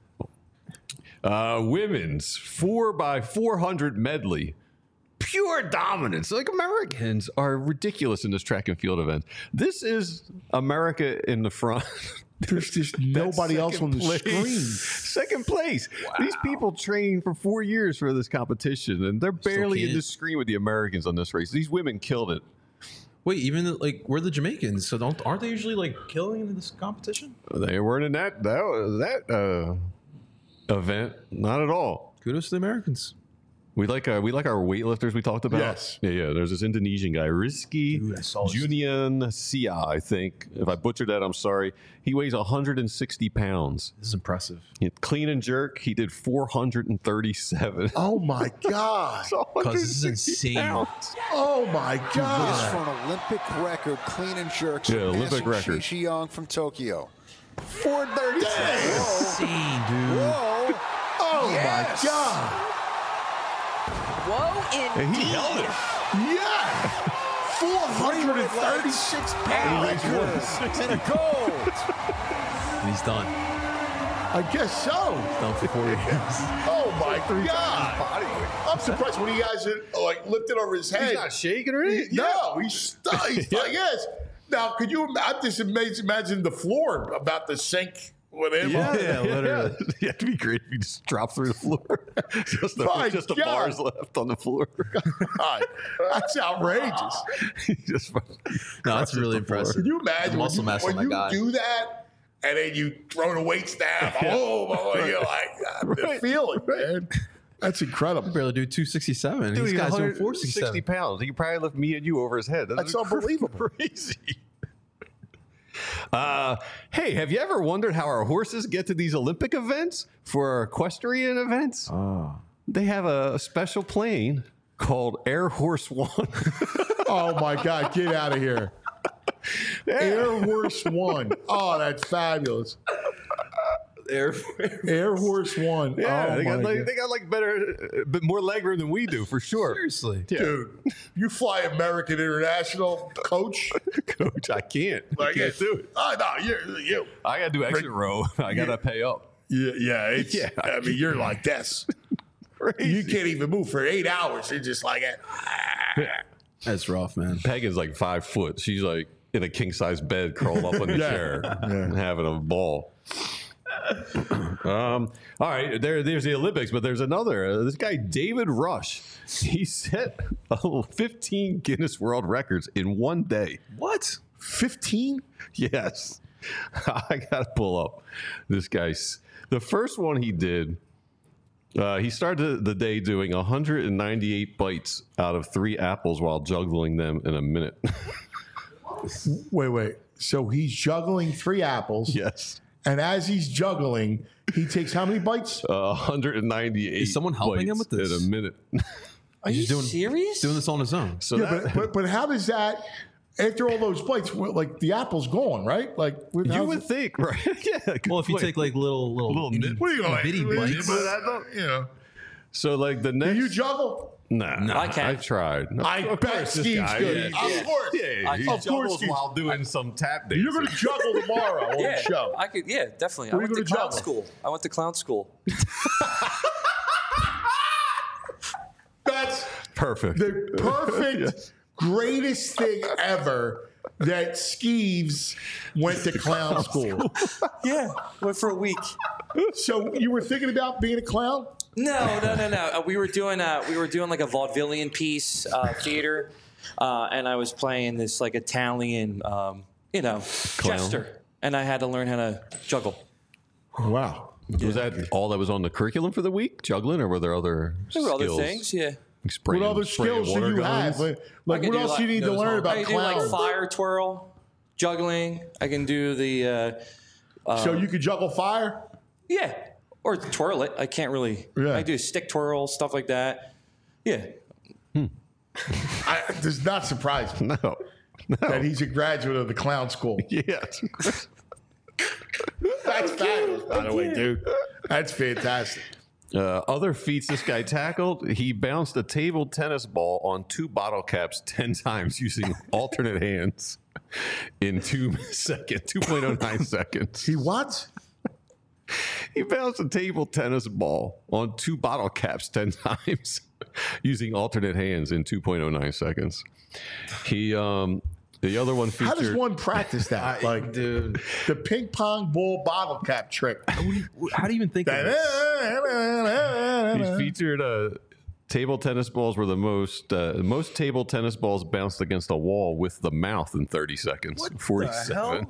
Women's 4x400 medley. Pure dominance. Like Americans are ridiculous in this track and field event. This is America in the front. There's just nobody else on the screen. Second place. These people trained for 4 years for this competition, and they're barely in the screen with the Americans on this race. These women killed it. Wait, even like we're the Jamaicans, so aren't they usually like killing in this competition? They weren't in that event, not at all. Kudos to the Americans. We like our weightlifters we talked about. Yes. Yeah. There's this Indonesian guy, Rizky Junian Sia, I think. If I butchered that, I'm sorry. He weighs 160 pounds. This is impressive. Clean and jerk, he did 437. Oh my God! Because this is insane. Oh my This God! for an Olympic record, clean and jerks. Yeah, Olympic record. Shi Young from Tokyo. 437. Insane, dude. Whoa. Oh Yes. my God! Whoa, And he held it. Yeah! 436 pounds. And gold. And he's done. I guess so. Done for 4 years. Oh my God! I'm surprised when he has it like lifted over his head. He's not shaking or anything? No, he's stuck. He's like, yes. Now, could you? I'm just imagine the floor about to sink with him. Yeah, literally. Yeah, it'd be great if you just drop through the floor. just My the God. bars left on the floor. God, that's outrageous. Just No, that's really impressive. Can you imagine Muscle mass on when that you guy. do that and then you throw the weights down? Oh, boy, you're like, the feeling, man. That's incredible. Barely do 267. Dude, These he's guys doing 160 467. pounds. He could probably lift me and you over his head. That's unbelievable. Crazy. Hey, have you ever wondered how our horses get to these Olympic events for our equestrian events? They have a special plane called Air Horse One. Oh my God, get out of here. Air Horse One. Oh, that's fabulous. Air Horse One. Yeah, oh they got my like God. they got like better, but more legroom than we do for sure. Seriously. Dude, you fly American International, coach. Coach, I can't. I Like, can't do it. Oh, no, you. I got to do exit row. I got to pay up. Yeah, it's, Yeah. I mean, you're like this. Crazy. You can't even move for 8 hours. You're just like, That's rough, man. Megan's like 5 foot. She's like in a king size bed, curled up on the chair, and having a ball. All right, there's the Olympics, but there's another. This guy David Rush, he set 15 Guinness World Records in one day. What? 15? Yes, I gotta pull up this guy's. The first one he did. He started the day doing 198 bites out of 3 apples while juggling them in a minute. Wait. So he's juggling 3 apples. Yes. And as he's juggling, he takes how many bites? 198. Is someone helping him with this? In a minute? Are you serious? Doing this on his own. So Yeah, but how does that? after all those bites, like the apple's gone, right? Like You would think, right? Yeah. Well, if you take like little nip- what are you going bitty bites. So like the next, Do you juggle? Nah, I can't. I tried. I Of bet course, this Steve's guy, good. yeah. Of course. Yeah, he Of course juggles Steve's- while doing some tap dancing. You're going to juggle tomorrow on Yeah, the show. I could. Yeah, definitely. Where I you went to gonna clown juggle? school. I went to clown school. That's Perfect. the perfect, greatest thing ever that Skeeves went to clown school. Yeah, went for a week. So you were thinking about being a clown? No. We were doing like a vaudevillian piece, theater, and I was playing this like Italian, jester, and I had to learn how to juggle. Wow. Was that all that was on the curriculum for the week, juggling, or were there other There were skills? other things, yeah. Like spraying, What other spraying skills do water you guns? have? Like I what can do else like- do you need to learn I about can do like clowns? fire twirl, juggling. I can do the So you could juggle fire? yeah, or twirl it. I can't really. Yeah. I do stick twirl, stuff like that. Yeah. Does not surprise me No. that he's a graduate of the clown school. Yes. That's fabulous, by the way, dude. That's fantastic. Other feats this guy tackled, he bounced a table tennis ball on 2 bottle caps 10 times using alternate hands in 2.09 seconds. He what? He bounced a table tennis ball on 2 bottle caps 10 times using alternate hands in 2.09 seconds. He, the other one featured. How does one practice that? Like, dude, the ping pong ball bottle cap trick. how do you even think of this? He featured table tennis balls were the most table tennis balls bounced against a wall with the mouth in 30 seconds. 47.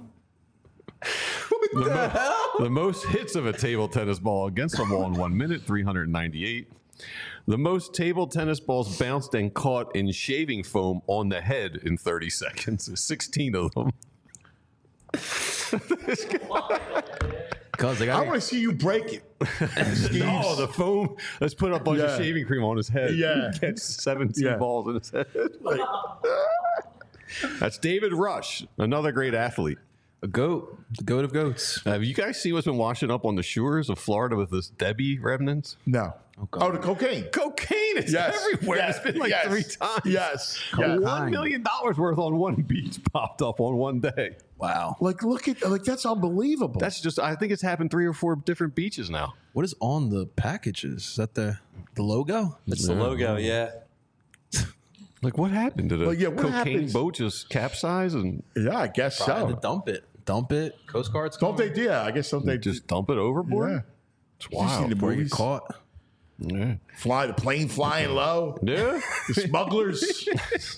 The most hits of a table tennis ball against a wall in 1 minute, 398. The most table tennis balls bounced and caught in shaving foam on the head in 30 seconds. 16 of them. Cause I want to see you break it. Oh, the foam. Let's put a bunch of shaving cream on his head. Yeah. Catch 17 balls in his head. That's David Rush, another great athlete. A goat, the goat of goats. Have you guys seen what's been washing up on the shores of Florida with this Debbie remnants? No. Oh, the cocaine. Cocaine is everywhere. Yes. It's been like 3 times. Yes. $1 million worth on one beach popped up on one day. Wow. Like, look at, like, that's unbelievable. That's just, I think it's happened 3 or 4 different beaches now. What is on the packages? Is that the logo? It's the logo, yeah. Like, what happened to the Like, yeah, what cocaine happens- boat just capsize and Yeah, I guess so. Dump it. Coast Guard's Don't they? Yeah, I guess don't they just dump it overboard? Yeah. It's You see wild. the before you movies? get caught? Yeah. Fly the plane flying low. Yeah. The smugglers.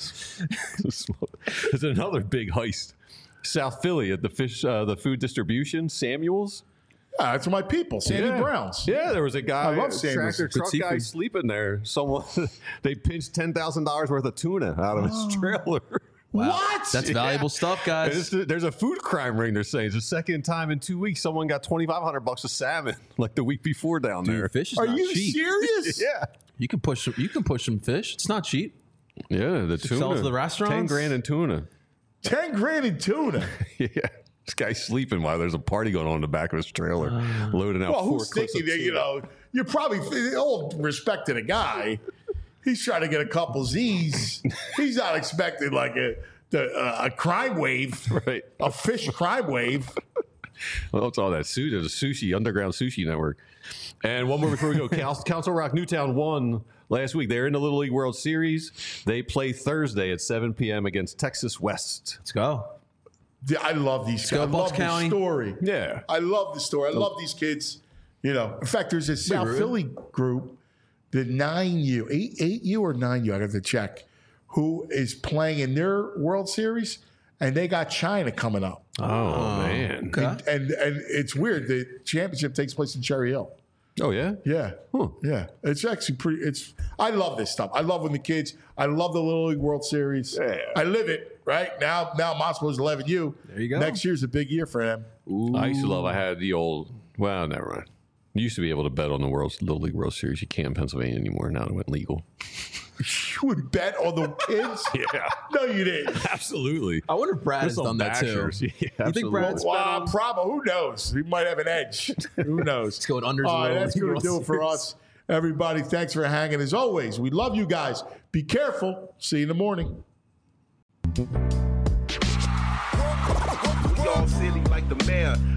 There's another big heist. South Philly at the food distribution, Samuel's. Yeah, that's my people, Sandy Brown's. Yeah, there was a guy, I love Samuel's. tractor Good truck guy seafood. sleeping there. Someone they pinched $10,000 worth of tuna out of his trailer. Wow. What? That's valuable stuff, guys. There's a food crime ring. They're saying it's the second time in 2 weeks someone got $2,500 of salmon like the week before down there. Dude, fish is Are not you cheap. serious? Yeah, You can push some fish. It's not cheap. yeah. The tuna. sell to the restaurants? 10 grand in tuna. 10 grand in tuna. Yeah. This guy's sleeping while there's a party going on in the back of his trailer, loading out Well, 4 who's clips thinking of that, you tuna. know, you're probably, all respect to the guy, he's trying to get a couple Z's. He's not expecting like a crime wave, Right. a fish crime wave. Well, it's all that sushi. There's a sushi, underground sushi network. And one more before we go. Council Rock Newtown won last week. They're in the Little League World Series. They play Thursday at 7 p.m. against Texas West. Let's go. Yeah, I love these guys. I Bucks love County. the story. Yeah. I love the story. I love these kids. You know, in fact, there's a South Philly group, the 9U, 8U or 9U, I got to check, who is playing in their World Series, and they got China coming up. Oh, man. Okay. And it's weird. The championship takes place in Cherry Hill. Oh, yeah? Yeah. Huh. Yeah. It's actually I love this stuff. I love when the kids, I love the Little League World Series. Yeah. I live it, right? Now Moscow's 11U. There you go. Next year's a big year for them. I used to love, I had the old, well, never mind. You used to be able to bet on the Little League World Series. You can't in Pennsylvania anymore. Now it went legal. You would bet on the kids? Yeah. No, you didn't. Absolutely. I wonder if Brad has done that too. Yeah, you think Brad's probably? Who knows? He might have an edge. Who knows? It's going unders. All right, that's going to do it for us. Everybody, thanks for hanging. As always, we love you guys. Be careful. See you in the morning. We all silly like the mayor.